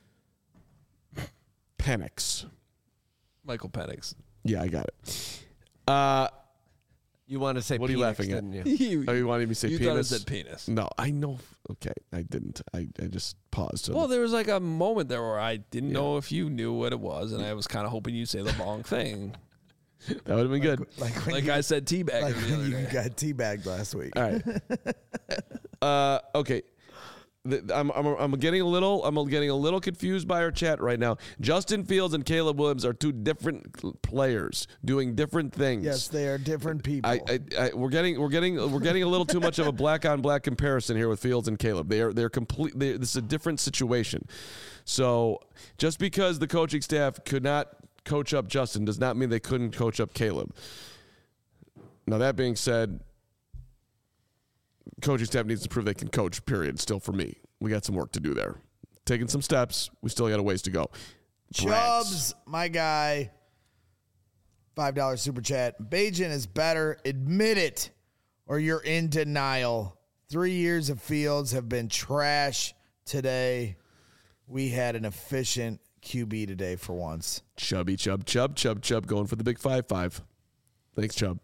S3: Penix.
S1: Michael Penix.
S3: Yeah, I got it.
S4: You wanted to say
S3: what are you laughing at?
S4: Didn't you?
S3: You wanted me to say
S1: you
S3: penis?
S1: thought it said penis.
S3: No, I know. Okay, I didn't. I just paused.
S1: Well, there was like a moment there where I didn't know if you knew what it was, and I was kind of hoping you'd say the wrong thing.
S3: That would have been good.
S1: Like I said, teabag.
S2: Like when you got teabagged last week.
S3: All right. Okay. I'm getting a little confused by our chat right now. Justin Fields and Caleb Williams are 2 different players doing different things.
S2: Yes, they are different people.
S3: We're getting a little too much of a black on black comparison here with Fields and Caleb. They're completely. This is a different situation. So just because the coaching staff could not coach up Justin does not mean they couldn't coach up Caleb. Now that being said, coaching staff needs to prove they can coach, period. Still for me. We got some work to do there. Taking some steps. We still got a ways to go.
S2: Chubbs, my guy. $5 super chat. Bajan is better. Admit it, or you're in denial. 3 years of Fields have been trash today. We had an efficient QB today for once.
S3: Chubby, Chubb, going for the big 5-5. Thanks, Chubb.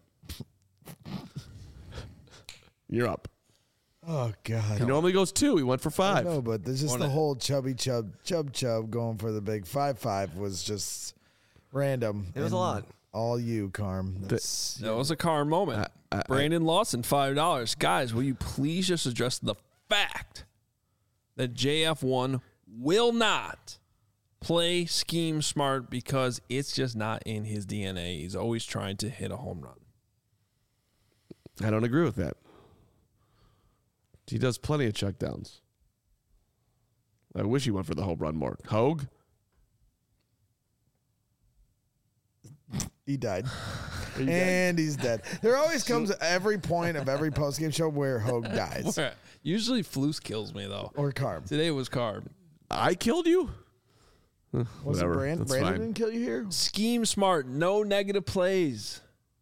S3: You're up.
S2: Oh, God.
S3: He normally goes 2. He went for 5.
S2: No, but there's just the whole chubby Chubb going for the big 5-5 was just random.
S4: It was a lot.
S2: All you, Carm.
S1: That was a Carm moment. Brandon Lawson, $5. Guys, will you please just address the fact that JF1 will not play scheme smart because it's just not in his DNA. He's always trying to hit a home run.
S3: I don't agree with that. He does plenty of checkdowns. I wish he went for the home run more. Hogue?
S2: He died. And he's dead. There always comes every point of every postgame show where Hogue dies.
S1: Usually Flus kills me, though.
S2: Or Carm.
S1: Today it was Carm.
S3: I killed you?
S2: Was it Brandon didn't kill you here?
S1: Scheme smart. No negative plays.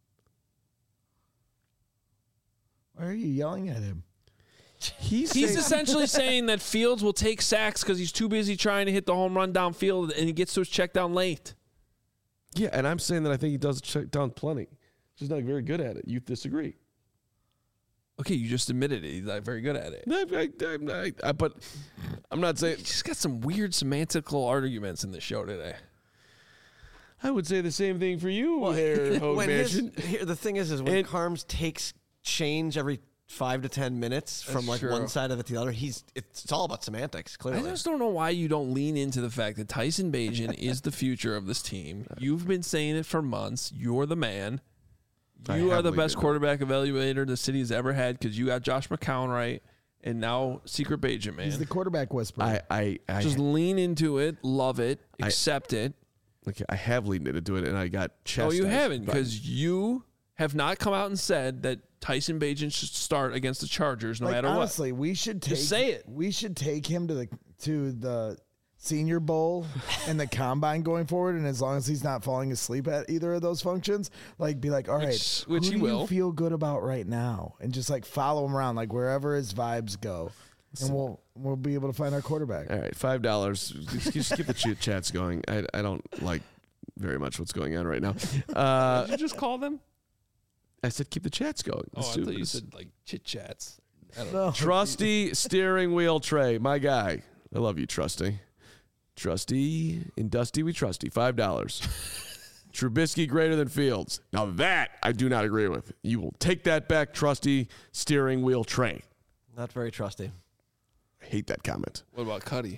S2: Why are you yelling at him?
S1: He's essentially saying that Fields will take sacks because he's too busy trying to hit the home run downfield, and he gets to his check down late.
S3: Yeah, and I'm saying that I think he does check down plenty. He's not very good at it. You disagree.
S1: Okay, you just admitted it. He's not very good at it.
S3: But I'm not saying...
S1: He's just got some weird semantical arguments in the show today.
S3: I would say the same thing for you, Hogue Mansion.
S4: The thing is when Carms takes change every 5 to 10 minutes from like one side of it to the other, it's all about semantics, clearly.
S1: I just don't know why you don't lean into the fact that Tyson Bagent is the future of this team. You've been saying it for months. You're the man. You are the best quarterback evaluator the city has ever had because you got Josh McCown right, and now Secret Bagent, man.
S2: He's the quarterback whisperer.
S3: I
S1: just lean into it, love it, accept it.
S3: Okay, I have leaned into it, and I got chastised.
S1: No, you haven't, because you have not come out and said that Tyson Bagent should start against the Chargers no matter
S2: honestly, we should take
S1: Just say it.
S2: We should take him to the Senior Bowl and the Combine going forward, and as long as he's not falling asleep at either of those functions, like be like, all right,
S1: which
S2: who
S1: he
S2: do
S1: will.
S2: you feel good about right now, and just like follow him around, like wherever his vibes go, and we'll be able to find our quarterback.
S3: All right, $5. Just keep the chats going. I don't like very much what's going on right now.
S1: Did you just call them?
S3: I said keep the chats going.
S1: Oh, I thought you said like chit chats.
S3: Trusty steering wheel Trey, my guy. I love you, Trusty. Trusty and Dusty, we trusty. $5. Trubisky greater than Fields. Now that I do not agree with. You will take that back, Trusty steering wheel Trey.
S4: Not very trusty.
S3: I hate that comment.
S1: What about Cuddy?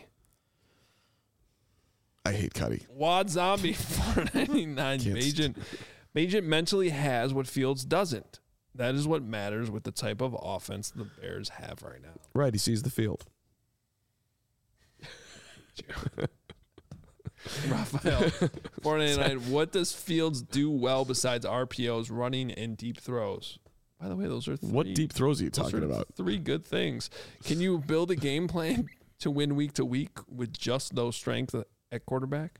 S3: I hate Cuddy.
S1: Wad Zombie 499. Bagent mentally has what Fields doesn't. That is what matters with the type of offense the Bears have right now.
S3: Right, he sees the field.
S1: Raphael 499. What does Fields do well besides RPOs, running, and deep throws? By the way, those are
S3: What deep throws are you talking about?
S1: 3 good things. Can you build a game plan to win week to week with just those strengths at quarterback?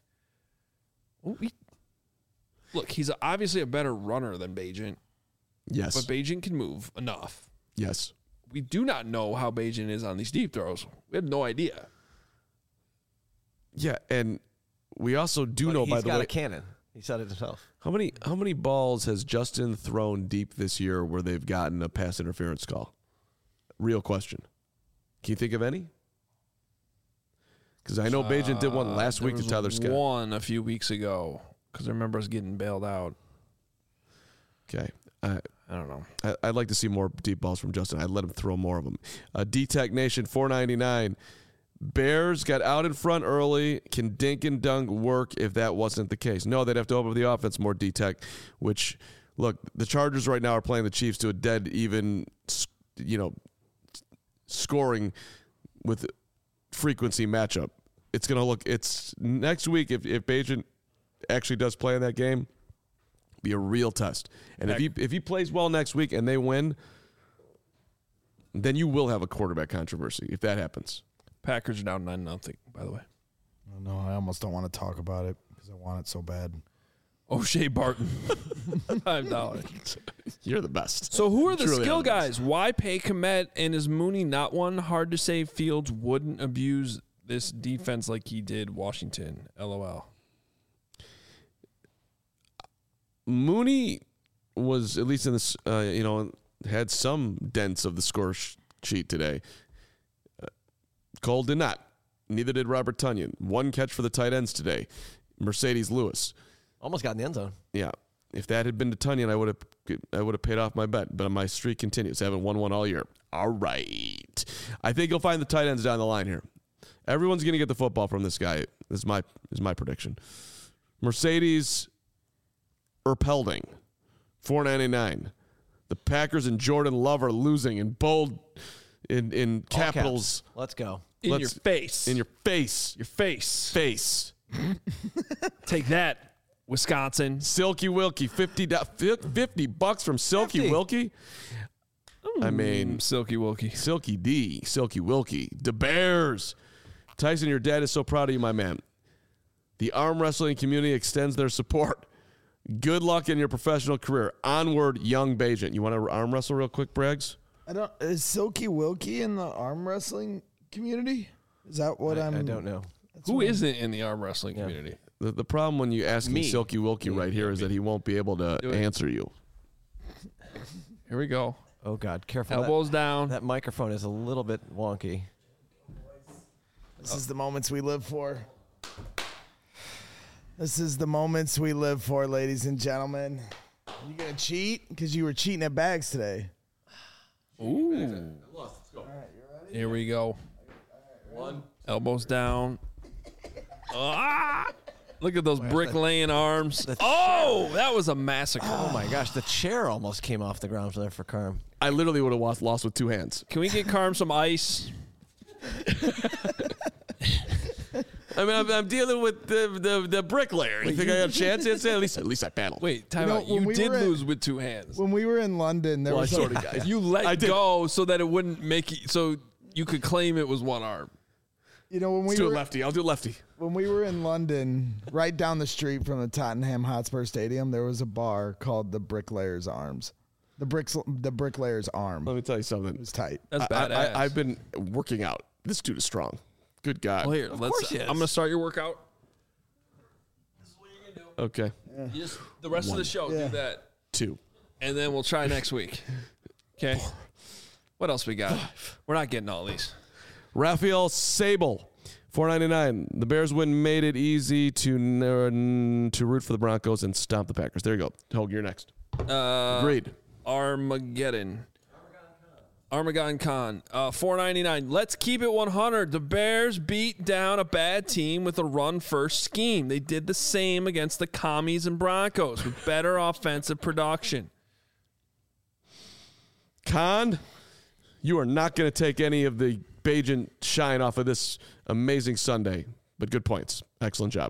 S1: Look, he's obviously a better runner than Bagent.
S3: Yes.
S1: But Bagent can move enough.
S3: Yes.
S1: We do not know how Bagent is on these deep throws. We have no idea.
S3: Yeah, and we also do know, by the way,
S4: he's got a cannon. He said it himself.
S3: How many balls has Justin thrown deep this year where they've gotten a pass interference call? Real question. Can you think of any? Because I know Bagent did one last week to Tyler Scott.
S1: One a few weeks ago because I remember us getting bailed out.
S3: Okay.
S1: I don't know.
S3: I'd like to see more deep balls from Justin. I'd let him throw more of them. D-Tech Nation 499. Bears got out in front early. Can dink and dunk work if that wasn't the case? No, they'd have to open up the offense more, D-Tech, which, look, the Chargers right now are playing the Chiefs to a dead even, scoring with frequency matchup. It's going to look, it's next week if Bagent actually does play in that game, be a real test. And if he plays well next week and they win, then you will have a quarterback controversy if that happens.
S1: Packers are down 9-0, by the way.
S2: Oh, no, I almost don't want to talk about it because I want it so bad.
S1: O'Shea Barton, $5.
S3: You're the best.
S1: So who are the
S3: Truly
S1: skill
S3: are the best.
S1: guys? Why pay Kmet, and is Mooney not one? Hard to say Fields wouldn't abuse this defense like he did Washington. LOL.
S3: Mooney was, at least in this, had some dents of the score sheet today. Cole did not. Neither did Robert Tonyan. 1 catch for the tight ends today. Mercedes Lewis.
S4: Almost got in the end zone.
S3: Yeah. If that had been to Tonyan, I would have paid off my bet. But my streak continues. I haven't won one all year. All right. I think you'll find the tight ends down the line here. Everyone's going to get the football from this guy. This is my prediction. Mercedes Erpelding, $4.99. The Packers and Jordan Love are losing in bold in capitals.
S4: Let's go.
S1: In your face.
S3: In your face.
S1: Your face.
S3: Face.
S1: Take that, Wisconsin.
S3: Silky Wilkie, $50 from Silky Wilkie. I mean,
S1: Silky Wilkie.
S3: Silky D, Silky Wilkie. The Bears. Tyson, your dad is so proud of you, my man. The arm wrestling community extends their support. Good luck in your professional career. Onward, young Bagent. You want to arm wrestle real quick, Braggs?
S2: Is Silky Wilkie in the arm wrestling community? Is that what
S4: I don't know.
S1: Who isn't in the arm wrestling community?
S3: The problem when you ask me Silky Wilkie right here is that he won't be able to answer you.
S1: Here we go.
S4: Oh, God. Careful.
S1: Elbows down.
S4: That microphone is a little bit wonky.
S2: This is the moments we live for. This is the moments we live for, ladies and gentlemen. Are you going to cheat? Because you were cheating at bags today.
S1: Ooh. Here we go.
S3: One.
S1: Elbows down. Look at those bricklaying arms. Oh, that was a massacre.
S4: Oh, my gosh. The chair almost came off the ground there for Carm.
S3: I literally would have lost with 2 hands.
S1: Can we get Carm some ice?
S3: I mean, I'm dealing with the bricklayer. You think I got a chance? At least I paddled.
S1: Wait, time out. You did lose with two hands.
S2: When we were in London, there was
S1: you let go so that it wouldn't make it so you could claim it was one arm.
S2: You know, when
S3: Let's do a lefty. I'll do lefty.
S2: When we were in London, right down the street from the Tottenham Hotspur Stadium, there was a bar called the Bricklayer's Arms. The Bricklayer's Arm.
S3: Let me tell you something.
S2: It was tight.
S1: That's badass.
S3: I've been working out. This dude is strong. Good God.
S1: Well, here, I'm going to start your workout. This is what you're going to do.
S3: Okay.
S1: You just, the rest of the show, do that.
S3: 2.
S1: And then we'll try next week. Okay. What else we got? We're not getting all these.
S3: Raphael Sable, $4.99. The Bears win made it easy to root for the Broncos and stomp the Packers. There you go. Hogue, you're next. Agreed.
S1: Armageddon Con, $4.99. Let's keep it 100. The Bears beat down a bad team with a run-first scheme. They did the same against the Commies and Broncos with better offensive production.
S3: Con, you are not going to take any of the Bagent shine off of this amazing Sunday, but good points. Excellent job.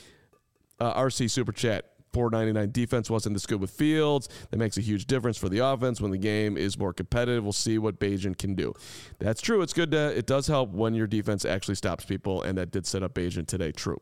S3: RC Super Chat, $4.99. Defense wasn't this good with Fields. That makes a huge difference for the offense when the game is more competitive. We'll see what Bagent can do. That's true. It's good. It does help when your defense actually stops people, and that did set up Bagent today. True.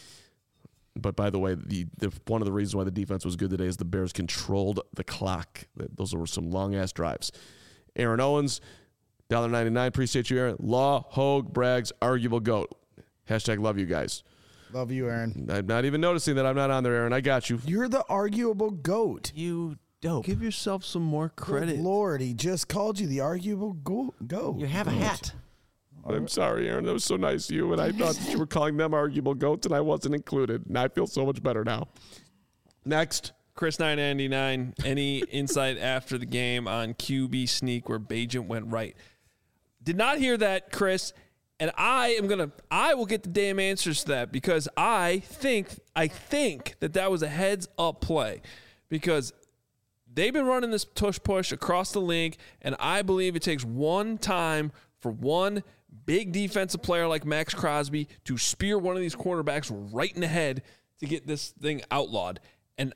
S3: But by the way, one of the reasons why the defense was good today is the Bears controlled the clock. Those were some long-ass drives. Aaron Owens, $1.99. Appreciate you, Aaron. Law, Hogue, Braggs, arguable GOAT. Hashtag love you guys.
S2: Love you, Aaron.
S3: I'm not even noticing that I'm not on there, Aaron. I got you.
S2: You're the arguable GOAT.
S4: You dope.
S1: Give yourself some more credit.
S2: Good Lord, he just called you the arguable GOAT.
S4: You have a hat.
S3: I'm sorry, Aaron. That was so nice of you, and I thought that you were calling them arguable GOATs, and I wasn't included. And I feel so much better now. Next.
S1: Chris $9.99. Any insight after the game on QB sneak where Bagent went right? Did not hear that, Chris. And I will get the damn answers to that because I think that was a heads up play because they've been running this tush push across the league, and I believe it takes one time for one big defensive player like Max Crosby to spear one of these quarterbacks right in the head to get this thing outlawed. And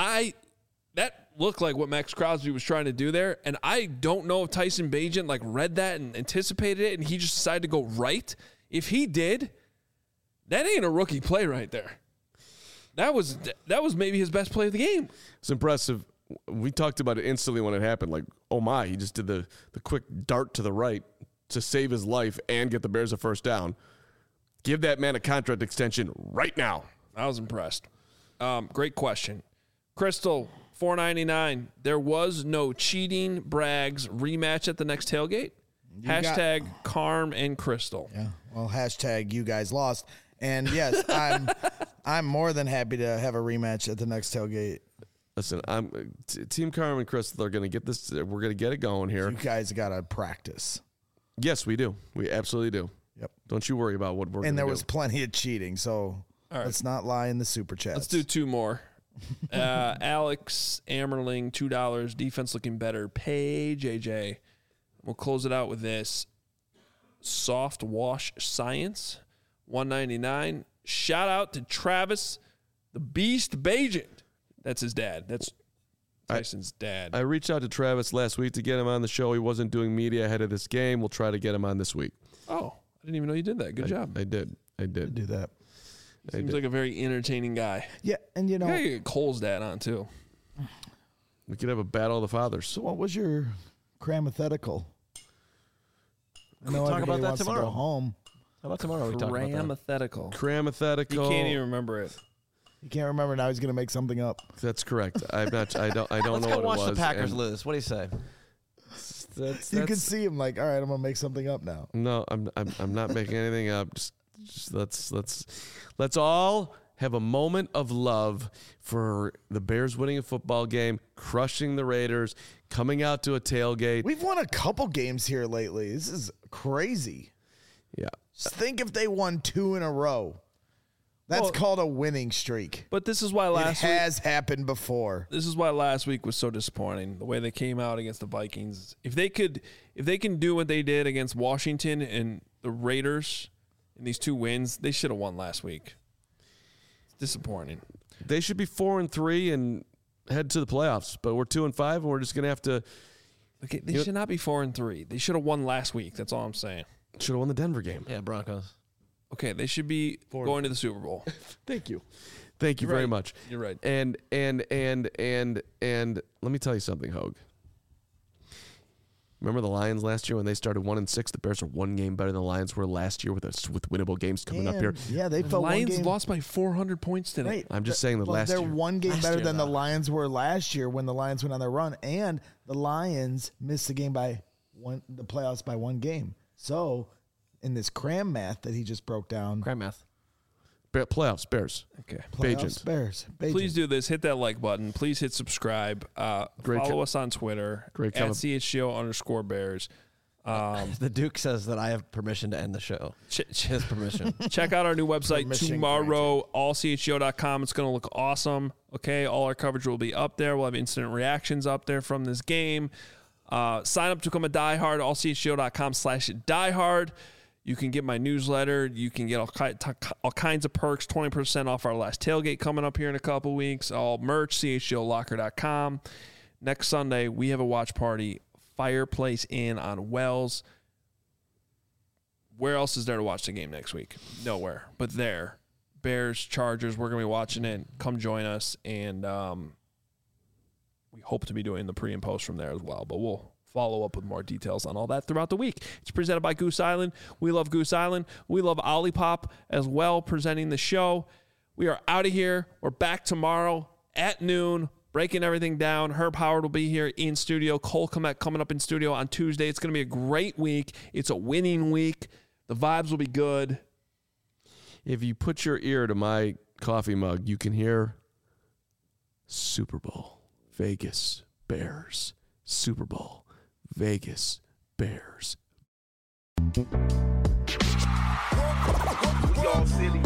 S1: that looked like what Max Crosby was trying to do there. And I don't know if Tyson Bagent read that and anticipated it and he just decided to go right. If he did, that ain't a rookie play right there. That was maybe his best play of the game.
S3: It's impressive. We talked about it instantly when it happened. Like, oh my, he just did the quick dart to the right to save his life and get the Bears a first down. Give that man a contract extension right now.
S1: I was impressed. Great question. Crystal, $4.99. There was no cheating Braggs rematch at the next tailgate. Hashtag Carm and Crystal.
S2: Yeah. Well, hashtag you guys lost. And yes, I'm more than happy to have a rematch at the next tailgate.
S3: Listen, Team Carm and Crystal are going to get this. We're going to get it going here.
S2: You guys got to practice.
S3: Yes, we do. We absolutely do.
S2: Yep.
S3: Don't you worry about what we're going to do.
S2: And there was plenty of cheating, so let's not lie in the super chats.
S1: Let's do two more. Alex Ammerling, $2. Defense looking better. Pay JJ. We'll close it out with this. Soft Wash Science, $1.99. Shout out to Travis, the Beast Bagent. That's his dad. That's Tyson's dad.
S3: I reached out to Travis last week to get him on the show. He wasn't doing media ahead of this game. We'll try to get him on this week.
S1: Oh, I didn't even know you did that. Good job.
S3: I did
S2: do that.
S1: Seems like a very entertaining guy.
S2: Yeah, and you know,
S1: you gotta get Cole's dad on too.
S3: We could have a battle of the fathers.
S2: So, what was your cramothetical?
S4: We'll talk about that tomorrow.
S2: To go home.
S4: How about tomorrow? We talk about that.
S3: Cramothetical.
S1: You can't even remember it.
S2: You can't remember now. He's going to make something up.
S3: That's correct. I don't
S4: Let's
S3: know
S4: go
S3: what it was.
S4: watch the Packers lose. What do you say?
S2: You can see him like, all right, I'm going to make something up now.
S3: No, I'm not making anything up. Just let's all have a moment of love for the Bears winning a football game, crushing the Raiders, coming out to a tailgate.
S2: We've won a couple games here lately. This is crazy.
S3: Yeah.
S2: Just think if they won 2 in a row. That's called a winning streak.
S1: But this is why last week
S2: has happened before.
S1: This is why last week was so disappointing. The way they came out against the Vikings. If they can do what they did against Washington and the Raiders in these 2 wins. They should have won last week. It's disappointing.
S3: They should be 4-3 and head to the playoffs, but we're 2-5, and we're just going to have to.
S1: Okay, they should not be 4-3. They should have won last week. That's all I'm saying.
S3: Should have won the Denver game.
S4: Yeah, Broncos.
S1: Okay, they should be going to the Super Bowl.
S3: Thank you very much.
S1: You're right.
S3: And let me tell you something, Hogue. Remember the Lions last year when they started 1-6? The Bears are 1 game better than the Lions were last year with winnable games coming up here.
S2: Yeah, they felt
S1: Lions lost by 400 points today.
S2: Right.
S3: I'm just saying that last year.
S2: They're 1 game better than the Lions were last year when the Lions went on their run, and the Lions missed the playoffs by 1 game. So, in this cram math that he just broke down.
S4: Cram math.
S3: Playoffs, Bears.
S1: Okay.
S2: Playoffs, Bears.
S1: Please do this. Hit that like button. Please hit subscribe. Follow us on Twitter.
S3: Great
S1: at CHGO_Bears.
S4: The Duke says that I have permission to end the show. His permission.
S1: Check out our new website tomorrow, allchgo.com. It's going to look awesome. Okay, all our coverage will be up there. We'll have instant reactions up there from this game. Sign up to become a diehard, allchgo.com/diehard. You can get my newsletter. You can get all kinds of perks, 20% off our last tailgate coming up here in a couple weeks. All merch, chgolocker.com. Next Sunday, we have a watch party, Fireplace Inn on Wells. Where else is there to watch the game next week? Nowhere, but there. Bears, Chargers, we're going to be watching it. Come join us, and we hope to be doing the pre and post from there as well, but we'll follow up with more details on all that throughout the week. It's presented by Goose Island. We love Goose Island. We love Olipop as well, presenting the show. We are out of here. We're back tomorrow at noon, breaking everything down. Herb Howard will be here in studio. Cole Kmet coming up in studio on Tuesday. It's going to be a great week. It's a winning week. The vibes will be good.
S3: If you put your ear to my coffee mug, you can hear Super Bowl, Vegas, Bears, Super Bowl, Vegas, Bears.
S15: Y'all silly.